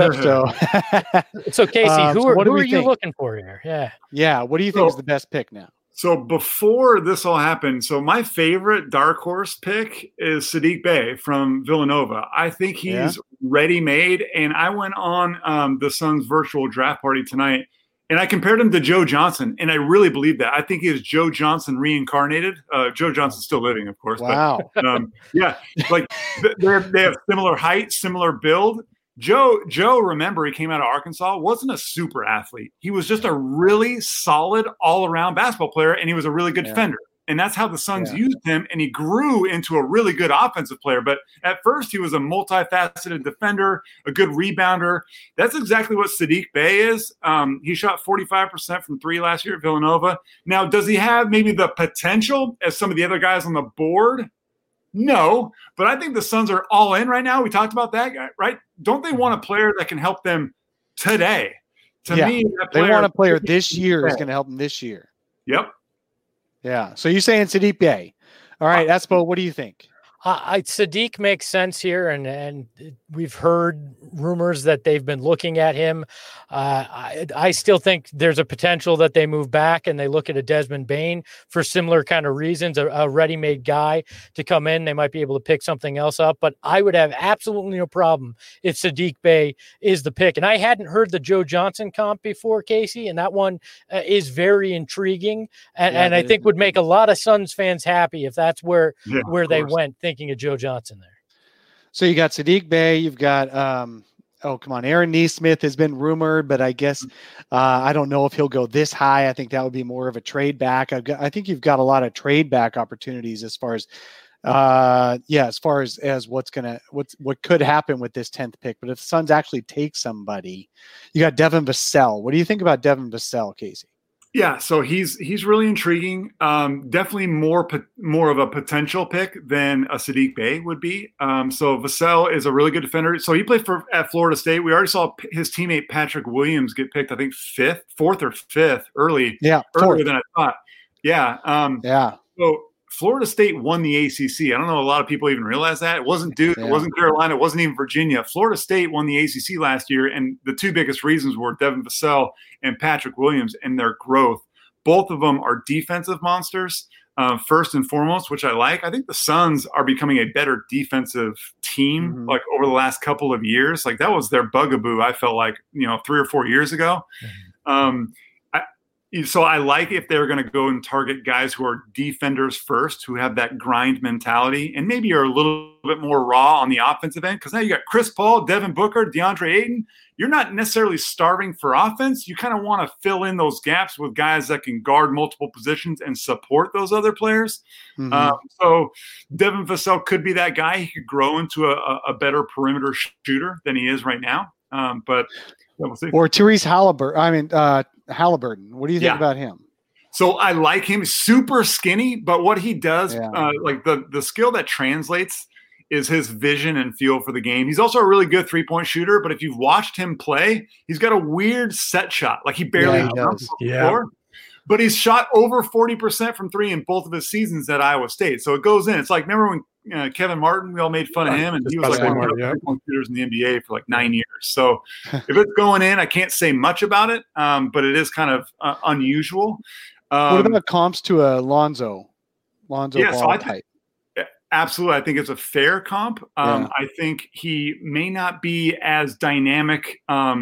So Casey, who are you looking for here? Yeah. What do you think is the best pick now? So before this all happened, my favorite dark horse pick is Sadiq Bey from Villanova. I think he's ready-made, and I went on the Suns virtual draft party tonight, And I compared him to Joe Johnson, and I really believe that. I think he is Joe Johnson reincarnated. Joe Johnson's still living, of course. Wow. But, yeah, like they have similar height, similar build. Joe, remember, he came out of Arkansas, wasn't a super athlete. He was just a really solid all-around basketball player, and he was a really good defender. And that's how the Suns used him, and he grew into a really good offensive player. But at first, he was a multifaceted defender, a good rebounder. That's exactly what Saddiq Bey is. He shot 45% from three last year at Villanova. Now, does he have maybe the potential as some of the other guys on the board? No, but I think the Suns are all in right now. We talked about that guy, right? Don't they want a player that can help them today? To me, they want a player this year is going to help them this year. Yep. Yeah. So you're saying Saddiq Bey. All right, Espo, what do you think? Saddiq makes sense here, and we've heard rumors that they've been looking at him. I still think there's a potential that they move back and they look at a Desmond Bane for similar kind of reasons, a ready-made guy to come in. They might be able to pick something else up, but I would have absolutely no problem if Saddiq Bey is the pick. And I hadn't heard the Joe Johnson comp before, Casey, and that one is very intriguing, and I think would make a lot of Suns fans happy if that's where they went, thinking of Joe Johnson there. So you got Saddiq Bey, you've got Aaron Nesmith has been rumored, but I guess I don't know if he'll go this high. I think that would be more of a trade back. I think you've got a lot of trade back opportunities as far as what could happen with this 10th pick. But if the Suns actually take somebody, you got Devin Vassell. What do you think about Devin Vassell, Casey? Yeah, so he's really intriguing. Definitely more of a potential pick than a Saddiq Bey would be. So Vassell is a really good defender. So he played at Florida State. We already saw his teammate Patrick Williams get picked, I think fourth or fifth earlier than I thought. Yeah. So Florida State won the ACC. I don't know a lot of people even realize that. It wasn't Duke. It wasn't Carolina. It wasn't even Virginia. Florida State won the ACC last year, and the two biggest reasons were Devin Vassell and Patrick Williams and their growth. Both of them are defensive monsters, first and foremost, which I like. I think the Suns are becoming a better defensive team, like over the last couple of years. Like that was their bugaboo, I felt like, 3 or 4 years ago. So I like if they're going to go and target guys who are defenders first, who have that grind mentality, and maybe are a little bit more raw on the offensive end. Because now you got Chris Paul, Devin Booker, DeAndre Ayton. You're not necessarily starving for offense. You kind of want to fill in those gaps with guys that can guard multiple positions and support those other players. So Devin Vassell could be that guy. He could grow into a better perimeter shooter than he is right now. But we'll see. Or Tyrese Halliburton. What do you think about him? So I like him. Super skinny, but what he does, like the skill that translates is his vision and feel for the game. He's also a really good three-point shooter, but if you've watched him play, he's got a weird set shot. Like he barely jumps on the floor. But he's shot over 40% from three in both of his seasons at Iowa State. So it goes in. It's like, remember when Kevin Martin, we all made fun of him, and he was like one of the three-point shooters in the NBA for like 9 years. So if it's going in, I can't say much about it, but it is kind of unusual. What about comps to a Lonzo Ball type? Absolutely. I think it's a fair comp. I think he may not be as dynamic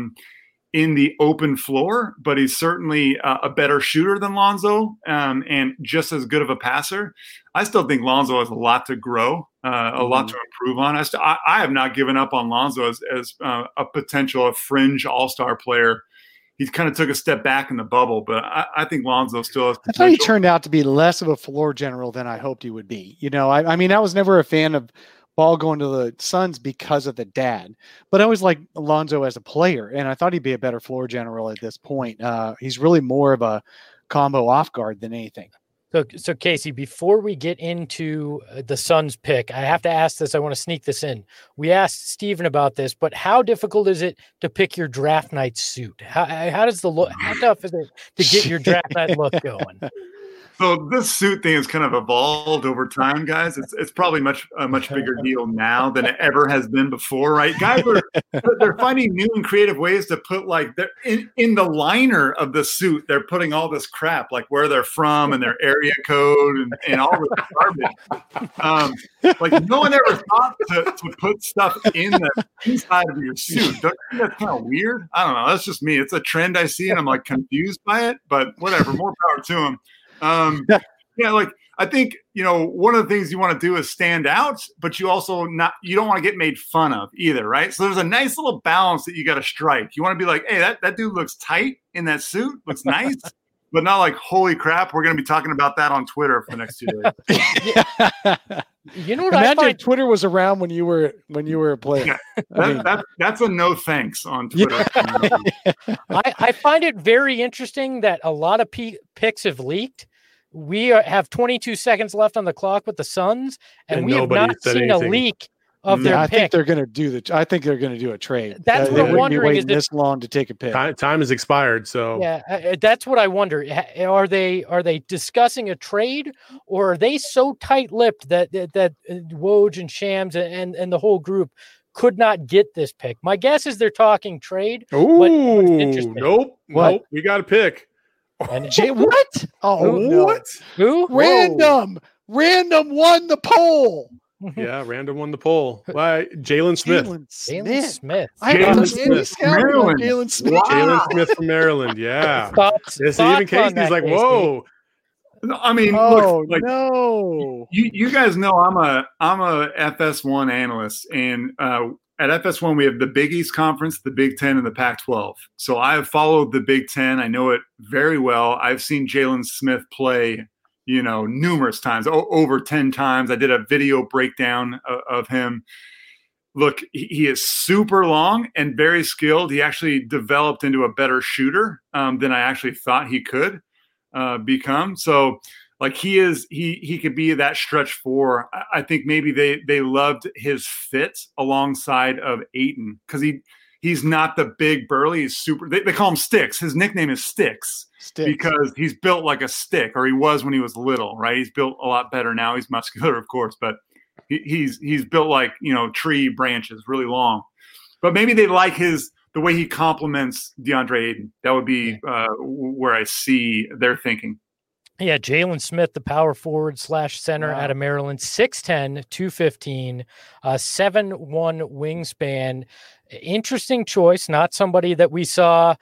in the open floor, but he's certainly a better shooter than Lonzo and just as good of a passer. I still think Lonzo has a lot to grow, a lot to improve on. I have not given up on Lonzo as a potential fringe all-star player. He kind of took a step back in the bubble, but I think Lonzo still has potential. I thought he turned out to be less of a floor general than I hoped he would be. I mean, I was never a fan of Ball going to the Suns because of the dad, but I always liked Lonzo as a player, and I thought he'd be a better floor general at this point. He's really more of a combo off guard than anything. So Casey, before we get into the Suns pick, I have to ask this. I want to sneak this in. We asked Steven about this, but how difficult is it to pick your draft night suit? How does how tough is it to get your draft night look going? So this suit thing has kind of evolved over time, guys. It's probably a much bigger deal now than it ever has been before, right? Guys they're finding new and creative ways to put like in the liner of the suit. They're putting all this crap like where they're from and their area code and all this garbage. Like no one ever thought to put stuff in the inside of your suit. Don't you think that's kind of weird? I don't know. That's just me. It's a trend I see and I'm like confused by it, but whatever. More power to them. Yeah, like I think one of the things you want to do is stand out, but you also you don't want to get made fun of either, right? So there's a nice little balance that you got to strike. You want to be like, hey, that dude looks tight in that suit, looks nice, but not like, holy crap, we're going to be talking about that on Twitter for the next 2 days. You know what? Imagine Twitter was around when you were a player. Yeah, that's a no thanks on Twitter. I find it very interesting that a lot of picks have leaked. We have 22 seconds left on the clock with the Suns, and we have not seen a leak of their pick. I think they're going to do a trade. That's what I'm wondering. Is this long to take a pick? Time has expired, so yeah, that's what I wonder. Are they discussing a trade, or are they so tight-lipped that Woj and Shams and the whole group could not get this pick? My guess is they're talking trade. Nope. We got a pick. And what? Oh, no. What? Who? Random won the poll. Yeah, random won the poll. Why? Jalen Smith. Jalen Smith. Maryland. Jalen Smith. Wow. Jalen Smith from Maryland. Yeah. Even Casey's like, whoa. I mean, look, like, no. You guys know I'm a FS1 analyst, and at FS1 we have the Big East Conference, the Big Ten, and the Pac-12. So I've followed the Big Ten. I know it very well. I've seen Jalen Smith play, numerous times, over 10 times. I did a video breakdown of him. Look, he is super long and very skilled. He actually developed into a better shooter than I actually thought he could become. So like he could be that stretch four. I think maybe they loved his fit alongside of Ayton because he's not the big burly. He's super. They call him Sticks. His nickname is Sticks because he's built like a stick, or he was when he was little. Right? He's built a lot better now. He's muscular, of course, but he's built like tree branches, really long. But maybe they like the way he complements DeAndre Ayton. That would be where I see their thinking. Yeah, Jalen Smith, the power forward / center out of Maryland, 6'10", 215, 7'1" wingspan. Interesting choice, not somebody that we saw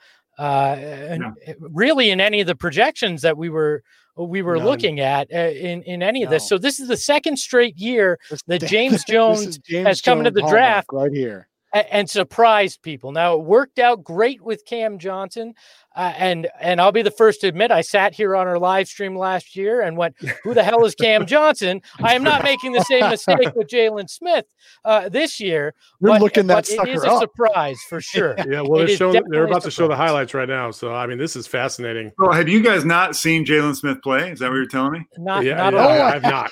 really in any of the projections that we were looking at in any of this. So this is the second straight year that James Jones has come into the draft right here and surprised people. Now, it worked out great with Cam Johnson. And I'll be the first to admit, I sat here on our live stream last year and went, who the hell is Cam Johnson? I am not making the same mistake with Jalen Smith this year. You're looking that but sucker it is a surprise for sure. Yeah, well, they're about to show the highlights right now. So, I mean, this is fascinating. So have you guys not seen Jalen Smith play? Is that what you're telling me? Not I have not.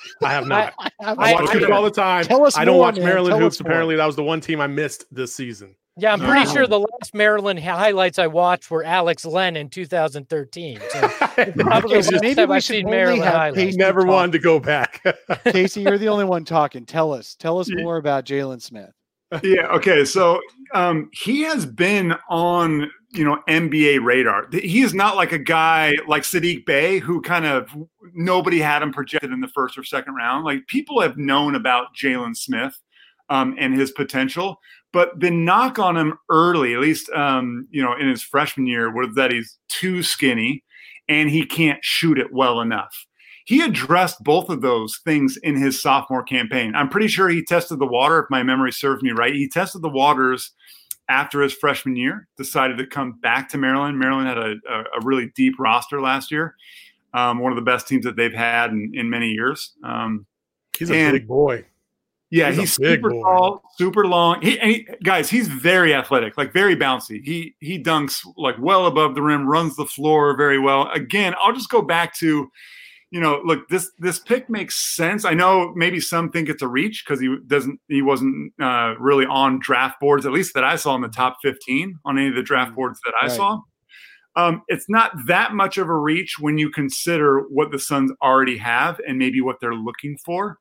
I watch hoops all the time. I don't watch Maryland hoops. Apparently, that was the one team I missed this season. Yeah, I'm pretty sure the last Maryland highlights I watched were Alex Len in 2013. So probably maybe we should only have Casey never wanted to go back. Casey, you're the only one talking. Tell us more about Jalen Smith. Yeah. Okay. So he has been on NBA radar. He is not like a guy like Sadiq Bey who kind of nobody had him projected in the first or second round. Like people have known about Jalen Smith and his potential. But the knock on him early, at least, in his freshman year, was that he's too skinny and he can't shoot it well enough. He addressed both of those things in his sophomore campaign. I'm pretty sure he tested the water, if my memory serves me right. He tested the waters after his freshman year, decided to come back to Maryland. Maryland had a really deep roster last year, one of the best teams that they've had in many years. He's a big boy. Yeah, he's super tall, super long. Guys, he's very athletic, like very bouncy. He dunks like well above the rim, runs the floor very well. Again, I'll just go back to, look, this pick makes sense. I know maybe some think it's a reach because he wasn't really on draft boards, at least that I saw in the top 15 on any of the draft boards that I saw. It's not that much of a reach when you consider what the Suns already have and maybe what they're looking for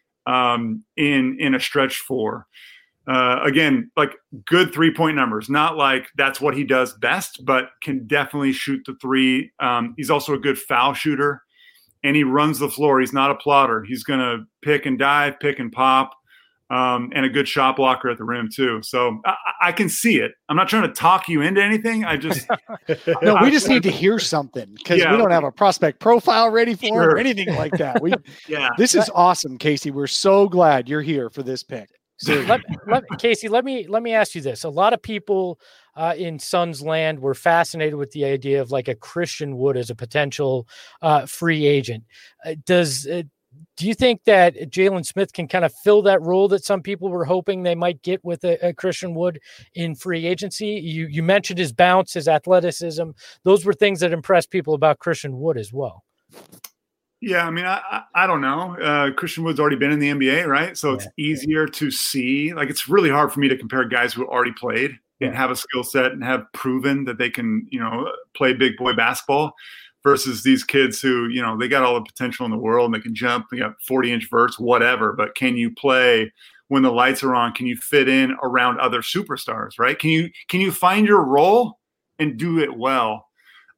in a stretch four. Again, like good 3-point numbers, not like that's what he does best, but can definitely shoot the three. He's also a good foul shooter, and he runs the floor. He's not a plotter. He's going to pick and dive, pick and pop, and a good shot blocker at the rim too. So I can see it. I'm not trying to talk you into anything. I just no, we just need to hear something because we don't have a prospect profile ready for him or anything like that. This is awesome, Casey. We're so glad you're here for this pick. So Casey, let me ask you this. A lot of people in Suns land were fascinated with the idea of like a Christian Wood as a potential free agent. Do you think that Jalen Smith can kind of fill that role that some people were hoping they might get with a Christian Wood in free agency? You mentioned his bounce, his athleticism. Those were things that impressed people about Christian Wood as well. Yeah, I mean, I don't know. Christian Wood's already been in the NBA, right? So it's easier to see. Like, it's really hard for me to compare guys who already played and have a skill set and have proven that they can, play big boy basketball versus these kids who, they got all the potential in the world and they can jump, they got 40-inch verts, whatever. But can you play when the lights are on? Can you fit in around other superstars, right? Can you find your role and do it well?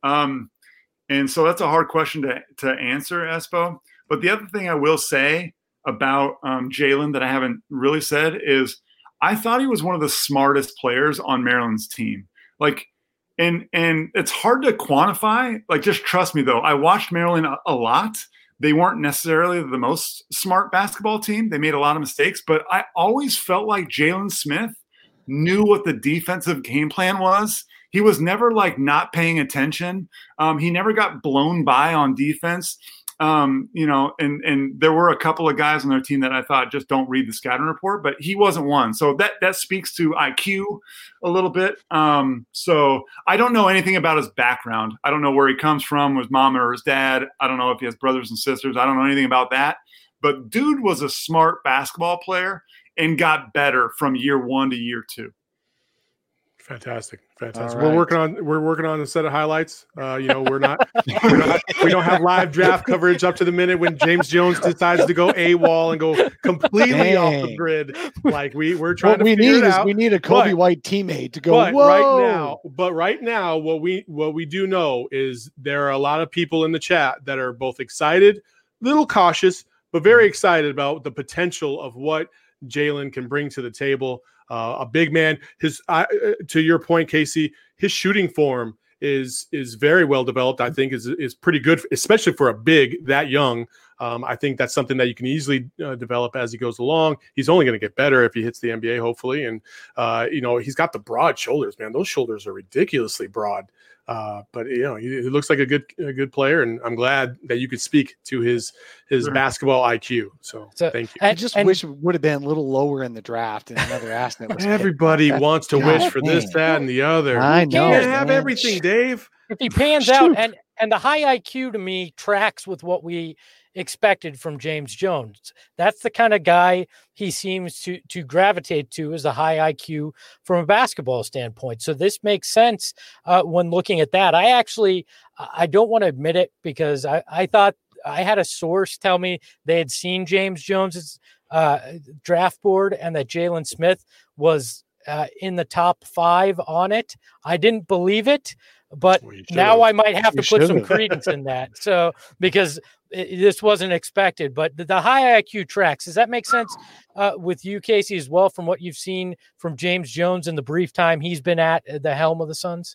And so that's a hard question to answer, Espo. But the other thing I will say about Jalen that I haven't really said is I thought he was one of the smartest players on Maryland's team. Like, and it's hard to quantify. Like, just trust me, though. I watched Maryland a lot. They weren't necessarily the most smart basketball team. They made a lot of mistakes. But I always felt like Jalen Smith knew what the defensive game plan was. He was never like not paying attention. He never got blown by on defense. And there were a couple of guys on their team that I thought just don't read the scouting report, but he wasn't one. So that speaks to IQ a little bit. So I don't know anything about his background. I don't know where he comes from, his mom or his dad. I don't know if he has brothers and sisters. I don't know anything about that. But dude was a smart basketball player and got better from year 1 to year 2. Fantastic. Right. We're working on a set of highlights. We don't have live draft coverage up to the minute when James Jones decides to go AWOL and go completely off the grid. Like we're trying to figure it out. We need a Kobe White teammate to go. But whoa! Right now, what we do know is there are a lot of people in the chat that are both excited, little cautious, but very excited about the potential of what Jalen can bring to the table. A big man. To your point, Casey, his shooting form is very well developed. I think is pretty good, especially for a big that young. I think that's something that you can easily develop as he goes along. He's only going to get better if he hits the NBA, hopefully. And he's got the broad shoulders, man. Those shoulders are ridiculously broad. But he looks like a good player, and I'm glad that you could speak to his basketball IQ. So thank you. I just wish it would have been a little lower in the draft and another asset. Everybody wants to wish for this, that, and the other. I know. You can't have everything, Dave. If he pans out, and the high IQ to me tracks with what we expected from James Jones. That's the kind of guy he seems to gravitate to, is a high IQ from a basketball standpoint. So this makes sense when looking at that. I don't want to admit it because I thought I had a source tell me they had seen James Jones's draft board and that Jalen Smith was in the top 5 on it. I didn't believe it, but now I might have to put some credence in that. So because this wasn't expected, but the high IQ tracks. Does that make sense with you, Casey, as well, from what you've seen from James Jones in the brief time he's been at the helm of the Suns?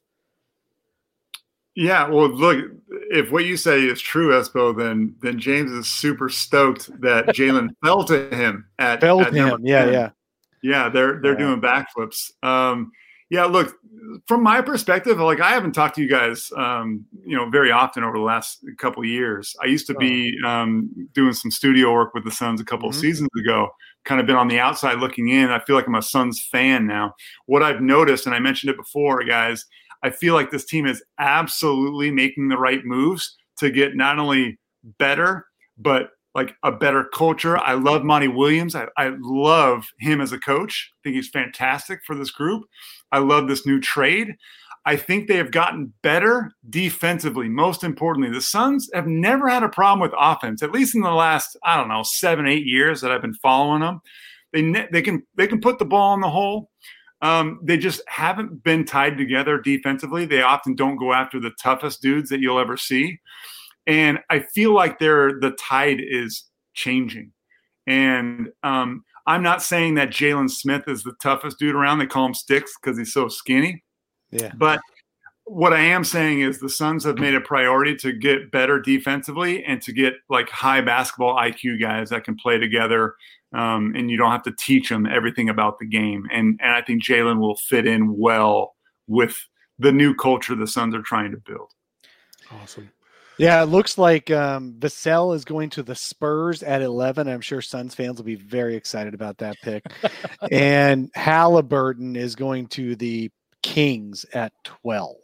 Yeah, well, look, if what you say is true, Espo, then James is super stoked that Jalen fell to him at him. Yeah, they're doing backflips. Yeah, look, from my perspective, like I haven't talked to you guys, very often over the last couple of years. I used to be doing some studio work with the Suns a couple of seasons ago, kind of been on the outside looking in. I feel like I'm a Suns fan now. What I've noticed, and I mentioned it before, guys, I feel like this team is absolutely making the right moves to get not only better, but like a better culture. I love Monty Williams. I love him as a coach. I think he's fantastic for this group. I love this new trade. I think they have gotten better defensively. Most importantly, the Suns have never had a problem with offense, at least in the last, 7-8 years that I've been following them. They can put the ball in the hole. They just haven't been tied together defensively. They often don't go after the toughest dudes that you'll ever see. And I feel like the tide is changing. And I'm not saying that Jalen Smith is the toughest dude around. They call him Sticks because he's so skinny. Yeah. But what I am saying is the Suns have made a priority to get better defensively and to get like high basketball IQ guys that can play together. And you don't have to teach them everything about the game. And I think Jalen will fit in well with the new culture the Suns are trying to build. Awesome. Yeah, it looks like Vassell is going to the Spurs at 11. I'm sure Suns fans will be very excited about that pick. And Halliburton is going to the Kings at 12.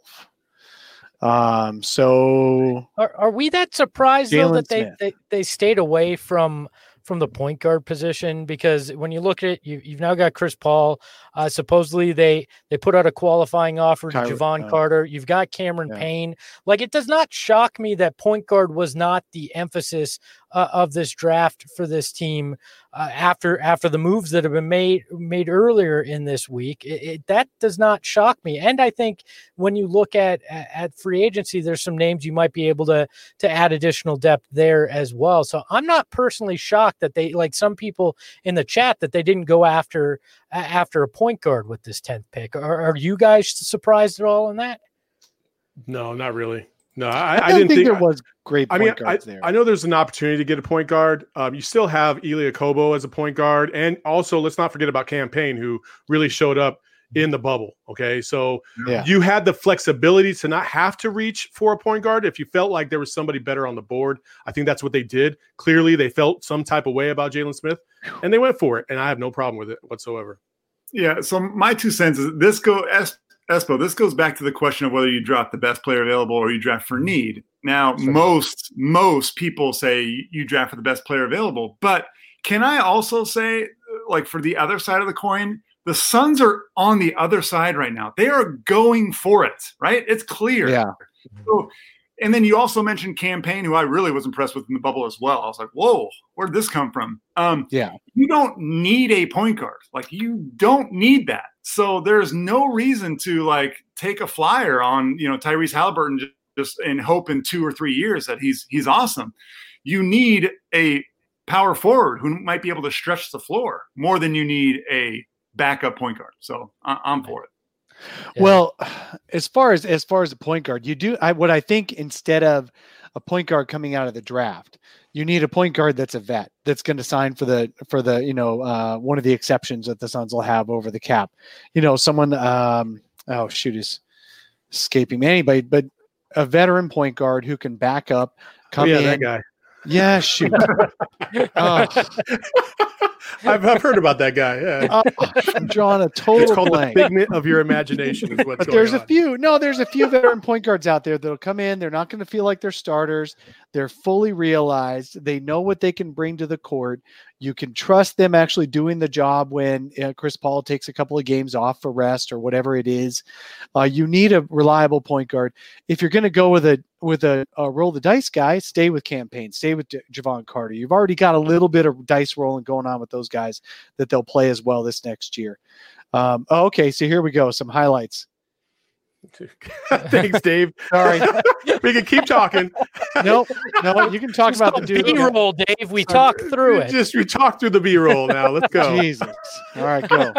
So are we that surprised though Jalen that they stayed away from the point guard position? Because when you look at it, you've now got Chris Paul. Supposedly they put out a qualifying offer to Javon Carter. You've got Cameron Payne. Like, it does not shock me that point guard was not the emphasis of this draft for this team after the moves that have been made earlier in this week. That does not shock me. And I think when you look at free agency, there's some names you might be able to add additional depth there as well. So I'm not personally shocked that they, like some people in the chat, that they didn't go after a point guard with this 10th pick. Are you guys surprised at all in that? No, not really. No, I didn't think there was great point guards there. I know there's an opportunity to get a point guard. You still have Elie Okobo as a point guard. And also, let's not forget about Cam Payne, who really showed up in the bubble. Okay. So you had the flexibility to not have to reach for a point guard if you felt like there was somebody better on the board. I think that's what they did. Clearly, they felt some type of way about Jalen Smith, and they went for it. And I have no problem with it whatsoever. Yeah. So my 2 cents is Espo, this goes back to the question of whether you draft the best player available or you draft for need. Now, most people say you draft for the best player available. But can I also say, like, for the other side of the coin, the Suns are on the other side right now. They are going for it, right? It's clear. Yeah. So, and then you also mentioned Cam Payne, who I really was impressed with in the bubble as well. I was like, whoa, where'd this come from? You don't need a point guard. Like, you don't need that. So there's no reason to like take a flyer on, Tyrese Halliburton just in hope in 2 or 3 years that he's awesome. You need a power forward who might be able to stretch the floor more than you need a backup point guard. So I'm for it. Yeah. Well, as far as the point guard, what I think instead of a point guard coming out of the draft, you need a point guard that's a vet that's going to sign for the one of the exceptions that the Suns will have over the cap. Someone is escaping me. Anybody, but a veteran point guard who can back up, come in. That guy. Yeah, shoot. I've heard about that guy. Yeah. I'm drawing a total It's called blank. the figment of your imagination is what's going There's on. there's a few veteran point guards out there that'll come in. They're not going to feel like they're starters. They're fully realized. They know what they can bring to the court. You can trust them actually doing the job when Chris Paul takes a couple of games off for rest or whatever it is. You need a reliable point guard. If you're going to go with a roll the dice guy, stay with Cam Payne, stay with Javon Carter. You've already got a little bit of dice rolling going on with those guys that they'll play as well this next year. Okay, so here we go. Some highlights. Thanks, Dave. Sorry. We can keep talking. No, you can talk about the dude. B-roll, Dave. We talked through it. We talked through the B-roll now. Let's go. Jesus. All right, go.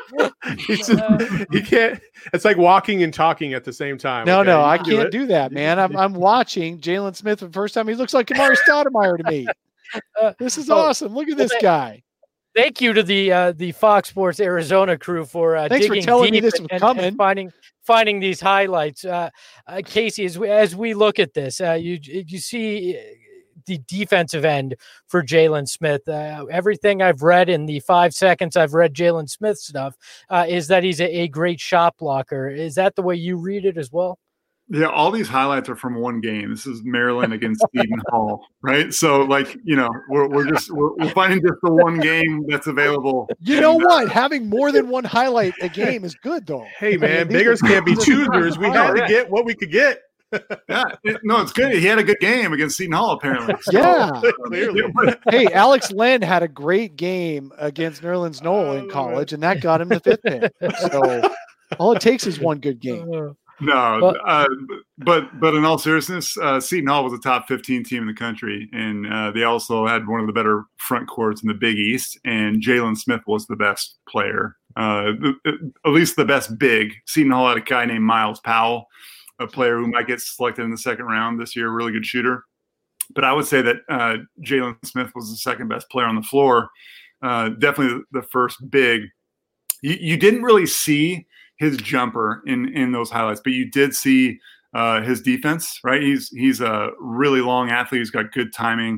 He can't. It's like walking and talking at the same time. No, okay? I can't do that, man. I'm watching Jalen Smith for the first time. He looks like Kamari Stoudemire to me. This is awesome. Look at this guy. Thank you to the Fox Sports Arizona crew for thanks digging for telling me deep this was and coming. finding these highlights. Casey, as we look at this, you see the defensive end for Jalen Smith. Everything I've read in the 5 seconds I've read Jalen Smith stuff is that he's a great shot blocker. Is that the way you read it as well? Yeah, all these highlights are from one game. This is Maryland against Seton Hall, right? So, like, we're finding just the one game that's available. You know what? Having more than one highlight a game is good, though. Hey, man, beggars can't be choosers. We had to get what we could get. It's good. He had a good game against Seton Hall, apparently. Yeah. Clearly. Hey, Alex Len had a great game against Nerlens Noel in college, and that got him the 5th pick. So all it takes is one good game. No, but in all seriousness, Seton Hall was a top 15 team in the country, and they also had one of the better front courts in the Big East, and Jalen Smith was the best player, at least the best big. Seton Hall had a guy named Miles Powell, a player who might get selected in the second round this year, a really good shooter. But I would say that Jalen Smith was the second best player on the floor, definitely the first big. You didn't really see his jumper in those highlights, but you did see his defense, right? He's a really long athlete. He's got good timing,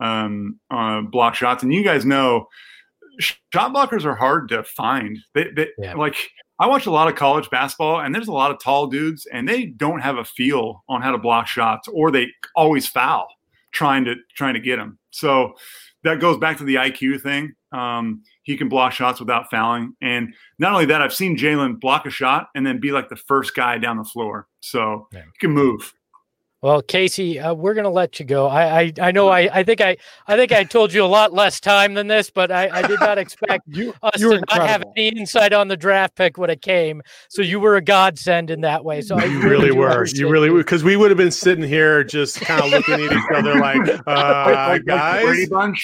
block shots. And you guys know shot blockers are hard to find. Like, I watch a lot of college basketball, and there's a lot of tall dudes, and they don't have a feel on how to block shots, or they always foul trying to get them. So that goes back to the IQ thing. He can block shots without fouling. And not only that, I've seen Jalen block a shot and then be like the first guy down the floor. So he can move. Well, Casey, we're going to let you go. I know. I think I told you a lot less time than this, but I did not expect us to not have any insight on the draft pick when it came. So you were a godsend in that way. So you really were. You really were, because we would have been sitting here just kind of looking at each other like guys. Brady Bunch.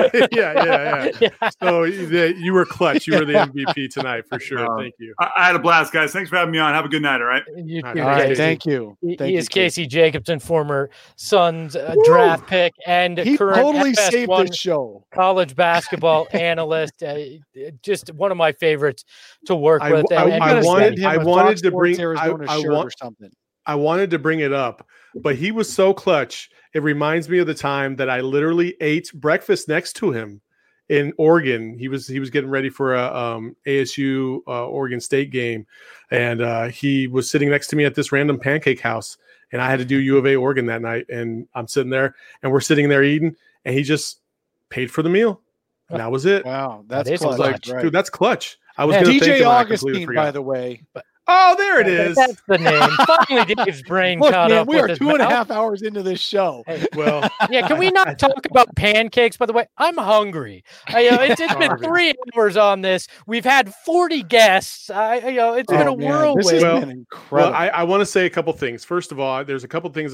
Yeah. So you were clutch. You were the MVP tonight for sure. Thank you. I had a blast, guys. Thanks for having me on. Have a good night. All right. You too, all right. Thank you. He is Casey Jacobson, former Suns draft pick and he current totally FS1 saved this show. College basketball analyst. Just one of my favorites to work with. I wanted to bring something. I wanted to bring it up, but he was so clutch. It reminds me of the time that I literally ate breakfast next to him in Oregon. He was getting ready for a ASU Oregon State game, and he was sitting next to me at this random pancake house. And I had to do U of A Oregon that night, and I'm sitting there, and we're sitting there eating, and he just paid for the meal, and that was it. Wow, that's clutch. I was like, right? Dude, that's clutch. I was going to DJ Augustine, by the way. Oh, there it is. That's the name. Finally, Dave's brain caught up. We are 2.5 hours into this show. Well, yeah. Can we not talk about pancakes? By the way, I'm hungry. It's been 3 hours on this. We've had 40 guests. It's been a whirlwind. This has been incredible. Well, I want to say a couple things. First of all, there's a couple things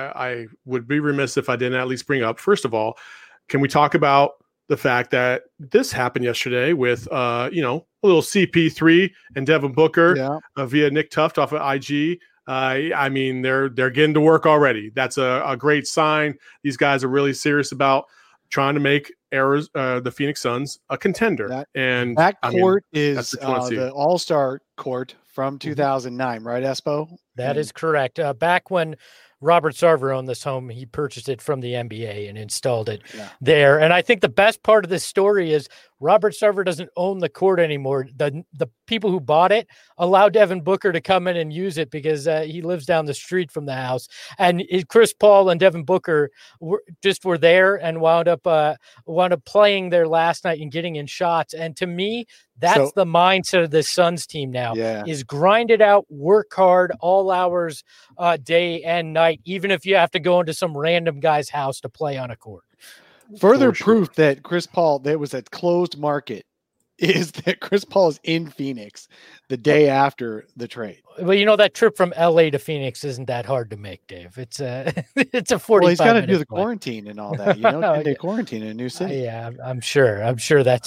I would be remiss if I didn't at least bring up. First of all, can we talk about the fact that this happened yesterday with, a little CP3 and Devin Booker via Nick Tuft off of IG. I mean, they're getting to work already. That's a great sign. These guys are really serious about trying to make the Phoenix Suns a contender. That court is the All-Star court from 2009, right, Espo? That is correct. Back when Robert Sarver owned this home, he purchased it from the NBA and installed it there. And I think the best part of this story is Robert Sarver doesn't own the court anymore. The people who bought it allowed Devin Booker to come in and use it because he lives down the street from the house. And Chris Paul and Devin Booker were there and wound up playing there last night and getting in shots. And to me, that's the mindset of the Suns team now is grind it out, work hard all hours, day and night, even if you have to go into some random guy's house to play on a court. Further proof that Chris Paul, that was a closed market, is that Chris Paul is in Phoenix the day after the trade. Well, that trip from LA to Phoenix isn't that hard to make, Dave. It's a 45. Well, he's got to do the quarantine and all that. 10-day quarantine in a new city. Yeah, I'm sure that's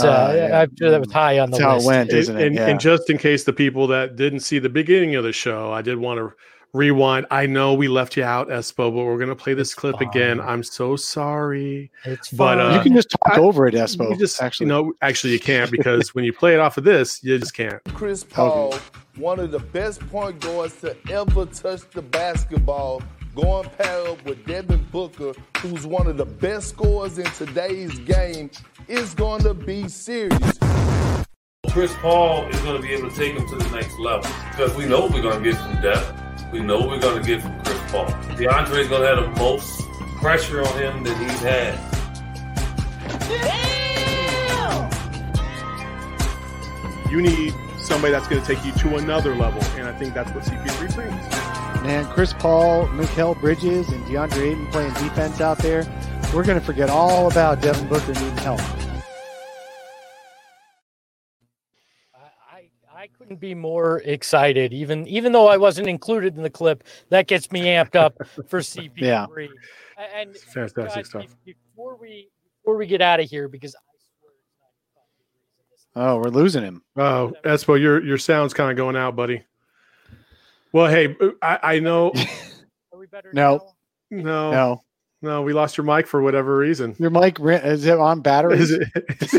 I'm sure that was high on the list. That's how it went, isn't it? And just in case the people that didn't see the beginning of the show, I did want to rewind. I know we left you out, Espo, but we're going to play this clip again. I'm so sorry. It's fine. But you can just talk over it, Espo. Actually, you can't, because when you play it off of this, you just can't. Chris Paul, one of the best point guards to ever touch the basketball, going pair up with Devin Booker, who's one of the best scorers in today's game, is going to be serious. Chris Paul is going to be able to take him to the next level because we know we're going to get some depth. we know we're going to get from Chris Paul. DeAndre's going to have the most pressure on him than he's had. You need somebody that's going to take you to another level, and I think that's what CP3 brings. Man, Chris Paul, Mikal Bridges, and DeAndre Ayton playing defense out there. We're going to forget all about Devin Booker needing help. I couldn't be more excited, even though I wasn't included in the clip. That gets me amped up for CP3. Yeah. And fantastic guys, stuff. Before we get out of here, because Oh, we're losing him. Oh, Espo, your sound's kind of going out, buddy. Well, hey, I know. Are we better No. No, we lost your mic for whatever reason. Your mic, is it on battery? Is it?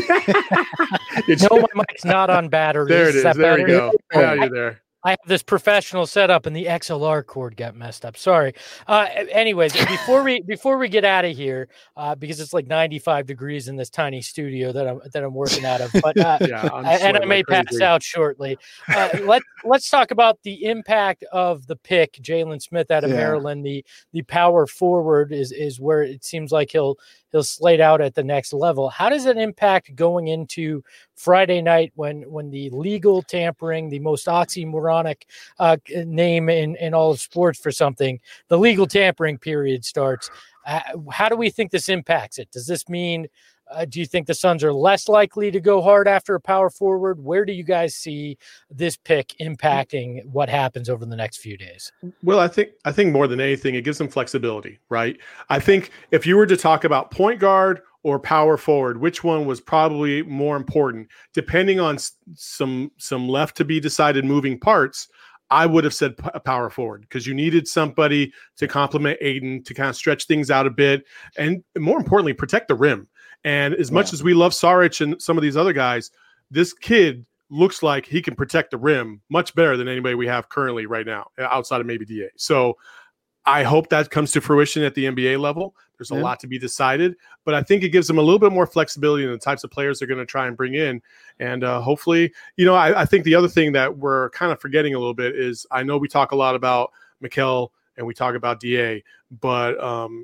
No, my mic's not on battery. There it is. There you go. Now you're there. I have this professional setup, and the XLR cord got messed up. Sorry. Anyways, before we get out of here, because it's like 95 degrees in this tiny studio that I'm working out of, but and I may pass out shortly. Let's talk about the impact of the pick, Jalen Smith out of Maryland. The power forward is where it seems like he'll slate out at the next level. How does it impact going into Friday night when the legal tampering, the most oxymoronic name in all of sports for something, the legal tampering period starts? How do we think this impacts it? Does this mean, do you think the Suns are less likely to go hard after a power forward? Where do you guys see this pick impacting what happens over the next few days? Well, I think more than anything, it gives them flexibility, right? I think if you were to talk about point guard or power forward, which one was probably more important, depending on some left to be decided moving parts, I would have said power forward, because you needed somebody to complement Ayton, to kind of stretch things out a bit, and more importantly, protect the rim. And as much as we love Saric and some of these other guys, this kid looks like he can protect the rim much better than anybody we have currently right now, outside of maybe DA. So I hope that comes to fruition at the NBA level. There's a lot to be decided, but I think it gives them a little bit more flexibility in the types of players they're going to try and bring in. And hopefully, I think the other thing that we're kind of forgetting a little bit is, I know we talk a lot about Mikal and we talk about DA, but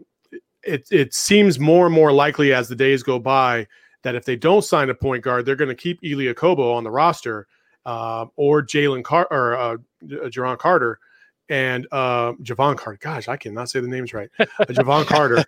it seems more and more likely as the days go by that if they don't sign a point guard, they're going to keep Elie Okobo on the roster, or Jaron Carter. And Javon Carter. Gosh, I cannot say the names right. Javon Carter.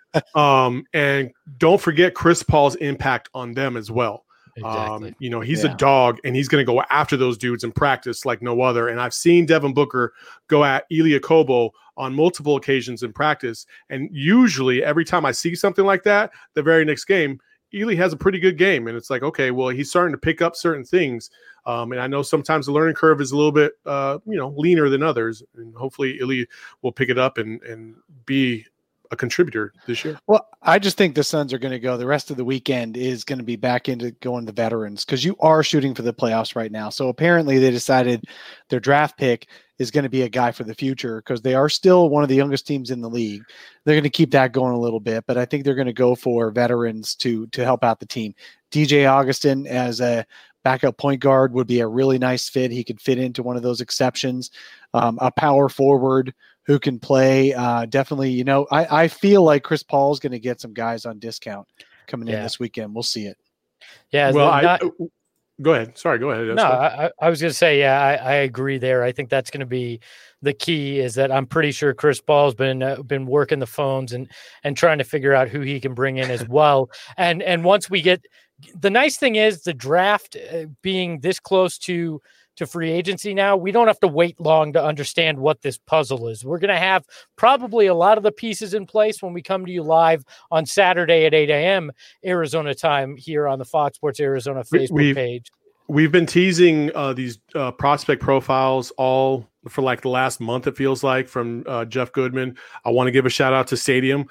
And don't forget Chris Paul's impact on them as well. Exactly. He's a dog, and he's going to go after those dudes in practice like no other. And I've seen Devin Booker go at Elie Okobo on multiple occasions in practice. And usually every time I see something like that, the very next game, Elie has a pretty good game. And it's like, okay, well, he's starting to pick up certain things. And I know sometimes the learning curve is a little bit, leaner than others. And hopefully Elie will pick it up and be a contributor this year. Well, I just think the Suns are going to go. The rest of the weekend is going to be back into going to veterans, because you are shooting for the playoffs right now. So apparently they decided their draft pick is going to be a guy for the future, because they are still one of the youngest teams in the league. They're going to keep that going a little bit, but I think they're going to go for veterans to help out the team. DJ Augustin as a backup point guard would be a really nice fit. He could fit into one of those exceptions. A power forward who can play. Definitely, I feel like Chris Paul is going to get some guys on discount coming in this weekend. We'll see it. Yeah. Well, go ahead. Sorry, go ahead. No, I was going to say, I agree there. I think that's going to be the key, is that I'm pretty sure Chris Paul's been working the phones and trying to figure out who he can bring in as well. And once we get, the nice thing is the draft being this close to free agency now, we don't have to wait long to understand what this puzzle is. We're going to have probably a lot of the pieces in place when we come to you live on Saturday at 8 a.m. Arizona time here on the Fox Sports Arizona Facebook page. We've been teasing these prospect profiles all for like the last month, it feels like, from Jeff Goodman. I want to give a shout out to Stadium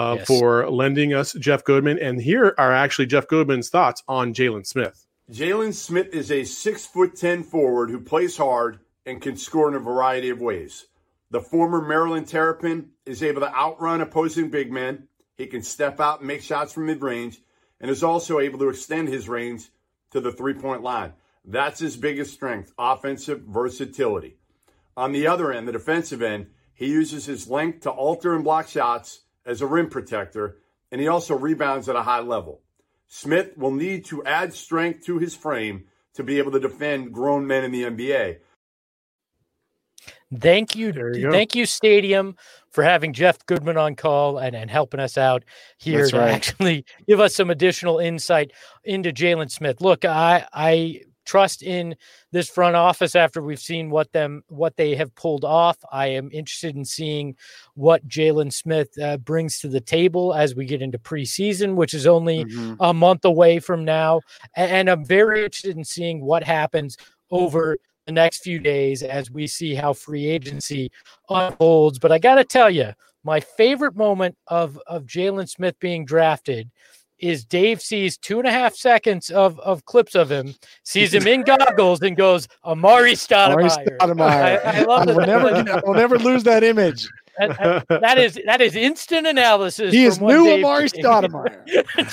for lending us Jeff Goodman. And here are actually Jeff Goodman's thoughts on Jalen Smith. Jalen Smith is a 6'10" forward who plays hard and can score in a variety of ways. The former Maryland Terrapin is able to outrun opposing big men. He can step out and make shots from mid-range, and is also able to extend his range to the three-point line. That's his biggest strength, offensive versatility. On the other end, the defensive end, He uses his length to alter and block shots as a rim protector, and he also rebounds at a high level. Smith will need to add strength to his frame to be able to defend grown men in the NBA. Thank you, Stadium, for having Jeff Goodman on call and helping us out here to actually give us some additional insight into Jalen Smith. Look, I trust in this front office after we've seen what they have pulled off. I am interested in seeing what Jalen Smith brings to the table as we get into preseason, which is only a month away from now. And I'm very interested in seeing what happens over the next few days as we see how free agency unfolds. But I got to tell you, my favorite moment of Jalen Smith being drafted is Dave sees 2.5 seconds of clips of him, sees him in goggles, and goes, Amari Stoudemire. I love that. We'll never lose that image. That is instant analysis. He is new Amari Stoudemire.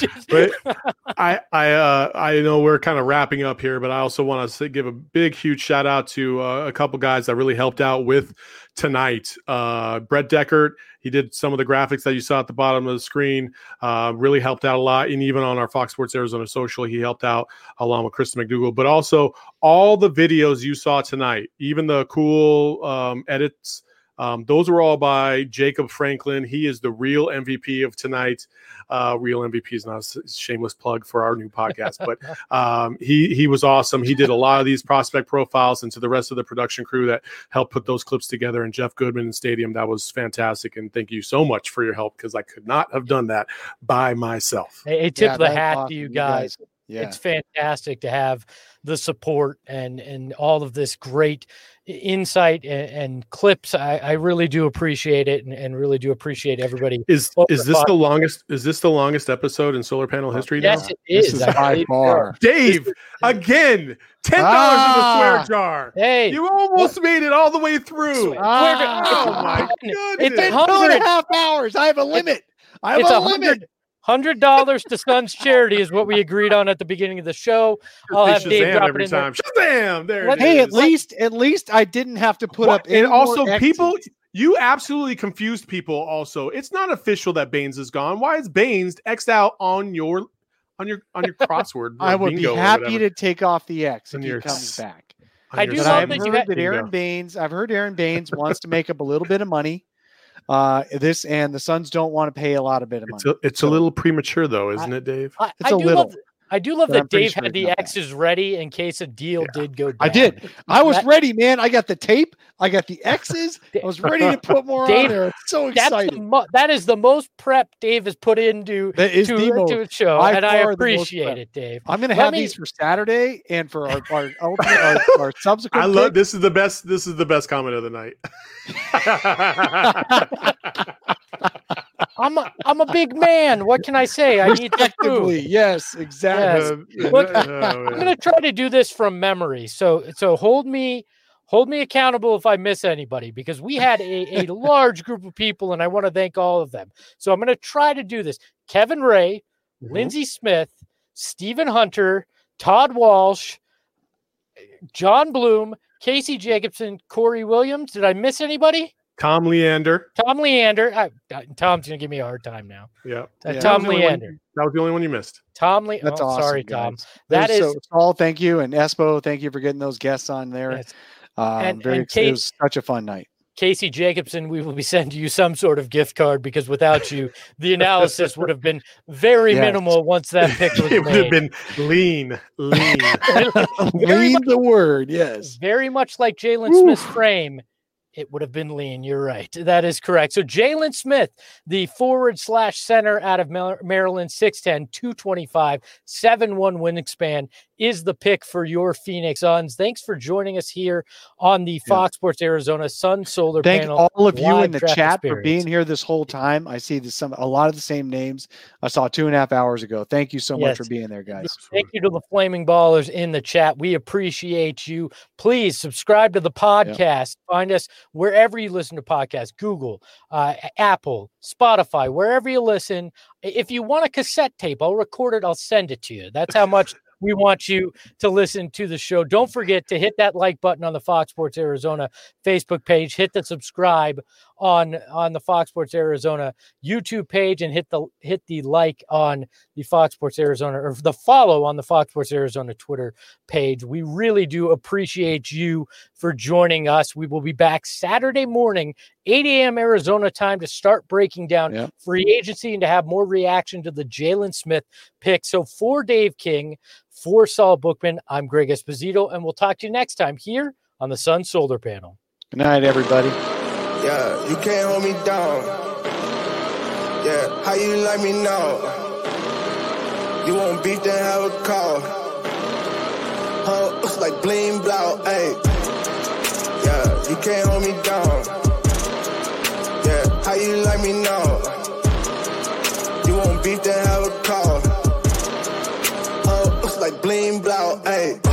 I know we're kind of wrapping up here, but I also want to give a big, huge shout out to a couple guys that really helped out with tonight. Brett Deckert, he did some of the graphics that you saw at the bottom of the screen, really helped out a lot. And even on our Fox Sports Arizona social, he helped out along with Kristen McDougal, but also all the videos you saw tonight, even the cool edits. Those were all by Jacob Franklin. He is the real MVP of tonight. Real MVP is not a shameless plug for our new podcast, but he was awesome. He did a lot of these prospect profiles, and to the rest of the production crew that helped put those clips together, and Jeff Goodman and Stadium, that was fantastic. And thank you so much for your help, because I could not have done that by myself. Hey, tip the hat to you guys. Yeah. It's fantastic to have the support and all of this great insight and clips. I really do appreciate it, and really do appreciate everybody. Is this the longest? Is this the longest episode in solar panel history? Yes, now? It is. This is by far. Dave, again, $10 in the swear jar. Hey, you almost made it all the way through. Oh my goodness! It's 2.5 hours. I have a limit. I have a limit. $100 to Sons Charity is what we agreed on at the beginning of the show. I'll have Dave drop it in there. Shazam! There it is. At least I didn't have to put up. And also, people, you absolutely confused people. Also, it's not official that Baines is gone. Why is Baines X'd out on your crossword? I would be happy to take off the X if he comes back. I do love that Aaron Baines. I've heard Aaron Baines wants to make up a little bit of money. This and the Suns don't want to pay a lot of bit of money. It's a little premature, though, isn't it, Dave? It's a little. I do love that Dave had the X's ready in case a deal did go down. I did. I was ready, man. I got the tape. I got the X's. I was ready to put more on there. I'm so excited. That is the most prep Dave has put into to a show, and I appreciate it, Dave. I'm going to have these for Saturday and for our subsequent. I love this. Is the best. This is the best comment of the night. I'm a big man. What can I say? I need to prove. Yes, exactly. Yes. Look, I'm going to try to do this from memory. So hold me accountable if I miss anybody, because we had a large group of people, and I want to thank all of them. So I'm going to try to do this. Kevin Ray, Lindsey Smith, Stephen Hunter, Todd Walsh, John Bloom, Casey Jacobson, Corey Williams. Did I miss anybody? Tom Leander. Tom's going to give me a hard time now. Yeah. Tom Leander. That was the only one you missed. Tom Leander. That's awesome, sorry, guys. Tom. Saul, thank you. And Espo, thank you for getting those guests on there. Yes. It was such a fun night. Casey Jacobson, we will be sending you some sort of gift card, because without you, the analysis would have been very minimal once that pick was made. It would have been lean. Lean the word, yes. Very much like Jalen Smith's frame. It would have been lean. You're right. That is correct. So Jalen Smith, the forward/center out of Maryland, 6'10", 225, 7'1" wingspan, is the pick for your Phoenix Suns. Thanks for joining us here on the Fox Sports Arizona Sun Solar Panel. Thank all of you in the chat experience. for being here this whole time. I see a lot of the same names I saw 2.5 hours ago. Thank you so much for being there, guys. Thank you to the Flaming Ballers in the chat. We appreciate you. Please subscribe to the podcast. Find us wherever you listen to podcasts, Google, Apple, Spotify, wherever you listen. If you want a cassette tape, I'll record it. I'll send it to you. That's how much we want you to listen to the show. Don't forget to hit that like button on the Fox Sports Arizona Facebook page. Hit the subscribe on the Fox Sports Arizona YouTube page, and hit the like on the Fox Sports Arizona, or the follow on the Fox Sports Arizona Twitter page. We really do appreciate you for joining us. We will be back Saturday morning, 8 a.m. Arizona time, to start breaking down free agency and to have more reaction to the Jalen Smith pick. So for Dave King, for Saul Bookman, I'm Greg Esposito, and we'll talk to you next time here on the Sun Solar Panel. Good night, everybody. Yeah, you can't hold me down. Yeah, how you like me now? You won't beat, then have a call. It's like bling blow, ayy. Yeah, you can't hold me down. Yeah, how you like me now? You won't beat, then have a call. It's like bling blow, ayy.